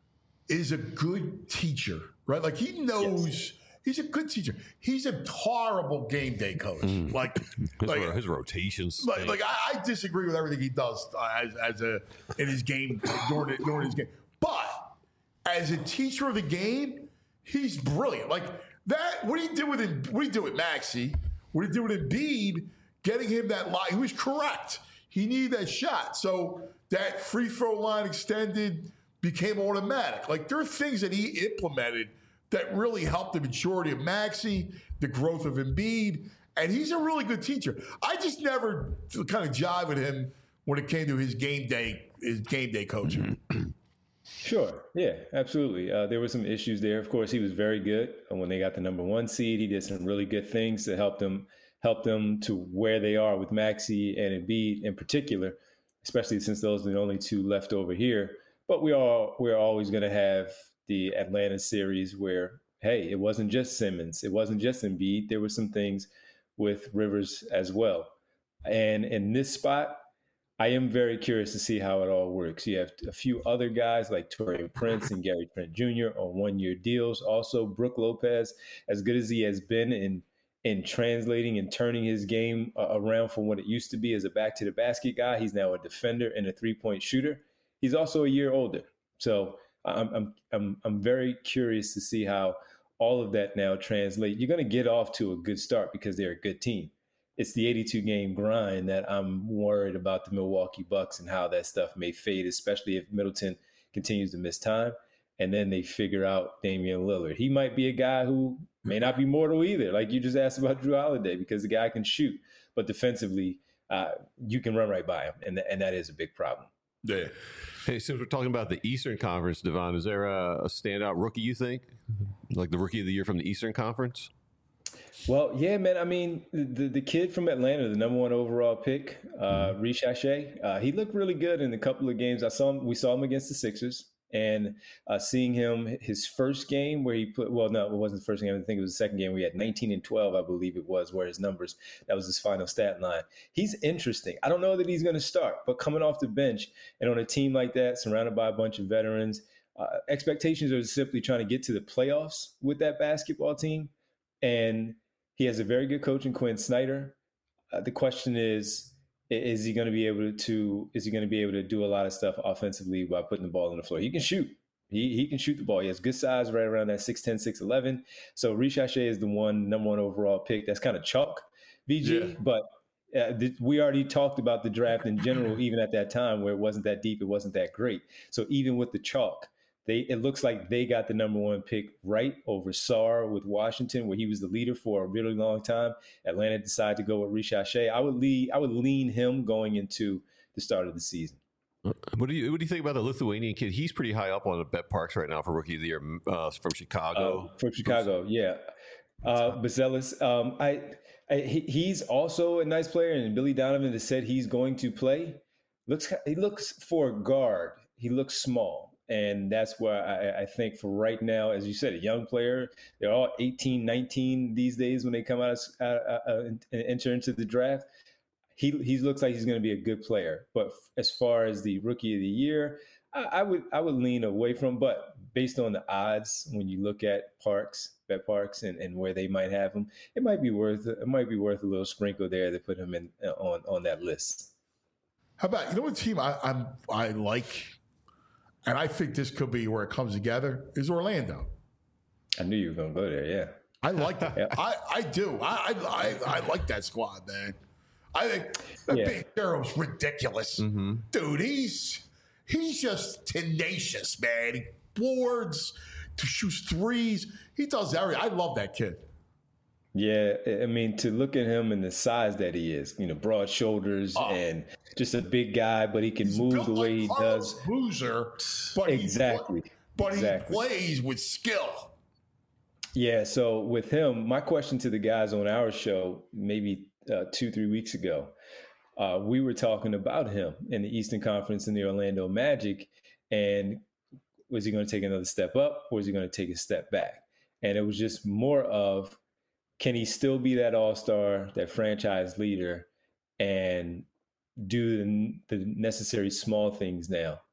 is a good teacher, right? Like he knows yes. he's a good teacher. He's a horrible game day coach. Mm. Like, his, like his rotations. Like, like I, I disagree with everything he does uh, as, as a in his game during during his game. But as a teacher of the game, he's brilliant. Like that. What he did with him, what he did with Maxey, what he did with Embiid, getting him that line. He was correct. He needed that shot. So that free throw line extended became automatic. Like there are things that he implemented that really helped the maturity of Maxey, the growth of Embiid, and he's a really good teacher. I just never kind of jive with him when it came to his game day, his game day coaching. Sure. Yeah, absolutely. Uh, there were some issues there. Of course, he was very good. And when they got the number one seed, he did some really good things to help them help them to where they are with Maxey and Embiid in particular, especially since those are the only two left over here. But we are we're always going to have the Atlanta series where, hey, it wasn't just Simmons, it wasn't just Embiid. There were some things with Rivers as well. And in this spot, I am very curious to see how it all works. You have a few other guys like Taurean Prince and Gary Trent Junior on one-year deals. Also, Brook Lopez, as good as he has been in in translating and turning his game uh, around from what it used to be as a back-to-the-basket guy, he's now a defender and a three-point shooter. He's also a year older. So I'm I'm I'm I'm very curious to see how all of that now translate. You're going to get off to a good start because they're a good team. It's the eighty-two game grind that I'm worried about the Milwaukee Bucks and how that stuff may fade, especially if Middleton continues to miss time. And then they figure out Damian Lillard. He might be a guy who may not be mortal either. Like you just asked about Drew Holiday, because the guy can shoot, but defensively, uh, you can run right by him. And, th- and that is a big problem. Yeah. Hey, since we're talking about the Eastern Conference, Devon, is there a, a standout rookie you think? Like the rookie of the year from the Eastern Conference? Well, yeah, man. I mean, the the kid from Atlanta, the number one overall pick, uh, Rish Ashay, uh, he looked really good in a couple of games. I saw him. We saw him against the Sixers, and uh, seeing him his first game where he put. Well, no, it wasn't the first game. I think it was the second game. We had nineteen and twelve, I believe it was, where his numbers. That was his final stat line. He's interesting. I don't know that he's going to start, but coming off the bench and on a team like that, surrounded by a bunch of veterans, uh, expectations are simply trying to get to the playoffs with that basketball team, and he has a very good coach in Quinn Snyder. Uh, the question is, is he going to be able to? Is he going to be able to do a lot of stuff offensively by putting the ball on the floor? He can shoot. He he can shoot the ball. He has good size, right around that six ten, six eleven. So Rish Ashay is the one number one overall pick. That's kind of chalk, V G. Yeah. But uh, th- we already talked about the draft in general, even at that time where it wasn't that deep, it wasn't that great. So even with the chalk, They, it looks like they got the number one pick right over Sarr with Washington, where he was the leader for a really long time. Atlanta decided to go with Rish Ashay. I would lean, I would lean him going into the start of the season. What do you What do you think about the Lithuanian kid? He's pretty high up on the Bet Parks right now for Rookie of the Year uh, from Chicago. Uh, from Chicago, yeah. Uh, Bazelis, um, I, I he, he's also a nice player, and Billy Donovan has said he's going to play. Looks he looks for a guard. He looks small. And that's where I, I think for right now, as you said, a young player, they're all eighteen, nineteen these days when they come out uh, uh, and enter into the draft. He he looks like he's going to be a good player. But as far as the rookie of the year, I, I would I would lean away from. But based on the odds, when you look at Parks, Bet Parks, and, and where they might have him, it might be worth it might be worth a little sprinkle there to put him in on on that list. How about, you know what team I I'm, I like? And I think this could be where it comes together, is Orlando. I knew you were going to go there, yeah. I like that. yeah. I, I do. I, I I like that squad, man. I think the yeah. Big Hero's ridiculous. Mm-hmm. Dude, he's he's just tenacious, man. He boards, to shoots threes. He does everything. I love that kid. Yeah, I mean, to look at him and the size that he is, you know, broad shoulders oh. and just a big guy, but he can He's move the way like he does. Boozer, but exactly. He, but exactly. he plays with skill. Yeah, so with him, my question to the guys on our show, maybe uh, two, three weeks ago, uh, we were talking about him in the Eastern Conference in the Orlando Magic, and was he going to take another step up, or was he going to take a step back? And it was just more of, can he still be that all-star, that franchise leader, and do the, the necessary small things now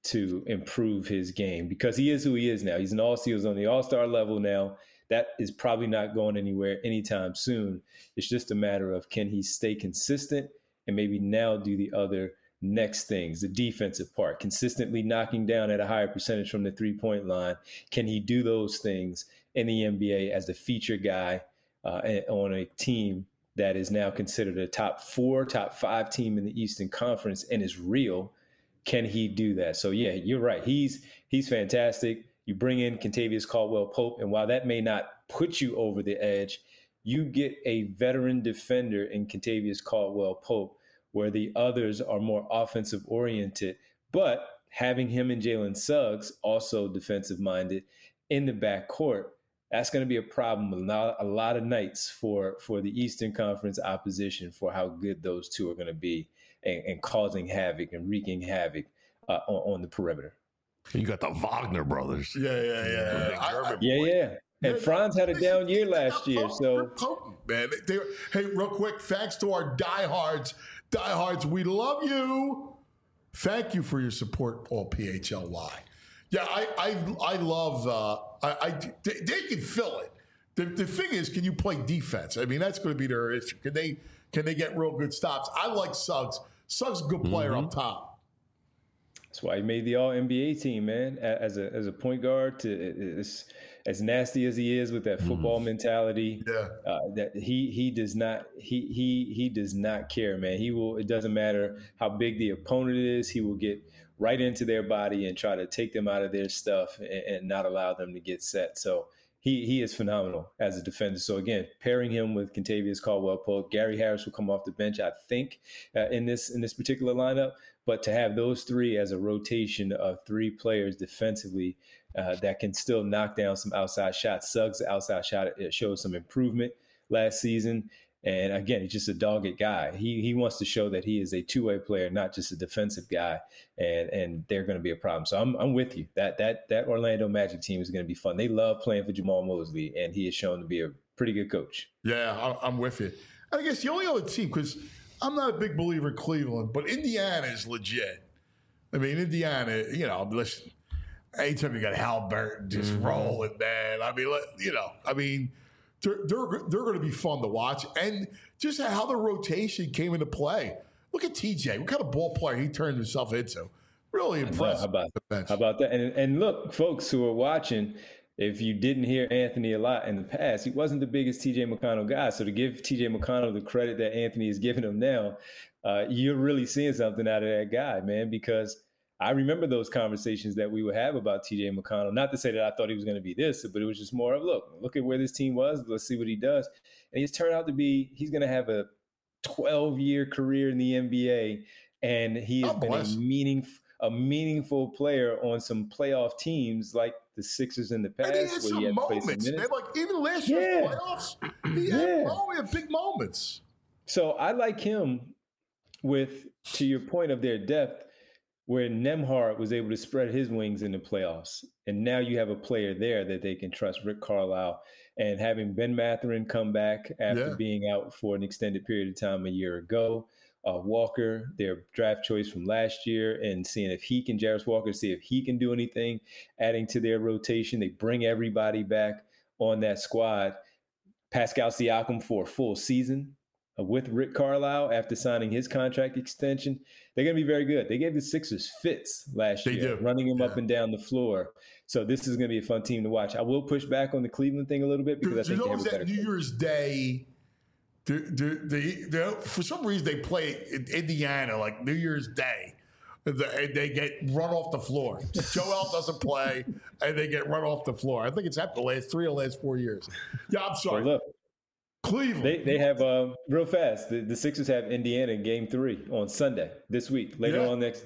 to improve his game because he is who he is now. He's an all he was on the all-star level now. That is probably not going anywhere anytime soon. It's just a matter of can he stay consistent and maybe now do the other next things, the defensive part, consistently knocking down at a higher percentage from the three-point line. Can he do those things in the N B A as the feature guy uh, on a team that is now considered a top four, top five team in the Eastern Conference and is real? Can he do that? So, yeah, you're right. He's he's fantastic. You bring in Kentavious Caldwell-Pope, and while that may not put you over the edge, you get a veteran defender in Kentavious Caldwell-Pope where the others are more offensive-oriented. But having him and Jalen Suggs, also defensive-minded, in the backcourt, that's going to be a problem a lot, a lot of nights for, for the Eastern Conference opposition for how good those two are going to be and, and causing havoc and wreaking havoc uh, on, on the perimeter. You got the Wagner brothers. Yeah, yeah, yeah. Big I- German I- Yeah, yeah. And Franz had a down year last year, They're so potent, man. They, hey, real quick, thanks to our diehards. Diehards, we love you. Thank you for your support, all P H L Y. Yeah, I I, I love. Uh, I, I they, they can fill it. The, the thing is, can you play defense? I mean, that's going to be their issue. Can they can they get real good stops? I like Suggs. Suggs, a good player Mm-hmm. up top. that's why he made the All N B A team, man. A- As a as a point guard, to as, as nasty as he is with that football mentality, Yeah. uh, that he he does not he he he does not care, man. He will. It doesn't matter how big the opponent is. He will get right into their body and try to take them out of their stuff and, and not allow them to get set. So he he is phenomenal as a defender. So again, pairing him with Kentavious Caldwell-Pope, Gary Harris will come off the bench, I think, uh, in this in this particular lineup. But to have those three as a rotation of three players defensively uh, that can still knock down some outside shots. Suggs' outside shot it showed some improvement last season. And again, he's just a dogged guy. He he wants to show that he is a two-way player, not just a defensive guy. And and they're going to be a problem. So I'm I'm with you. That that that Orlando Magic team is going to be fun. They love playing for Jamal Mosley, and he has shown to be a pretty good coach. Yeah, I- I'm with you. And I guess the only other team, because I'm not a big believer in Cleveland, but Indiana is legit. I mean, Indiana, you know, listen, anytime you got Halliburton just Mm-hmm. rolling, man. I mean, let- you know, I mean, they're, they're, they're going to be fun to watch. And just how the rotation came into play. Look at T J. What kind of ball player he turned himself into. Really impressive. How about, the bench. how about that? And, and look, folks who are watching, if you didn't hear Anthony a lot in the past, he wasn't the biggest T J McConnell guy. So to give T J McConnell the credit that Anthony is giving him now, uh, you're really seeing something out of that guy, man, because I remember those conversations that we would have about T J McConnell. Not to say that I thought he was going to be this, but it was just more of, look, look at where this team was. Let's see what he does. And he's turned out to be, he's going to have a twelve-year career in the N B A, and he has God been a bless. meaningful, a meaningful player on some playoff teams like the Sixers in the past, And he had where some he had to play some moments, man. minutes. Like even last year's Yeah. playoffs, he had, Yeah. oh, he had big moments. So I like him with, to your point of their depth, where Nembhard was able to spread his wings in the playoffs. And now you have a player there that they can trust, Rick Carlisle. And having Ben Mathurin come back after Yeah. being out for an extended period of time a year ago, uh, Walker, their draft choice from last year, and seeing if he can, Jarris Walker, see if he can do anything, adding to their rotation. They bring everybody back on that squad. Pascal Siakam for a full season uh, with Rick Carlisle after signing his contract extension. They're going to be very good. They gave the Sixers fits last They year, do. running them up Yeah. and down the floor. So this is going to be a fun team to watch. I will push back on the Cleveland thing a little bit because I There's think they have always a better that New coach. Year's Day. The, the, the, the, for some reason, they play in Indiana like New Year's Day. The- And they get run off the floor. Joel doesn't play, and they get run off the floor. I think it's happened the last three or last four years. Yeah, I'm But sorry. look, Cleveland. they, they have, uh, real fast, the, the Sixers have Indiana in game three on Sunday this week, later Yeah. on next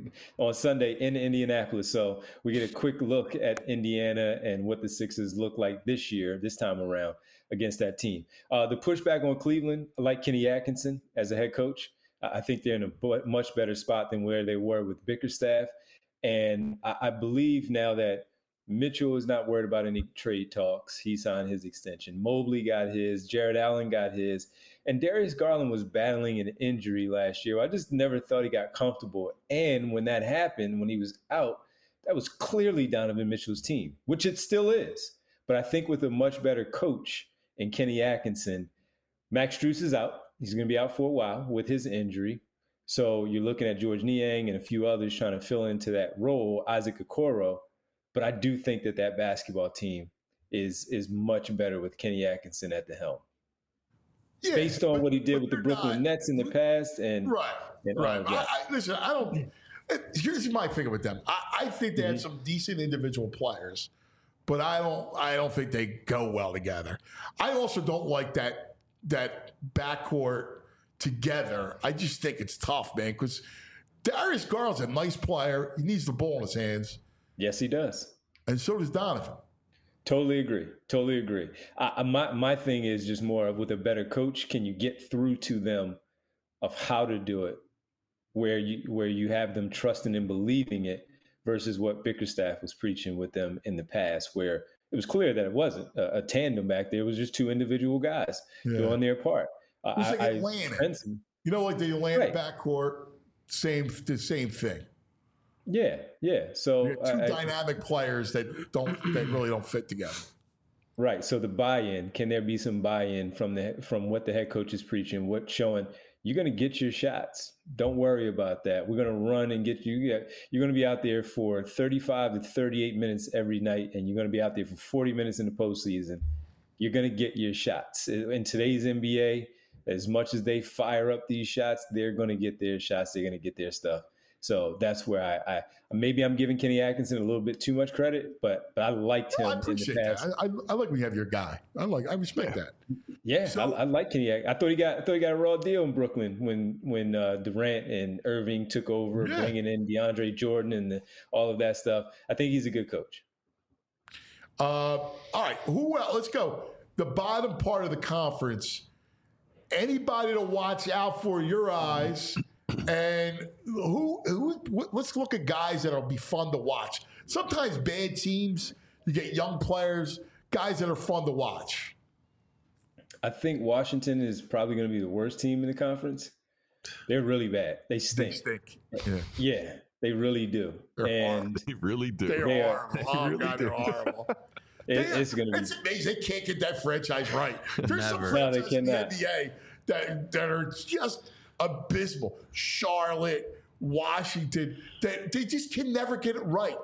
on Sunday in Indianapolis. So we get a quick look at Indiana and what the Sixers look like this year, this time around against that team. Uh, the pushback on Cleveland, I like Kenny Atkinson as a head coach. I I think they're in a bu- much better spot than where they were with Bickerstaff. And I, I believe now that Mitchell is not worried about any trade talks. He signed his extension. Mobley got his. Jared Allen got his. And Darius Garland was battling an injury last year. I just never thought he got comfortable. And when that happened, when he was out, that was clearly Donovan Mitchell's team, which it still is. But I think with a much better coach in Kenny Atkinson, Max Strus is out. He's going to be out for a while with his injury. So you're looking at George Niang and a few others trying to fill into that role, Isaac Okoro. But I do think that that basketball team is is much better with Kenny Atkinson at the helm. Yeah, based on but, what he did with the Brooklyn not, Nets in the past. and Right, and right. I, I, listen, I don't – here's my thing with them. I, I think they mm-hmm. have some decent individual players, but I don't I don't think they go well together. I also don't like that that backcourt together. I just think it's tough, man, because Darius Garland's a nice player. He needs the ball in his hands. Yes, he does. And so does Donovan. Totally agree. Totally agree. I, my my thing is just more of with a better coach, can you get through to them of how to do it, where you where you have them trusting and believing it, versus what Bickerstaff was preaching with them in the past, where it was clear that it wasn't a, a tandem back there. It was just two individual guys yeah. doing their part. It was like I, Atlanta. I, you know, like the Atlanta right. backcourt, same the same thing. Yeah, yeah. So you two I, dynamic players that don't that really don't fit together. Right. So the buy-in, can there be some buy-in from the from what the head coach is preaching, what showing you're going to get your shots. Don't worry about that. We're going to run and get you. You're going to be out there for thirty-five to thirty-eight minutes every night, and you're going to be out there for forty minutes in the postseason. You're going to get your shots. In today's N B A, as much as they fire up these shots, they're going to get their shots. They're going to get their stuff. So that's where I, I maybe I'm giving Kenny Atkinson a little bit too much credit, but but I liked him no, I appreciate in the past. That. I, I, I like when you have your guy. I like I respect yeah. that. Yeah, so, I, I like Kenny. I thought he got I thought he got a raw deal in Brooklyn when when uh, Durant and Irving took over, yeah. bringing in DeAndre Jordan and the, all of that stuff. I think he's a good coach. Uh, all right, who else? Let's go. The bottom part of the conference. Anybody to watch out for your eyes? And who, who? Let's look at guys that'll be fun to watch. Sometimes bad teams, you get young players, guys that are fun to watch. I think Washington is probably going to be the worst team in the conference. They're really bad. They stink. They stink. Yeah, yeah they really do. They're and horrible. They really do. They're they horrible. Are, oh, really God, do. they're horrible. it, they it's going to be. It's amazing. They can't get that franchise right. There's some No, franchises they in the cannot. N B A that, that are just abysmal. Charlotte, Washington, they, they just can never get it right.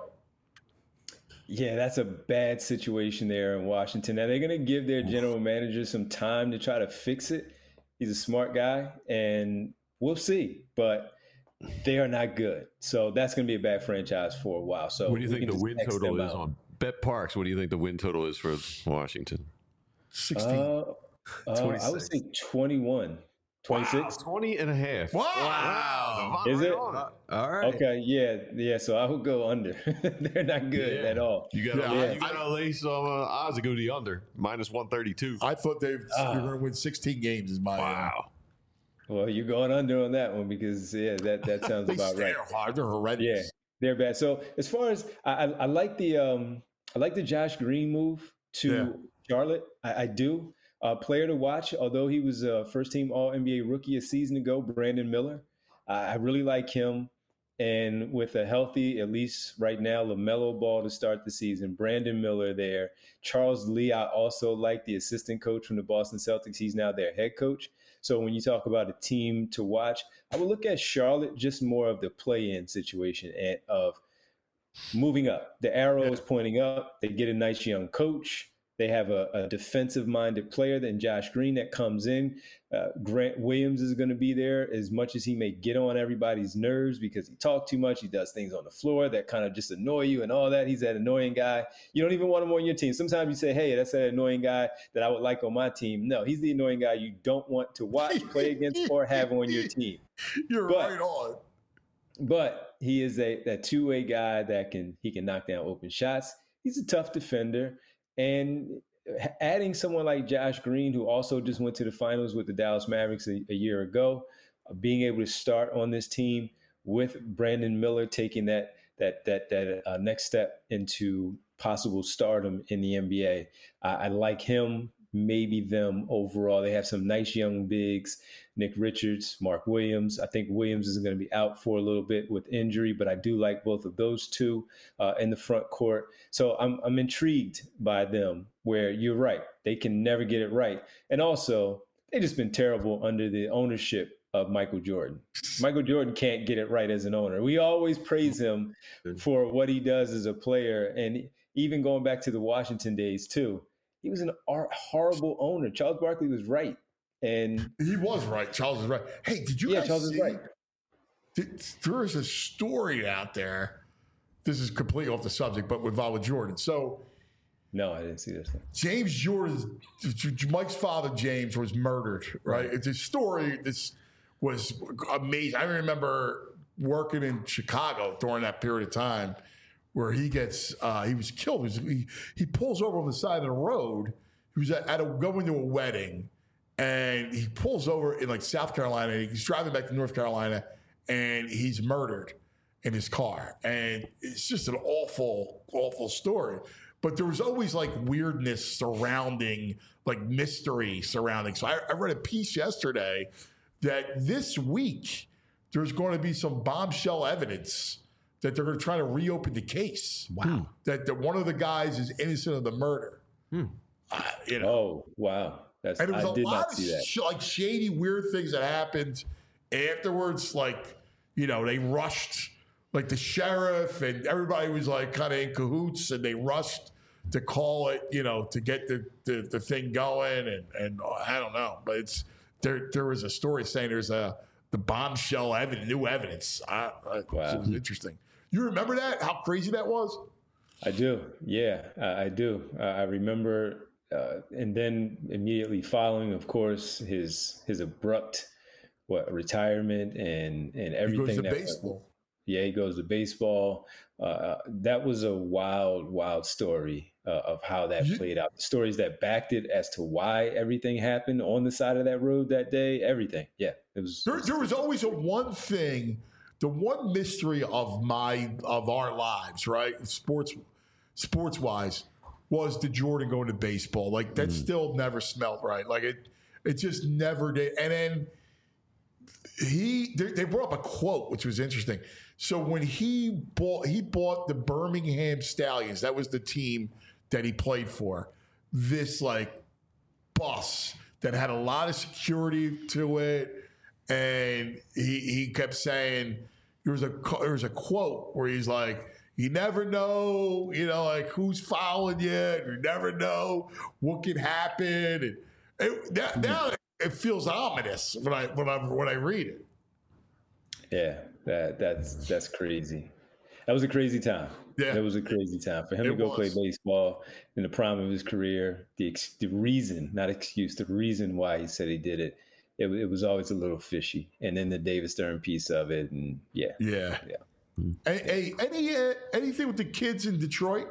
Yeah, that's a bad situation there in Washington. Now, they're going to give their general manager some time to try to fix it. He's a smart guy, and we'll see. But they are not good. So that's going to be a bad franchise for a while. So what do you think the win total is out. on Bet Parks? What do you think the win total is for Washington? sixteen. Uh, uh, I would say twenty-one. twenty-six? Wow, twenty and a half. Wow. wow. Is it? All right. Okay, yeah, yeah. So I would go under. They're not good yeah. at all. You got to yeah. you got to lay some uh, odds to go to the under minus one thirty-two. I thought they were Ah. going to win sixteen games. Is my Wow. Well, you're going under on that one because yeah, that that sounds they about right. They're hard. They're horrendous. Yeah, they're bad. So as far as I, I, I like the um, I like the Josh Green move to Yeah. Charlotte. I, I do. Uh, player to watch, although he was a first-team All-N B A rookie a season ago, Brandon Miller. Uh, I really like him. And with a healthy, at least right now, LaMelo Ball to start the season, Brandon Miller there. Charles Lee, I also like the assistant coach from the Boston Celtics. He's now their head coach. So when you talk about a team to watch, I would look at Charlotte just more of the play-in situation and of moving up. The arrow is pointing up. They get a nice young coach. They have a, a defensive-minded player than Josh Green that comes in. Uh, Grant Williams is going to be there as much as he may get on everybody's nerves because he talks too much. He does things on the floor that kind of just annoy you and all that. He's that annoying guy. You don't even want him on your team. Sometimes you say, hey, that's that annoying guy that I would like on my team. No, he's the annoying guy you don't want to watch, play against, or have on your team. You're But- right on. But he is a that two-way guy that can he can knock down open shots. He's a tough defender. And adding someone like Josh Green, who also just went to the finals with the Dallas Mavericks a, a year ago, uh, being able to start on this team with Brandon Miller taking that that that that uh, next step into possible stardom in the N B A, I, I like him maybe them overall. They have some nice young bigs, Nick Richards, Mark Williams. I think Williams is going to be out for a little bit with injury, but I do like both of those two uh, in the front court. So I'm I'm intrigued by them, where you're right. They can never get it right. And also, they've just been terrible under the ownership of Michael Jordan. Michael Jordan can't get it right as an owner. We always praise him for what he does as a player. And even going back to the Washington days too, he was an horrible owner. Charles Barkley was right. And he was right. Charles was right. Hey, did you yeah, guys Charles see? is right. Did, there is a story out there. This is completely off the subject, but with Val Jordan. So, no, I didn't see this. James Jordan, Mike's father, James, was murdered. Right? It's a story. This was amazing. I remember working in Chicago during that period of time, where he gets, uh, he was killed. He, was, he, he pulls over on the side of the road. He was at, at a, going to a wedding, and he pulls over in like South Carolina. And he's driving back to North Carolina, and he's murdered in his car. And it's just an awful, awful story. But there was always like weirdness surrounding, like mystery surrounding. So I, I read a piece yesterday that this week there's going to be some bombshell evidence that they're going to try to reopen the case. Wow. That the, one of the guys is innocent of the murder. Hmm. Uh, you know. Oh, wow. That's, and there was I a did lot not of see that. sh- like shady, weird things that happened afterwards. Like, you know, they rushed, like the sheriff and everybody was like kind of in cahoots, and they rushed to call it, you know, to get the, the, the thing going. And, and I don't know, but it's, there, there was a story saying there's a, the bombshell evidence, new evidence. I, I, Wow. It was interesting. You remember that? How crazy that was? I do. Yeah, I, I do. Uh, I remember, uh, and then immediately following, of course, his his abrupt what retirement and and everything. He goes to that, baseball. Yeah, he goes to baseball. Uh, that was a wild, wild story uh, of how that You- played out. The stories that backed it as to why everything happened on the side of that road that day. Everything. Yeah, it was. There, there was always a one thing, the one mystery of my of our lives, right? Sports, sports wise, was the Jordan going to baseball. Like that still never smelled right. Like it, it just never did. And then he, they, they brought up a quote which was interesting. So when he bought, he bought the Birmingham Stallions. That was the team that he played for. This like bus that had a lot of security to it. And he he kept saying there was a there was a quote where he's like, "You never know, you know, like who's following you. You never know what could happen." And it, that, now it feels ominous when I when I when I read it. Yeah, that that's that's crazy. That was a crazy time. Yeah. That was a crazy time for him It to go was. play baseball in the prime of his career. The ex- the reason, not excuse, the reason why he said he did it, it, it was always a little fishy. And then the David Stern piece of it, and yeah, Yeah. yeah. Hey, hey, any uh, anything with the kids in Detroit?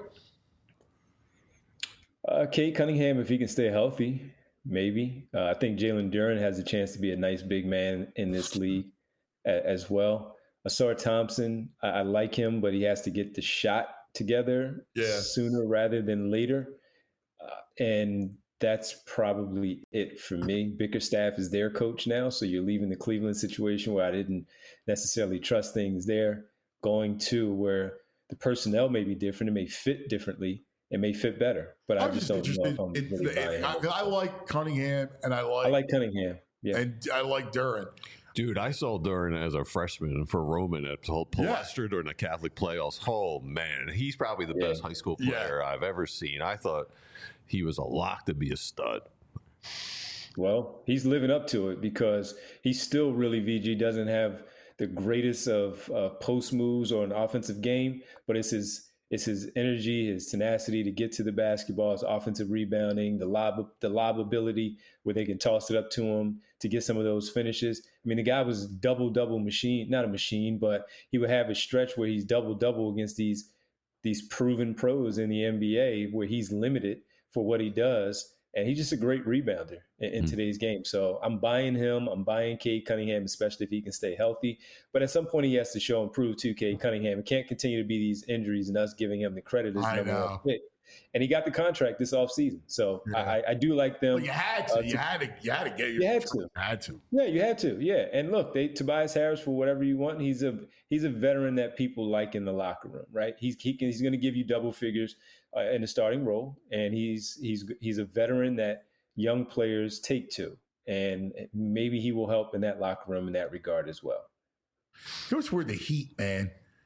Uh, Kate Cunningham, if he can stay healthy, maybe. Uh, I think Jalen Duren has a chance to be a nice big man in this league a, as well. Asar Thompson, I, I like him, but he has to get the shot together Yeah. sooner rather than later. Uh, and that's probably it for me. Bickerstaff is their coach now, so you're leaving the Cleveland situation where I didn't necessarily trust things there, going to where the personnel may be different, it may fit differently, it may fit better, but I I'm just just don't know interested. if I'm in- really buying I, it. I like Cunningham, and I like, I like Cunningham. Yeah. and I like Duren. Dude, I saw Duren as a freshman for Roman at Pal- Palestra during the Catholic playoffs. Oh, man. He's probably the Yeah. best high school Yeah. player I've ever seen. I thought he was a lock to be a stud. Well, he's living up to it because he still really, V G, doesn't have the greatest of uh, post moves or an offensive game, but it's his it's his energy, his tenacity to get to the basketball, his offensive rebounding, the lob the lob ability where they can toss it up to him to get some of those finishes. I mean, the guy was double double machine, not a machine, but he would have a stretch where he's double double against these these proven pros in the N B A where he's limited for what he does. And he's just a great rebounder in, in Mm. today's game. So I'm buying him. I'm buying Cade Cunningham, especially if he can stay healthy. But at some point, he has to show and prove to Cade Cunningham. It can't continue to be these injuries and us giving him the credit as I number know. one pick And he got the contract this offseason. So Yeah. I, I do like them. Well, you had to. Uh, you had to. You had to get your. You had to. You had to. Yeah, you had to. Yeah, and look, they Tobias Harris for whatever you want. He's a he's a veteran that people like in the locker room, right? He's he can, he's going to give you double figures uh, in the starting role, and he's he's he's a veteran that young players take to, and maybe he will help in that locker room in that regard as well. Here's where the Heat, man.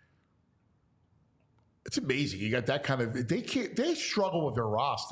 It's amazing. You got that kind of. They can't. They struggle with their roster.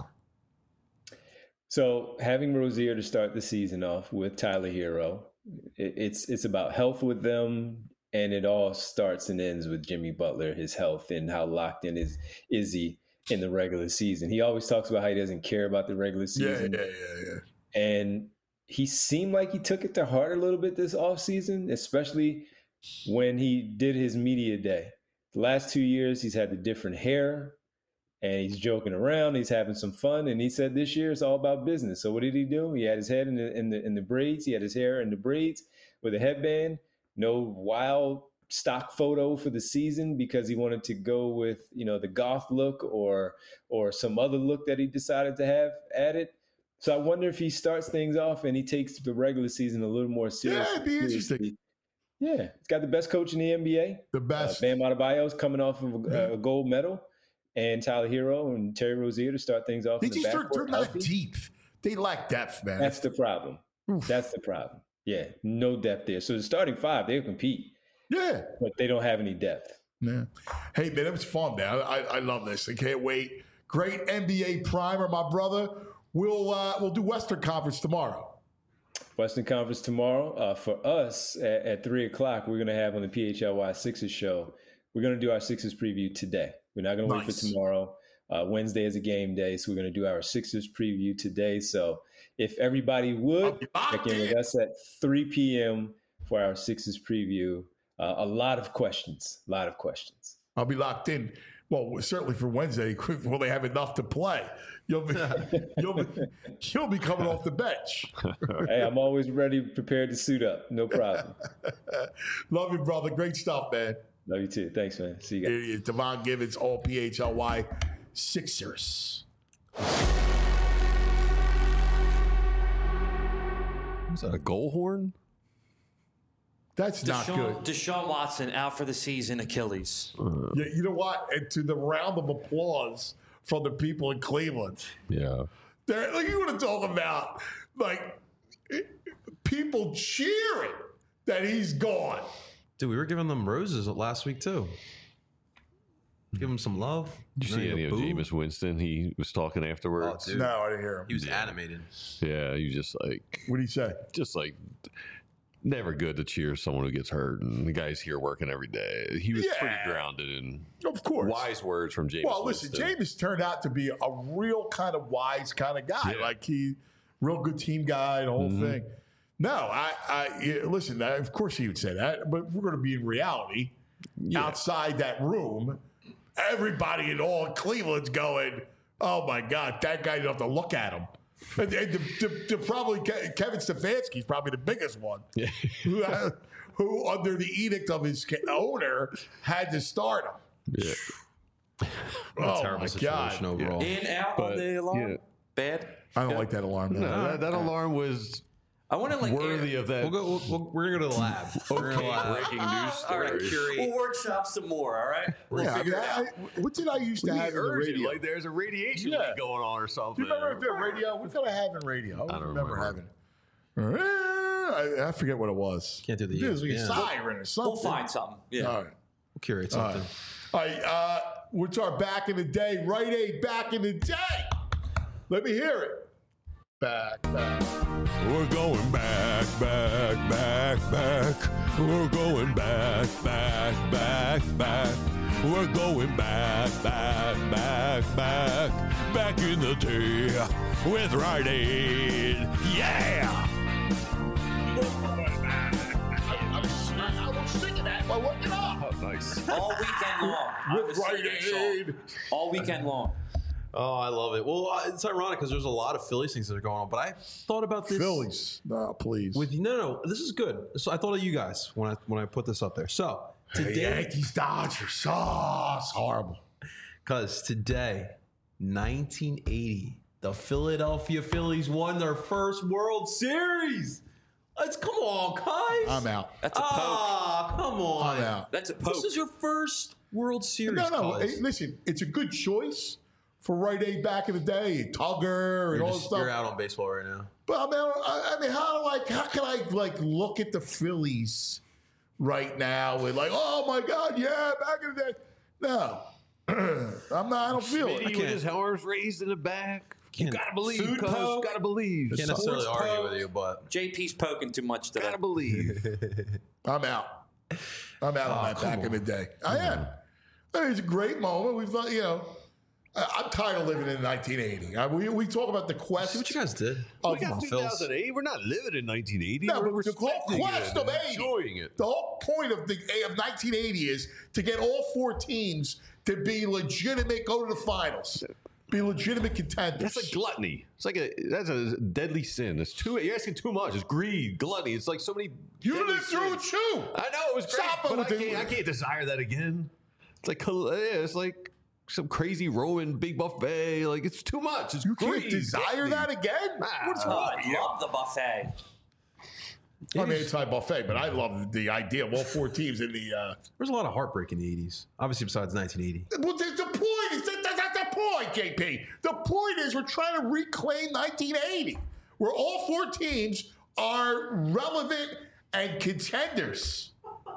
So having Rozier to start the season off with Tyler Hero, it, it's it's about health with them, and it all starts and ends with Jimmy Butler, his health, and how locked in is is he in the regular season. He always talks about how he doesn't care about the regular season. Yeah, yeah, yeah, yeah. And he seemed like he took it to heart a little bit this offseason, especially when he did his media day. The last two years, he's had the different hair, and he's joking around. He's having some fun, and he said this year it's all about business. So what did he do? He had his head in the in the in the braids. He had his hair in the braids with a headband. No wild stock photo for the season because he wanted to go with, you know, the goth look or or some other look that he decided to have added. So I wonder if he starts things off and he takes the regular season a little more seriously. Yeah, it'd be interesting. Yeah, he's got the best coach in the N B A. The best. Uh, Bam Adebayo's coming off of a, a gold medal, and Tyler Hero and Terry Rozier to start things off. They in the just they're, backcourt they're not healthy. deep. They lack depth, man. That's the problem. Oof. That's the problem. Yeah, no depth there. So the starting five, they'll compete, Yeah. but they don't have any depth. Yeah. Hey, man, it was fun, man. I, I love this. I can't wait. Great N B A primer, my brother. We'll uh, we'll do Western Conference tomorrow. Western Conference tomorrow. Uh, for us at, at three o'clock, we're going to have on the P H L Y Sixers show. We're going to do our Sixers preview today. We're not going to Nice. wait for tomorrow. Uh, Wednesday is a game day, so we're going to do our Sixers preview today. So if everybody would check in with us at three p.m. for our Sixers preview. Uh, a lot of questions. A lot of questions. I'll be locked in. Well, certainly for Wednesday, will they have enough to play? You'll be, you'll be, you'll be coming off the bench. Hey, I'm always ready, prepared to suit up. No problem. Love you, brother. Great stuff, man. Love you too. Thanks, man. See you guys. Here he is, Devon Givens, all P H L Y Sixers. Was that a goal horn? That's not Deshaun, good. Deshaun Watson out for the season, Achilles. Yeah, you know what? And to the round of applause from the people in Cleveland. Yeah. They're, like, you want to talk about, like, people cheering that he's gone. Dude, we were giving them roses last week too. Give him some love. Did you see any of Jameis Winston? He was talking afterwards. Oh, dude. No, I didn't hear him. He was animated. Yeah, he was just like, What did he say? just like, never good to cheer someone who gets hurt. And the guy's here working every day. He was Yeah. pretty grounded and Of course. wise words from Jameis. Well, listen, Winston. Jameis turned out to be a real kind of wise kind of guy. Yeah. Like he, real good team guy, the whole Mhm. thing. No, I, I yeah, listen. I, of course he would say that, but we're going to be in reality Yeah. outside that room. Everybody in all Cleveland's going, "Oh my God, that guy! You don't have to look at him." And, and the, the, the probably Ke- Kevin Stefanski's probably the biggest one, Yeah. who, uh, who under the edict of his ca- owner had to start him. Yeah. What a Oh terrible my situation God. overall. In, out But, on the alarm. yeah. Bad. I don't like that alarm. No, that, that alarm was I want to like worthy air- of that. We'll go. We'll, we'll, we're gonna go to the lab. We're gonna Okay, lab. breaking news All right, story. curate. we'll workshop some more. All right. We'll Yeah, I figure mean, it I, out. I- what did I used to We have in the urge it, radio? like there's a radiation Yeah. leak going on or Do something. you remember the radio? What did I have in radio? I, I don't remember, remember. having. I, I forget what it was. Can't do the It was like a yeah. siren or something. We'll find something. Yeah. All right. We'll curate All something. right. All right. Uh, what's our back in the day? Right Aid back in the day. Let me hear it. Back, back. We're going back, back, back, back. We're going back, back, back, back. We're going back, back, back, back. Back in the day with Rite Aid. Yeah! I was, I was thinking that while looking up. Oh, nice. All weekend long. I With was Rite singing that song. Aid. All weekend long. Oh, I love it. Well, uh, it's ironic because there's a lot of Phillies things that are going on, but I thought about this. Phillies. No, please. With no, no, this is good. So I thought of you guys when I when I put this up there. So the today, Yankees, Dodgers. Oh, it's horrible. because today, nineteen eighty. The Philadelphia Phillies won their first World Series. Let's come on, guys. I'm out. That's a poke. Ah, come on. I'm out. That's a poke. This is your first World Series. No, no. guys. Hey, listen, it's a good choice for Rite Aid back in the day, Tugger and You're, all just, that stuff. you're out on baseball right now. But I mean, I, I mean, how like how can I like look at the Phillies right now and like, oh my God, yeah, back in the day. No, I'm not. I don't feel Smitty it. with his arms raised in the back. You Can't- gotta believe, Food cuz. poke. Gotta believe. Can't necessarily Sports argue poke. with you, but J P's poking too much today. Gotta believe. I'm out. I'm out on that come back in on. the day. I am. I mean, it's a great moment. We've, you know, I- I'm tired of living in nineteen eighty. I, we, we talk about the quest. see what you guys did. of We got two thousand eight. We're not living in nineteen eighty. No, We're but the whole respecting quest it of and eighty. enjoying it. The whole point of the of nineteen eighty is to get all four teams to be legitimate, go to the finals, be legitimate contenders. That's like gluttony. It's like a that's a deadly sin. It's too. You're asking too much. It's greed, gluttony. It's like so many. you deadly lived through it sins. too. I know it was great, Stop it but with I the- can't, I can't desire that again. It's like yeah, it's like some crazy Roman big buffet. Like it's too much. It's You greed, can't desire gluttony. that again. Nah. What's Oh, wrong? I love the buffet. I mean, it's not buffet, but I love the idea of all four teams in the. Uh, There's a lot of heartbreak in the eighties, obviously besides nineteen eighty. well, the, the point is that, that, that's the point, J P. The point is we're trying to reclaim nineteen eighty, where all four teams are relevant and contenders.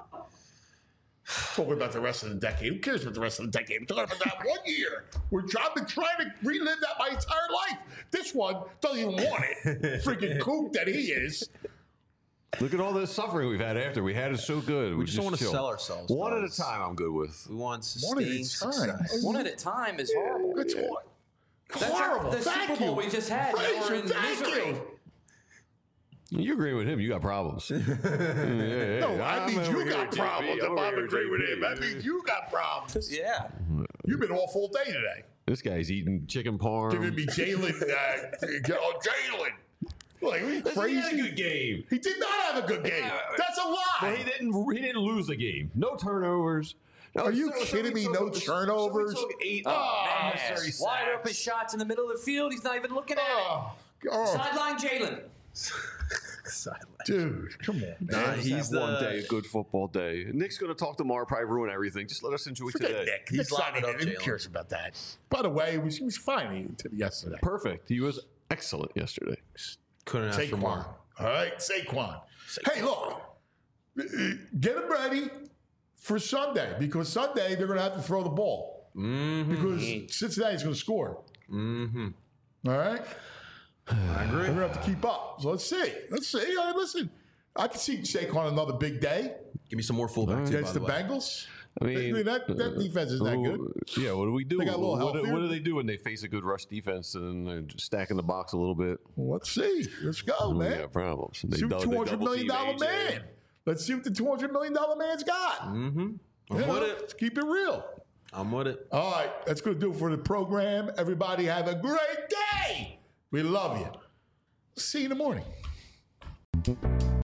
Talking about the rest of the decade. Who cares about the rest of the decade? We're talking about that one year. We're I've been trying to relive that my entire life. This one doesn't even want it. Freaking kook that he is. Look at all the suffering we've had after. We had it so good. We just don't want to chill. sell ourselves. One at a guys. time. I'm good with. We want One at a sustained time. success. One at a time is horrible. That's hor- That's horrible. the Thank Super Bowl you. we just had. Now Fraser, we're in thank misery. you. You agree with him? You got problems. yeah, yeah, No, yeah. I I'm mean over you here, got J P. problems. I'm If over I'm here, agreeing with J P. him, that means you got problems. Yeah. You've been off all day today. This guy's eating chicken parm. Giving me Jalen. Uh, oh, Jalen. Like, are you Listen, crazy? He had a good game. He did not have a good game. That's a lie. But he didn't. He didn't lose the game. No turnovers. No, Are you so- so kidding we me? took- No so we turnovers? took eight Oh, unnecessary man. Wide sacks. open shots in the middle of the field. He's not even looking at it. Oh, oh, Sideline Jalen. dude, come on. Nah, Man. he's He's one the- day, a good football day. Nick's going to talk tomorrow, probably ruin everything. Just let us enjoy Forget today. Nick. He's Nick's not lining in up it. Who Jalen. cares about that? By the way, he was, he was fine yesterday. Perfect. He was excellent yesterday. Couldn't ask for Saquon. more. All right, Saquon. Hey, look, get him ready for Sunday because Sunday they're going to have to throw the ball Mm-hmm. because Cincinnati's going to score. Mm-hmm. All right, I agree. they're going to have to keep up. So let's see. Let's see. All right, listen, I can see Saquon another big day Give me some more fullback too, by against the, the way. Bengals. I mean, that, that defense is that good. Ooh, Yeah, what do we do? They got a little what, do- healthier. what do they do when they face a good rush defense and they're just stacking the box a little bit? Let's see. Let's go, We man. got problems. They See what dou- two they hundred double million team dollar A J. man. Let's see what the two hundred million dollar man's got. Mm-hmm. I'm You with know, it. Let's keep it real. I'm with it. All right, that's going to do it for the program. Everybody have a great day. We love you. See you in the morning.